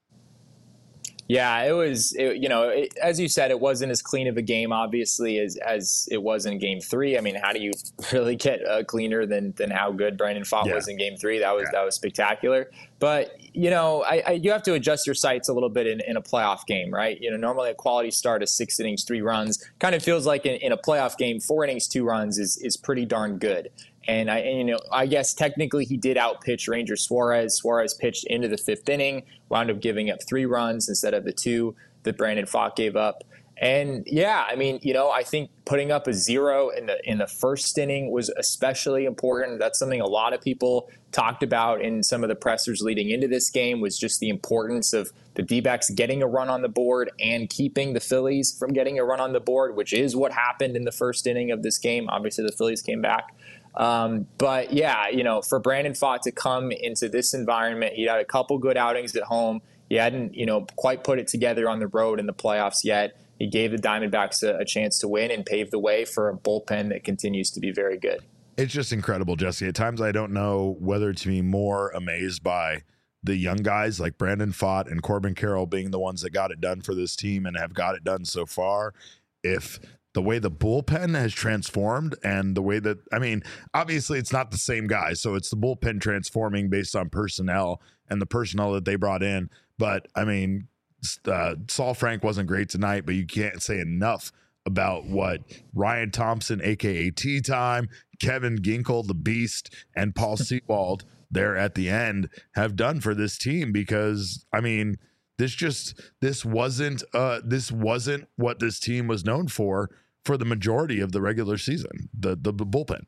Yeah, it was, it, you know, it, as you said, it wasn't as clean of a game, obviously, as as it was in game three. I mean, how do you really get uh, cleaner than than how good Brandon Pfaadt yeah. was in game three? That was yeah. that was spectacular. But, you know, I, I, you have to adjust your sights a little bit in, in a playoff game, right? You know, normally a quality start is six innings, three runs. Kind of feels like in, in a playoff game, four innings, two runs is is pretty darn good. And I, and, you know, I guess technically he did outpitch Ranger Suarez. Suarez pitched into the fifth inning, wound up giving up three runs instead of the two that Brandon Pfaadt gave up. And yeah, I mean, you know, I think putting up a zero in the in the first inning was especially important. That's something a lot of people talked about in some of the pressers leading into this game, was just the importance of the D-backs getting a run on the board and keeping the Phillies from getting a run on the board, which is what happened in the first inning of this game. Obviously, the Phillies came back. Um, but yeah, you know, for Brandon Pfaadt to come into this environment, he had a couple good outings at home. He hadn't, you know, quite put it together on the road in the playoffs yet. He gave the Diamondbacks a, a chance to win and paved the way for a bullpen that continues to be very good. It's just incredible, Jesse. At times I don't know whether to be more amazed by the young guys like Brandon Pfaadt and Corbin Carroll being the ones that got it done for this team and have got it done so far, if the way the bullpen has transformed and the way that, I mean, obviously it's not the same guy. So it's the bullpen transforming based on personnel and the personnel that they brought in. But I mean, uh, Saul Frank wasn't great tonight, but you can't say enough about what Ryan Thompson, A K A Tea Time, Kevin Ginkel, the Beast, and Paul Sewald there at the end have done for this team. Because I mean, this just, this wasn't, uh, this wasn't what this team was known for for the majority of the regular season, the the, the bullpen.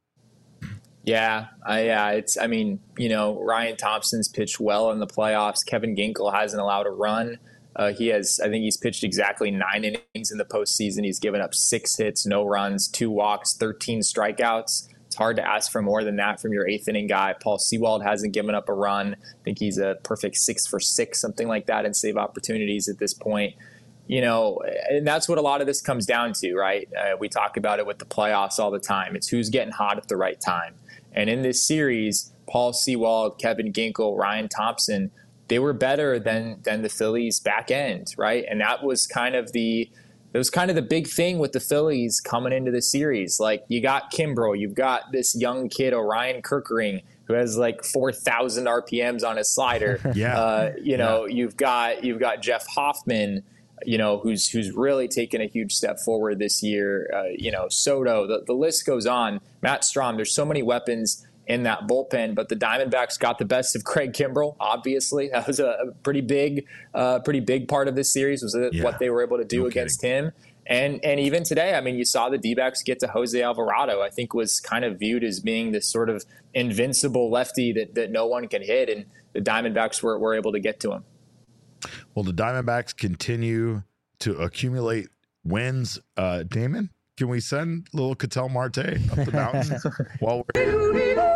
Yeah, I, yeah, it's. I mean, you know, Ryan Thompson's pitched well in the playoffs. Kevin Ginkel hasn't allowed a run. Uh, he has, I think, he's pitched exactly nine innings in the postseason. He's given up six hits, no runs, two walks, thirteen strikeouts. It's hard to ask for more than that from your eighth inning guy. Paul Sewald hasn't given up a run. I think he's a perfect six for six, something like that, in save opportunities at this point. You know, and that's what a lot of this comes down to, right? Uh, we talk about it with the playoffs all the time. It's who's getting hot at the right time. And in this series, Paul Sewald, Kevin Ginkel, Ryan Thompson, they were better than than the Phillies back end, right? And that was kind of the it was kind of the big thing with the Phillies coming into the series. Like, you got Kimbrel, you've got this young kid, Orion Kerkering, who has like four thousand R P Ms on his slider. yeah. Uh, you know, yeah. you've got you've got Jeff Hoffman, you know, who's who's really taken a huge step forward this year. Uh, you know, Soto, the, the list goes on. Matt Strahm, there's so many weapons in that bullpen, but the Diamondbacks got the best of Craig Kimbrel, obviously. That was a, a pretty big uh, pretty big part of this series, was yeah. what they were able to do no against kidding. him. And and even today, I mean, you saw the D-backs get to Jose Alvarado, I think was kind of viewed as being this sort of invincible lefty that, that no one can hit, and the Diamondbacks were, were able to get to him. Well, the Diamondbacks continue to accumulate wins. Uh, Damon, can we send little Ketel Marte up the mountain while we're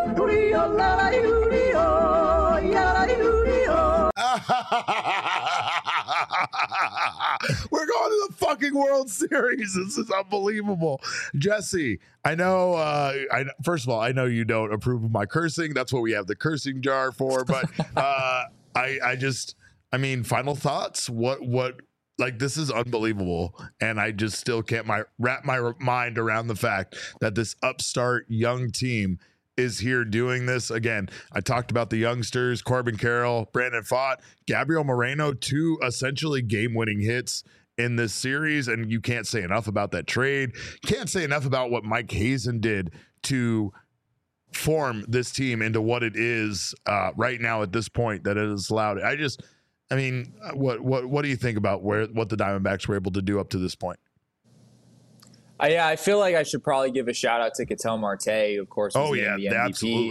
We're going to the fucking World Series. This is unbelievable. Jesse, I know, uh, I, first of all, I know you don't approve of my cursing. That's what we have the cursing jar for. But uh, I, I just, I mean, final thoughts. What, what, like, this is unbelievable. And I just still can't my, wrap my mind around the fact that this upstart young team is here doing this. Again, I talked about the youngsters, Corbin Carroll, Brandon Pfaadt, Gabriel Moreno, two essentially game-winning hits in this series, and you can't say enough about that trade. Can't say enough about what Mike Hazen did to form this team into what it is uh, right now at this point that it has allowed. I just, I mean, what what what do you think about where what the Diamondbacks were able to do up to this point? Uh, yeah, I feel like I should probably give a shout out to Ketel Marte, of course. Oh yeah, absolutely.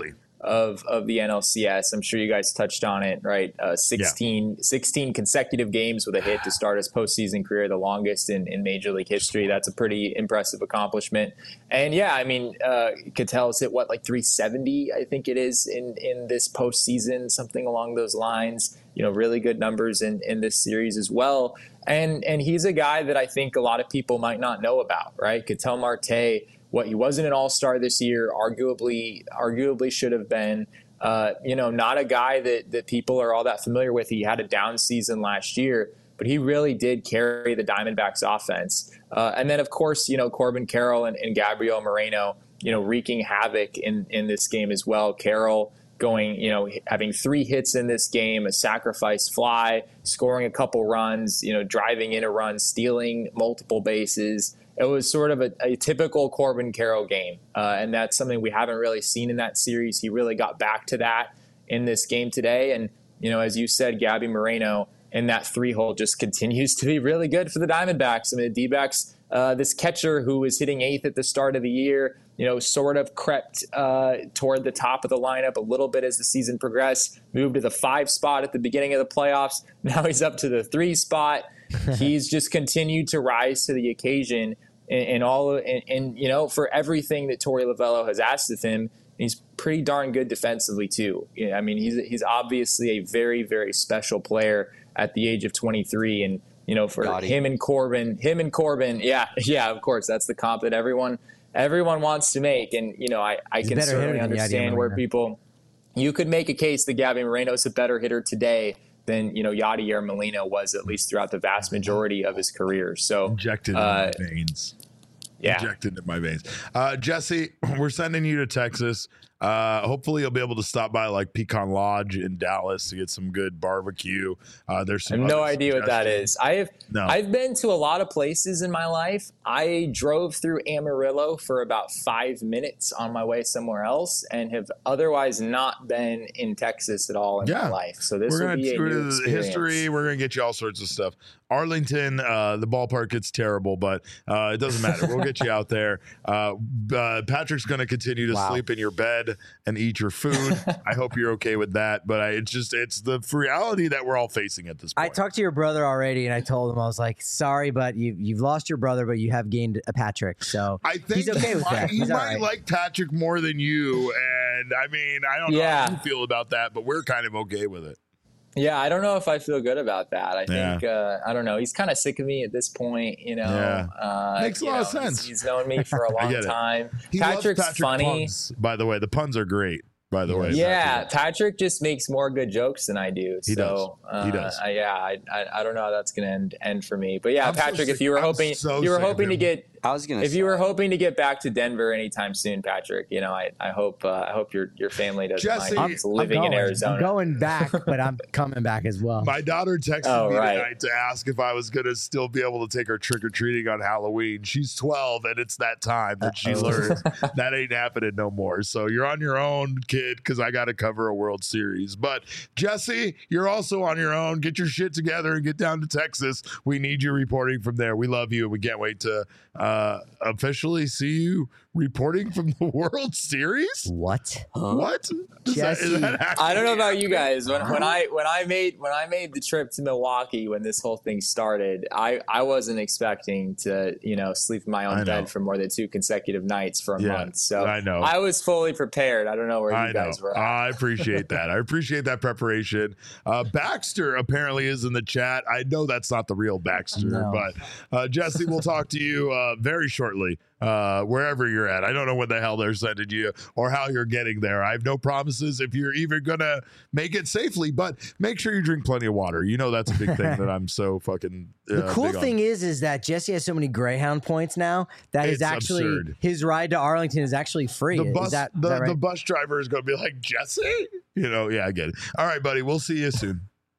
of of the N L C S. I'm sure you guys touched on it, right? Uh, sixteen, yeah. sixteen consecutive games with a hit to start his postseason career, the longest in, in Major League history. That's a pretty impressive accomplishment. And yeah, I mean, uh, Ketel's hit what, like three seventy, I think it is, in, in this postseason, something along those lines. You know, really good numbers in, in this series as well. And and he's a guy that I think a lot of people might not know about, right? Ketel Marte, what he wasn't an all-star this year, arguably arguably should have been. Uh, you know, not a guy that that people are all that familiar with. He had a down season last year, but he really did carry the Diamondbacks offense. Uh, and then, of course, you know, Corbin Carroll and, and Gabriel Moreno, you know, wreaking havoc in, in this game as well. Carroll going, you know, having three hits in this game, a sacrifice fly, scoring a couple runs, you know, driving in a run, stealing multiple bases. It was sort of a, a typical Corbin Carroll game, uh, and that's something we haven't really seen in that series. He really got back to that in this game today. And, you know, as you said, Gabby Moreno in that three-hole just continues to be really good for the Diamondbacks. I mean, the D-backs, uh, this catcher who was hitting eighth at the start of the year, you know, sort of crept uh, toward the top of the lineup a little bit as the season progressed, moved to the five spot at the beginning of the playoffs. Now he's up to the three spot. He's just continued to rise to the occasion in, in all and, and, you know, for everything that Torey Lovullo has asked of him. He's pretty darn good defensively, too. You know, I mean, he's he's obviously a very, very special player at the age of twenty-three. And, you know, for Gotti. him and Corbin, him and Corbin, yeah, yeah, of course, that's the comp that everyone everyone wants to make. And, you know, I, I can certainly understand where people, you could make a case that Gabby Moreno is a better hitter today than, you know, Yadier Molina was, at least throughout the vast majority of his career. So injected uh, in my veins. Yeah. Injected into my veins. Uh, Jesse, we're sending you to Texas. Uh, hopefully you'll be able to stop by like Pecan Lodge in Dallas to get some good barbecue. Uh, there's some I have no idea what that is. I have no. I've been to a lot of places in my life. I drove through Amarillo for about five minutes on my way somewhere else and have otherwise not been in Texas at all in yeah. my life. So this we're will gonna, be a we're new gonna, experience. history. We're going to get you all sorts of stuff. Arlington, uh, the ballpark gets terrible, but uh, it doesn't matter. We'll get you out there. Uh, uh, Patrick's going to continue to Wow. sleep in your bed and eat your food. I hope you're okay with that. But I, it's just, it's the reality that we're all facing at this point. I talked to your brother already, and I told him, I was like, sorry, but you, you've lost your brother, but you have gained a Patrick. So I think he's okay with might, that. He He's all might right. like Patrick more than you. And I mean, I don't Yeah. know how you feel about that, but we're kind of okay with it. Yeah, I don't know if I feel good about that. I Yeah. think, uh, I don't know. He's kind of sick of me at this point, you know. Yeah. Uh, Makes a you lot know, of sense. He's, he's known me for a I long get it. time. He loves Patrick's Patrick funny. puns, by the way. The puns are great, by the way. Yeah, Patrick. Patrick just makes more good jokes than I do. He so, does. He uh, does. I, yeah, I, I I don't know how that's going to end end for me. But yeah, I'm so Patrick, sick- if you were I'm hoping so you were sick of hoping to him. get I was gonna. if say, you were hoping to get back to Denver anytime soon, Patrick, you know, I, I hope uh, I hope your your family doesn't Jesse, mind I'm- you living I'm in going, Arizona. I'm going back, but I'm coming back as well. My daughter texted Oh, me right. tonight to ask if I was going to still be able to take her trick or treating on Halloween. She's twelve, and it's that time that she Uh-oh. learns that ain't happening no more. So you're on your own, kid, because I got to cover a World Series. But Jesse, you're also on your own. Get your shit together and get down to Texas. We need you reporting from there. We love you, and we can't wait to uh, officially see you reporting from the World Series. What? What? Is that, is Jesse. that I don't know about you happening? guys. When, when I when I made when I made the trip to Milwaukee when this whole thing started, I, I wasn't expecting to you know sleep in my I own know. bed for more than two consecutive nights for a Yeah, month. So I know. I was fully prepared. I don't know where you I guys know. were. At. I appreciate that. I appreciate that preparation. Uh, Baxter apparently is in the chat. I know that's not the real Baxter, No. but uh, Jesse, we'll talk to you uh, very shortly, uh, wherever you're at. I don't know what the hell they're sending you or how you're getting there. I have no promises if you're even going to make it safely, but make sure you drink plenty of water. You know that's a big thing that I'm so fucking uh, The cool big on. thing is, is that Jesse has so many Greyhound points now that It's is actually absurd. his ride to Arlington is actually free. The Is bus, that, is the, that right? the bus driver is going to be like, Jesse? You know, yeah, I get it. All right, buddy. We'll see you soon.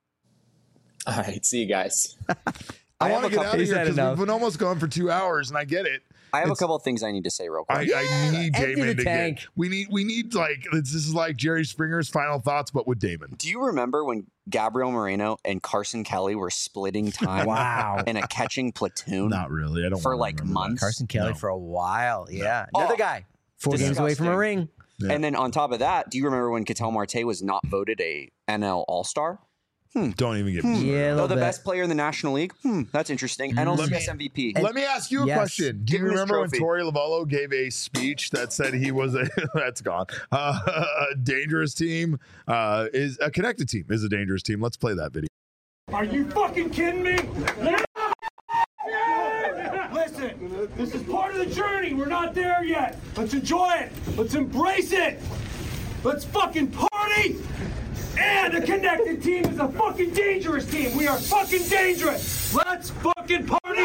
All right, see you guys. I, I want have to a get couple- out of He's here had because enough. we've been almost going for two hours, and I get it. I have It's- a couple of things I need to say real quick. I, Yeah, I need empty Damon the to tank. get. We need. We need like this is like Jerry Springer's final thoughts, but with Damon. Do you remember when Gabriel Moreno and Carson Kelly were splitting time Wow. in a catching platoon Not really. I don't for wanna like remember that. months? Carson Kelly No. for a while. Yeah. Another Oh, guy. Four games away from a disgusting. ring. Yeah. And then on top of that, do you remember when Ketel Marte was not voted a N L All-Star? Hmm. Don't even get hmm. me Yeah, Though the bit. best player in the National League? Hmm, that's interesting. N L C S M V P. Let me ask you a Yes. question. Do you Give him his remember when trophy. Torey Lovullo gave a speech that said he was a that's gone uh, a dangerous team? Uh, is a connected team is a dangerous team. Let's play that video. Are you fucking kidding me? Listen, this is part of the journey. We're not there yet. Let's enjoy it. Let's embrace it. Let's fucking party. And a connected team is a fucking dangerous team. We are fucking dangerous. Let's fucking party.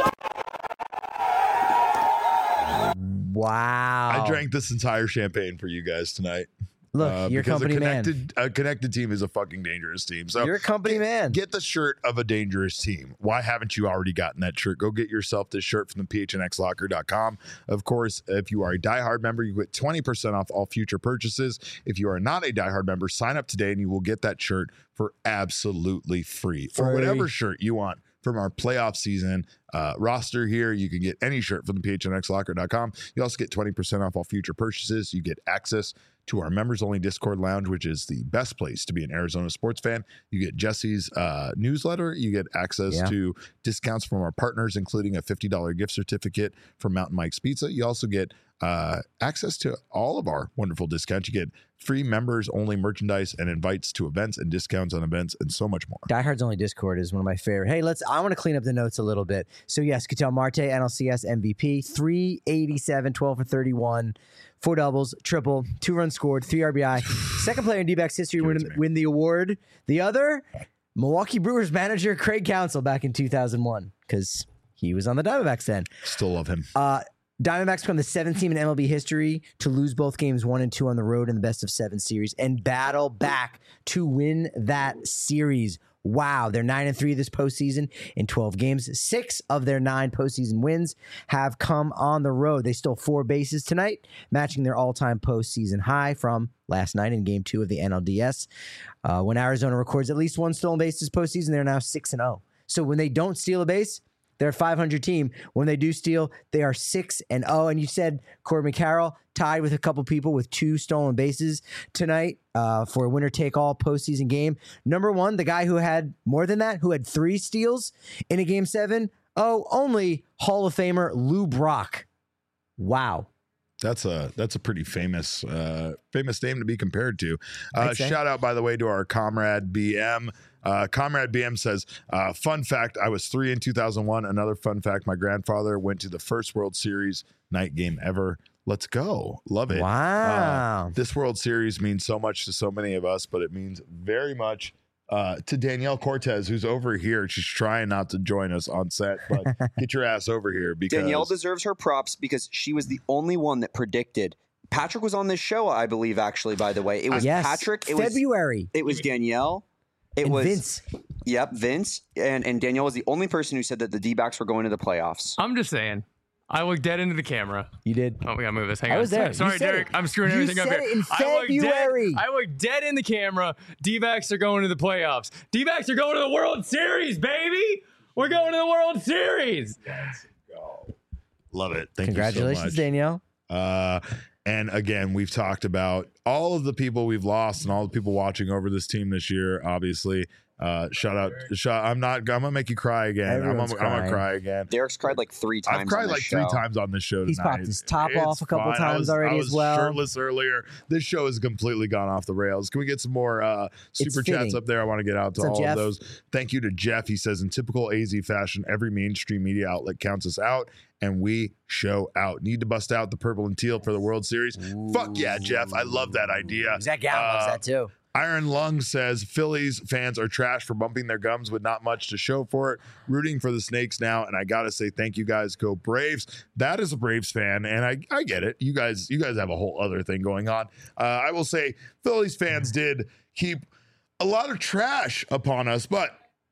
Wow. I drank this entire champagne for you guys tonight. Look, Uh, you're a because company a man. connected, A connected team is a fucking dangerous team. So You're a company get, man. Get the shirt of a dangerous team. Why haven't you already gotten that shirt? Go get yourself this shirt from the P H N X locker dot com. Of course, if you are a diehard member, you get twenty percent off all future purchases. If you are not a diehard member, sign up today and you will get that shirt for absolutely free. Or Free. whatever shirt you want from our playoff season uh, roster here. You can get any shirt from the P H N X locker dot com. You also get twenty percent off all future purchases. You get access to our members-only Discord lounge, which is the best place to be an Arizona sports fan. You get Jesse's uh, newsletter. You get access Yeah. to discounts from our partners, including a fifty dollars gift certificate from Mountain Mike's Pizza. You also get uh, access to all of our wonderful discounts. You get free members-only merchandise and invites to events and discounts on events and so much more. Diehard's Only Discord is one of my favorite. Hey, let's. I want to clean up the notes a little bit. So yes, Ketel Marte, N L C S M V P, three eighty-seven, twelve for thirty-one, four doubles, triple, two runs scored, three R B I. Second player in D-backs history to win, win the award. The other, Milwaukee Brewers manager Craig Counsell back in two thousand one, because he was on the Diamondbacks then. Still love him. Uh, Diamondbacks become the seventh team in M L B history to lose both games one and two on the road in the best of seven series and battle back to win that series. Wow, they're nine and three this postseason in twelve games. Six of their nine postseason wins have come on the road. They stole four bases tonight, matching their all-time postseason high from last night in Game Two of the N L D S. Uh, when Arizona records at least one stolen base this postseason, they're now six and zero. So when they don't steal a base, they're a five hundred team. When they do steal, they are six and oh. And you said Corbin Carroll tied with a couple people with two stolen bases tonight uh, for a winner-take-all postseason game. Number one, the guy who had more than that, who had three steals in a game seven. Oh, only Hall of Famer Lou Brock. Wow. That's a that's a pretty famous uh, famous name to be compared to. Uh, shout out, by the way, to our comrade B M. Uh, comrade B M says, uh, fun fact, I was three in two thousand one. Another fun fact, my grandfather went to the first World Series night game ever. Let's go. Love it. Wow. Uh, this World Series means so much to so many of us, but it means very much uh, to Danielle Cortez, who's over here. She's trying not to join us on set, but get your ass over here. Because Danielle deserves her props because she was the only one that predicted. Patrick was on this show, I believe, actually, by the way. It was yes. Patrick. It February. Was, it was Danielle. It and was Vince. Yep, Vince. And, and Danielle was the only person who said that the D-backs were going to the playoffs. I'm just saying. I looked dead into the camera. You did. Oh, we gotta move this. Hang I on. was there. Sorry, You said Derek. it. I'm screwing You everything up said here. it in I looked February. dead. I looked dead in the camera. D-backs are going to the playoffs. D-backs are going to the World Series, baby. We're going to the World Series. Let's go. Love it. Thank Congratulations, you so much. Danielle. Uh, and again, we've talked about all of the people we've lost and all the people watching over this team this year. Obviously, uh, shout out. Shout, I'm not. I'm gonna make you cry again. Everyone's I'm, gonna, I'm gonna crying. cry again. Derek's cried like three times. I've cried on this like show. three times on this show He's tonight. popped his top It's off a couple fine. I times was, already I as was well. shirtless earlier. This show has completely gone off the rails. Can we get some more uh, It's super chats fitting. up there? I want to get out to What's up, all Jeff? of those. Thank you to Jeff. He says, in typical A Z fashion, every mainstream media outlet counts us out, and we show out. Need to bust out the purple and teal for the World Series. Ooh. Fuck yeah, Jeff. I love that idea. Zach Gallen loves Uh, that too. Iron Lung says Phillies fans are trash for bumping their gums with not much to show for it. Rooting for the Snakes now, and I gotta say thank you guys. Go Braves. That is a Braves fan, and I, I get it. You guys you guys have a whole other thing going on. Uh, I will say Phillies fans did keep a lot of trash upon us, but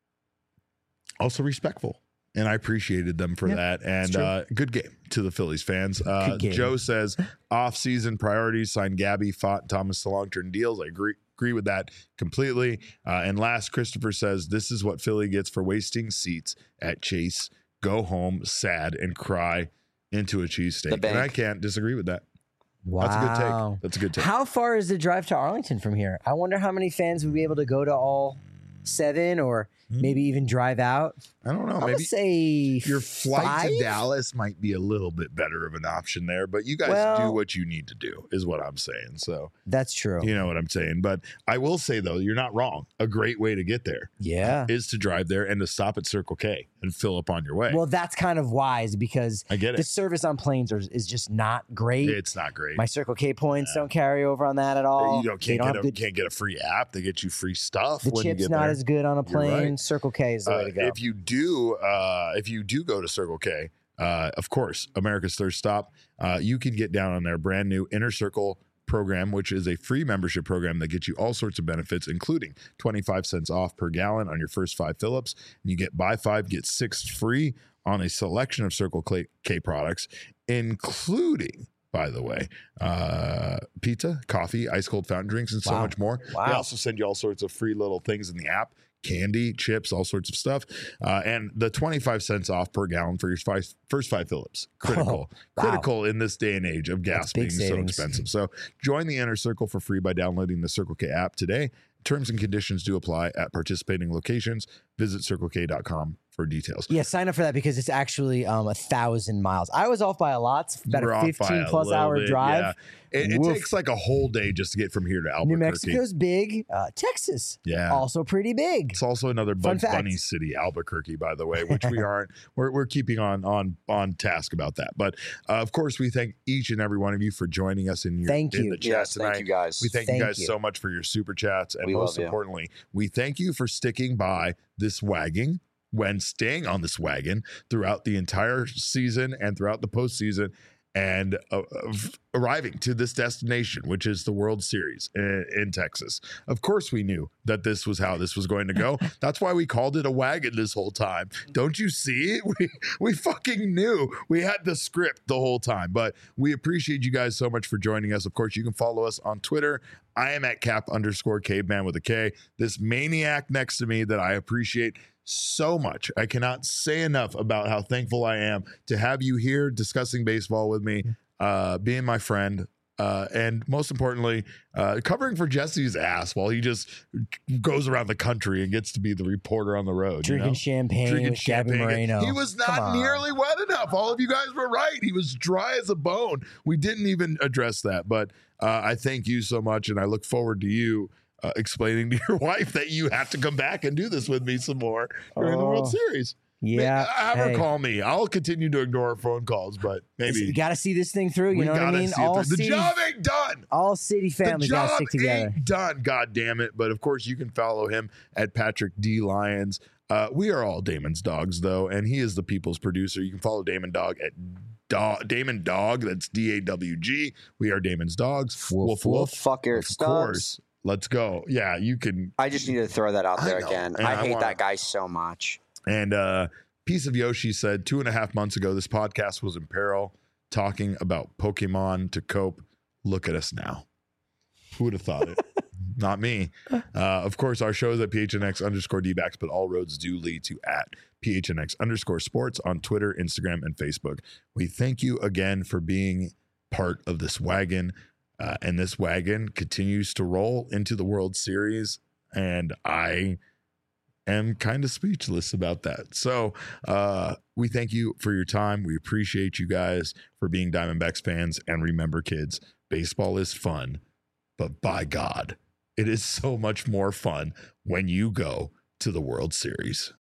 also respectful. And I appreciated them for Yeah, that. And true. uh, good game to the Phillies fans. Uh, Good game. Joe says off-season priorities, sign Gabby, Fott, and Thomas to long-term deals. I agree agree with that completely. Uh, and last, Christopher says, this is what Philly gets for wasting seats at Chase. Go home sad and cry into a cheesesteak. The bank. And I can't disagree with that. Wow. That's a good take. That's a good take. How far is the drive to Arlington from here? I wonder how many fans would be able to go to all seven or maybe even drive out. I don't know. I'm gonna Maybe say your flight five? to Dallas might be a little bit better of an option there, but you guys Well- do what you need to do, is what I'm saying. So That's true. you know what I'm saying. But I will say though, you're not wrong. A great way to get there, Yeah. is to drive there and to stop at Circle K and fill up on your way. Well, that's kind of wise because I get it. the service on planes are, is just not great. It's not great. My Circle K points don't carry over on that at all. You don't, They can't, don't get have a, good, can't get a free app. They get you free stuff. the when you chip's get not there. as good on a You're plane. right. Circle K is the way Uh, to go. If you do, uh, if you do go to Circle K, uh, of course, America's Thirst Stop, uh, you can get down on their brand new Inner Circle program, which is a free membership program that gets you all sorts of benefits, including twenty-five cents off per gallon on your first five fill-ups. And you get buy five, get six free on a selection of Circle K, K products, including, by the way, uh, pizza, coffee, ice cold fountain drinks, and so Wow. much more. Wow. They also send you all sorts of free little things in the app. Candy, chips, all sorts of stuff. Uh, and the twenty-five cents off per gallon for your five, first five Phillips. Critical. Oh, wow. Critical in this day and age of gas That's big being so savings. expensive. So join the Inner Circle for free by downloading the Circle K app today. Terms and conditions do apply at participating locations. Visit circle k dot com for details. Yeah, sign up for that because it's actually um, a thousand miles. I was off by a lot. It's about We're a off by fifteen a plus little hour bit, drive. yeah. It, it Woof. takes like a whole day just to get from here to Albuquerque. New Mexico's big. Uh, Texas, Yeah. also pretty big. It's also another Fun Bugs fact. Bunny city, Albuquerque, by the way, which we aren't. We're, we're keeping on on on task about that. But uh, of course, we thank each and every one of you for joining us in your Thank in you. the chat Yes, tonight. thank you guys. We thank, Thank you guys you. so much for your super chats, and We most love you. importantly, we thank you for sticking by this wagon when staying on this wagon throughout the entire season and throughout the postseason. And uh, of arriving to this destination, which is the World Series in, in Texas. Of course, we knew that this was how this was going to go. That's why we called it a wagon this whole time. Don't you see? We we fucking knew. We had the script the whole time. But we appreciate you guys so much for joining us. Of course, you can follow us on Twitter. I am at cap underscore caveman with a K. This maniac next to me that I appreciate so much. I cannot say enough about how thankful I am to have you here discussing baseball with me, uh, being my friend, uh, and most importantly, uh, covering for Jesse's ass while he just goes around the country and gets to be the reporter on the road. you Drinking know? champagne Drinking with Gabby champagne. Moreno. He was Come not on. nearly wet enough. All of you guys were right. He was dry as a bone. We didn't even address that, but uh, I thank you so much, and I look forward to you Uh, explaining to your wife that you have to come back and do this with me some more during the World Oh, Series. Yeah. Have her hey. call me. I'll continue to ignore her phone calls, but maybe You got to see this thing through. You we know what I gotta mean? see it All through. The city, job ain't done. all city families the got to job stick together. ain't done. God damn it! But of course, you can follow him at Patrick D Lyons. Uh, we are all Damon's dogs, though, and he is the people's producer. You can follow Damon Dog at Dog, Damon Dog. That's D A W G. We are Damon's dogs. Woof woof. Fuck Eric Of Stubbs. course. Let's go. Yeah, you can. I just needed to throw that out I there know, again. and I I hate wanna- that guy so much. And uh, Piece of Yoshi said two and a half months ago, this podcast was in peril, talking about Pokemon to cope. Look at us now. Who would have thought it? Not me. Uh, of course, our show is at P H N X underscore D-backs, but all roads do lead to at P H N X underscore sports on Twitter, Instagram, and Facebook. We thank you again for being part of this wagon. Uh, and this wagon continues to roll into the World Series. And I am kind of speechless about that. So uh, we thank you for your time. We appreciate you guys for being Diamondbacks fans. And remember, kids, baseball is fun, but by God, it is so much more fun when you go to the World Series.